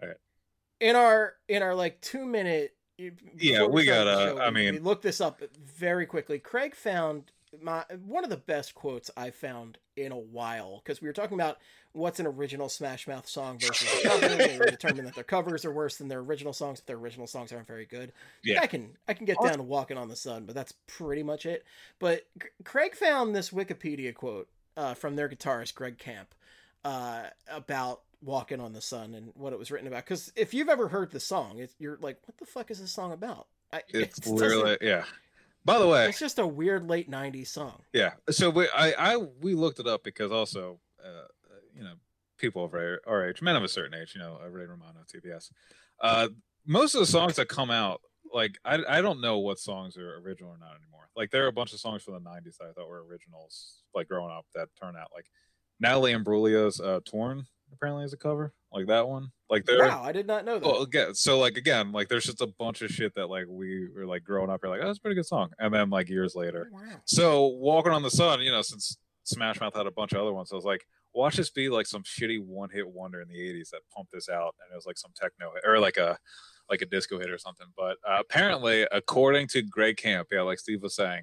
in our in our like two minute. Yeah, before we started the gotta- show, I we- mean- we looked this up very quickly. Craig found my one of the best quotes I found in a while because we were talking about what's an original Smash Mouth song versus a cover. And we determined that their covers are worse than their original songs, but their original songs aren't very good. Yeah. I can I can get down to Walking on the Sun, but that's pretty much it. But C- Craig found this Wikipedia quote uh, from their guitarist Greg Camp uh, about Walking on the Sun and what it was written about. Because if you've ever heard the song, it's, you're like, what the fuck is this song about? I, It's it doesn't- literally yeah. By the way, it's just a weird late nineties song. yeah. So we I, I we looked it up because also uh, you know, people of our, our age, men of a certain age, you know, uh, Ray Romano, T B S. Uh, most of the songs that come out, like I I don't know what songs are original or not anymore. Like there are a bunch of songs from the nineties that I thought were originals, like growing up, that turned out like Natalie Imbruglia's uh, "Torn" apparently is a cover, like that one. Like there. Wow, I did not know that. Well, again, so like again, like there's just a bunch of shit that like we were like growing up, you're like, oh, that's a pretty good song, and then like years later. Wow. So Walking on the Sun, you know, since Smash Mouth had a bunch of other ones, I was like, watch this be like some shitty one hit wonder in the eighties that pumped this out, and it was like some techno hit, or like a like a disco hit or something. But uh, apparently, according to Greg Camp, yeah, like Steve was saying,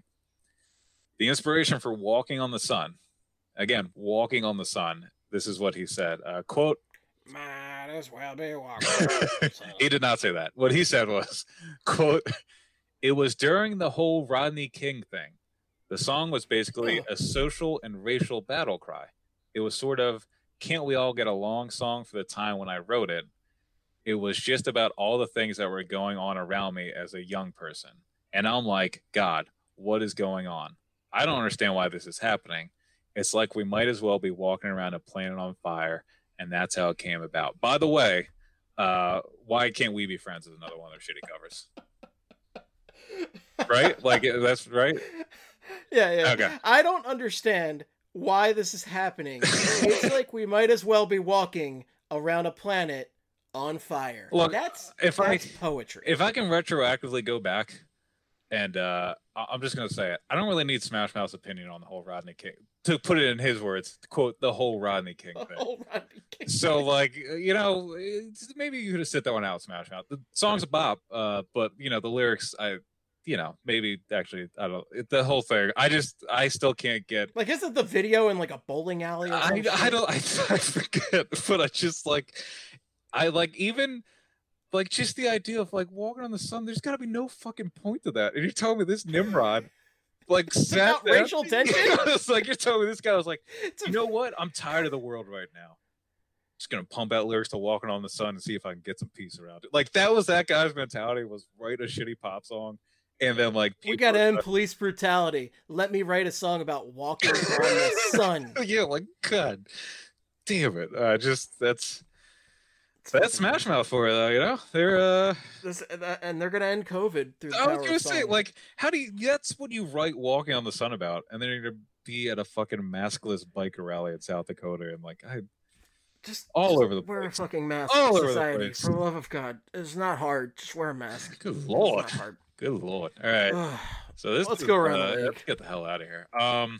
the inspiration for Walking on the Sun, again, Walking on the Sun. This is what he said. Uh, quote. Might as well be walking. He did not say that. What he said was, quote, it was during the whole Rodney King thing. The song was basically a social and racial battle cry. It was sort of, can't we all get along song for the time when I wrote it. It was just about all the things that were going on around me as a young person. And I'm like, God, what is going on? I don't understand why this is happening. It's like we might as well be walking around a planet on fire. And that's how it came about. By the way, uh, Why Can't We Be Friends is another one of their shitty covers. Right? Like, that's right? Yeah, yeah. Okay. I don't understand why this is happening. It's like we might as well be walking around a planet on fire. Look, that's if that's I, poetry. If I can retroactively go back, and uh, I'm just going to say it, I don't really need Smash Mouth's opinion on the whole Rodney King. To put it in his words, to quote, the whole Rodney King thing. The whole Rodney King so, thing. like, you know, maybe you could have sit that one out, Smash Mouth. The song's a bop, uh, but, you know, the lyrics, I... you know, maybe actually, I don't know, the whole thing. I just, I still can't get. Like, isn't the video in like a bowling alley or something? I, I don't, I, I forget, but I just like, I like even, like, just the idea of like walking on the sun, there's gotta be no fucking point to that. And you're telling me this Nimrod, like, sat About racial tension? It's like, you're telling me this guy was like, you know what? I'm tired of the world right now. Just gonna pump out lyrics to Walking on the Sun and see if I can get some peace around it. Like, that was that guy's mentality, was write a shitty pop song. And then, like, we gotta end police brutality. Let me write a song about walking on the sun. Yeah, like, God damn it! Uh, just that's that's Smash Mouth for you, though. You know, they're uh, this, and they're gonna end COVID through. The I was power gonna of say, song. like, how do you? That's what you write "Walking on the Sun" about, and then you're gonna be at a fucking maskless biker rally in South Dakota, and like, I just all just over the wear place. a fucking mask. All over society, the place. For the love of God, it's not hard. Just wear a mask. Good lord. It's not hard. Good lord! All right, so this let's is, go around uh, the league. Let's get the hell out of here. Um,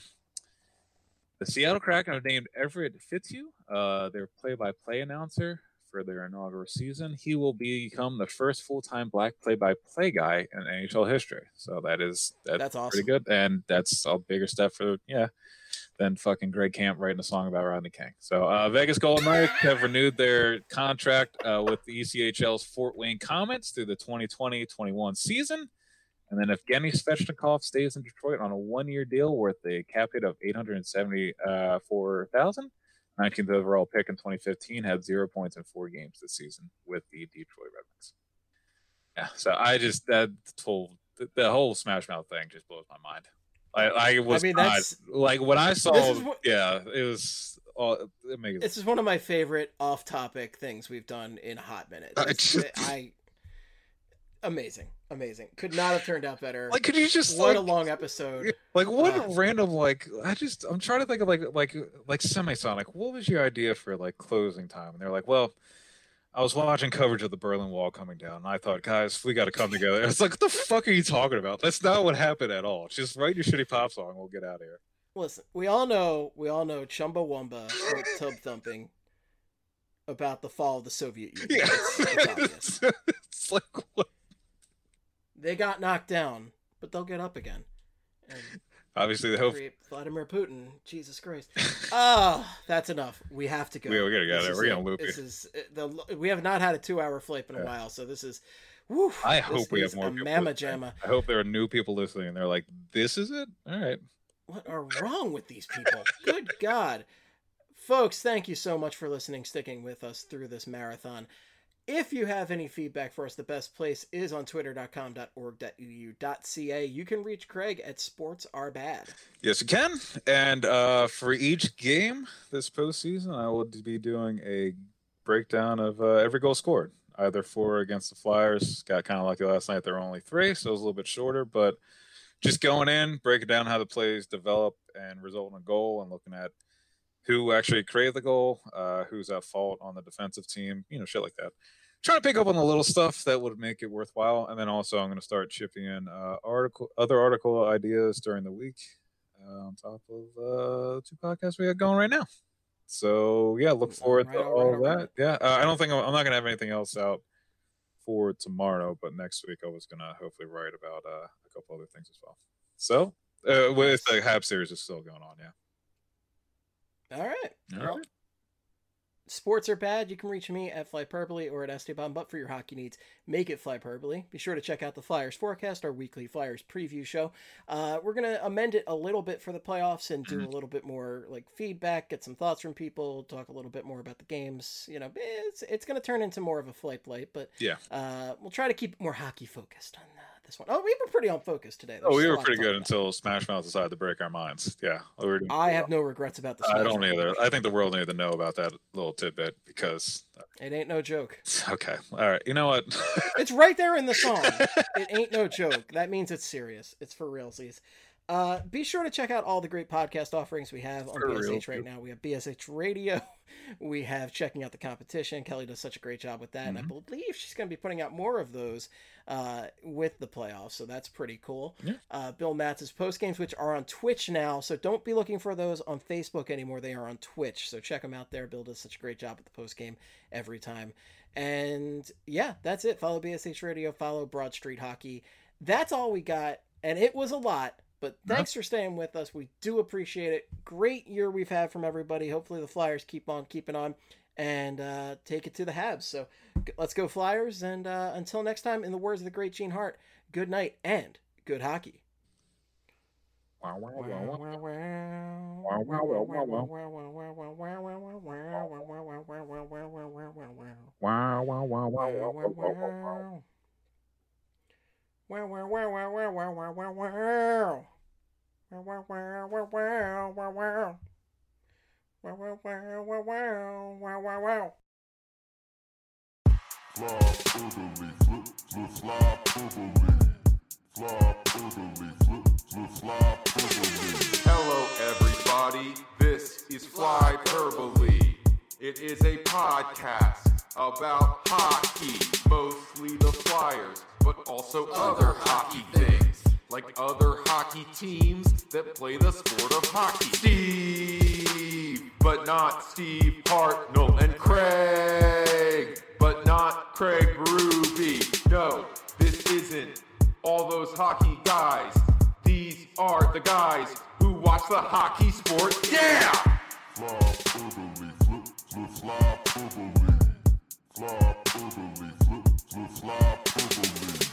the Seattle Kraken have named Everett Fitzhugh uh, their play-by-play announcer for their inaugural season. He will become the first full-time black play-by-play guy in N H L history. So that is that's, that's awesome. Pretty good, and that's a bigger step for yeah than fucking Greg Camp writing a song about Rodney King. So uh, Vegas Golden Knights have renewed their contract uh, with the E C H L's Fort Wayne Komets through the twenty twenty twenty-one season. And then Evgeny Svechnikov stays in Detroit on a one-year deal worth a cap hit of eight hundred seventy-four thousand dollars. nineteenth overall pick in twenty fifteen, had zero points in four games this season with the Detroit Red Wings. Yeah, so I just, that whole, the whole Smash Mouth thing just blows my mind. I, I was I mean, not, that's, like, when I saw, what, yeah, it was, all, it makes, this is one of my favorite off-topic things we've done in a hot minute. I, just, I amazing, amazing. Could not have turned out better. Like, could you just, what like, a long episode. Like, what uh, random, like, I just, I'm trying to think of, like, like, like Semisonic, what was your idea for, like, closing time? And they're like, well, I was watching coverage of the Berlin Wall coming down, and I thought, guys, we got to come together. It's like, what the fuck are you talking about? That's not what happened at all. Just write your shitty pop song, we'll get out of here. Listen, we all know, we all know Chumbawamba wrote Tub Thumping about the fall of the Soviet Union. Yeah. It's, it's, it's like, what? They got knocked down, but they'll get up again. And obviously, they hope. Vladimir Putin, Jesus Christ. Oh, that's enough. We have to go. We, we gotta go there. We're gonna it. loop This you. is the. We have not had a two-hour flight in a yeah. while, so this is. Whew, I this hope we have more a people. Mamma listening. jamma. I hope there are new people listening, and they're like, "This is it." All right. What are wrong with these people? Good God, folks! Thank you so much for listening, sticking with us through this marathon. If you have any feedback for us, the best place is on twitter dot com dot org dot e d u dot c a. You can reach Craig at Sports Are Bad. Yes, you can. And uh, for each game this postseason, I will be doing a breakdown of uh, every goal scored, either for or against the Flyers. Got kind of lucky last night. There were only three, so it was a little bit shorter. But just going in, breaking down how the plays develop and result in a goal, and looking at who actually created the goal, uh, who's at fault on the defensive team, you know, shit like that. Trying to pick up on the little stuff that would make it worthwhile. And then also I'm going to start chipping in uh, article, other article ideas during the week uh, on top of uh, two podcasts we got going right now. So, yeah, look forward right, to all all right, of all that. right. Yeah, uh, I don't think I'm, I'm not going to have anything else out for tomorrow, but next week I was going to hopefully write about uh, a couple other things as well. So, uh, with the Hab series is still going on, yeah. All right. All well, right. Sports Are Bad. You can reach me at Flyperbole or at Esteban, but for your hockey needs, make it Flyperbole. Be sure to check out the Flyers Forecast, our weekly Flyers preview show. Uh, we're going to amend it a little bit for the playoffs and do a little bit more like feedback, get some thoughts from people, talk a little bit more about the games. You know, it's it's going to turn into more of a flight plate, but yeah, uh, we'll try to keep it more hockey focused on this one. Oh, we were pretty on focus today. There's oh, we were pretty good until Smash Mouth decided to break our minds. Yeah. We were I have no regrets about this. I don't either. I think the world needed to know about that little tidbit because... It ain't no joke. Okay. All right. You know what? It's right there in the song. It ain't no joke. That means it's serious. It's for realsies. Uh, be sure to check out all the great podcast offerings we have on for B S H real, right now. We have B S H Radio. We have Checking Out the Competition. Kelly does such a great job with that. Mm-hmm. And I believe she's going to be putting out more of those uh, with the playoffs. So that's pretty cool. Yeah. Uh, Bill Matz's post games, which are on Twitch now. So don't be looking for those on Facebook anymore. They are on Twitch. So check them out there. Bill does such a great job with the post game every time. And yeah, that's it. Follow B S H Radio. Follow Broad Street Hockey. That's all we got. And it was a lot. But thanks for staying with us. We do appreciate it. Great year we've had from everybody. Hopefully the Flyers keep on keeping on and uh, take it to the Habs. So let's go Flyers. And uh, until next time, in the words of the great Gene Hart, good night and good hockey. Wow, wow, wow, wow, wow, wow, wow, wow, wow, wow, wow, wow, wow. Wow, wow, wow, wow, wow, wow, wow. Wow, wow, wow, wow, wow, wow, wow, wow. Flop orderly, flip, flip, flop orderly. Flop orderly, flip, flip, flop orderly. Hello, everybody. This is Flyperbole. It is a podcast about hockey, mostly the Flyers, but also other hockey things. Like other hockey teams that play the sport of hockey. Steve, but not Steve Hartnell. And Craig, but not Craig Berube. No, this isn't all those hockey guys. These are the guys who watch the hockey sport. Yeah! Flop orderly, flip, flip, flop orderly. Flop orderly, flip, flip, flop orderly.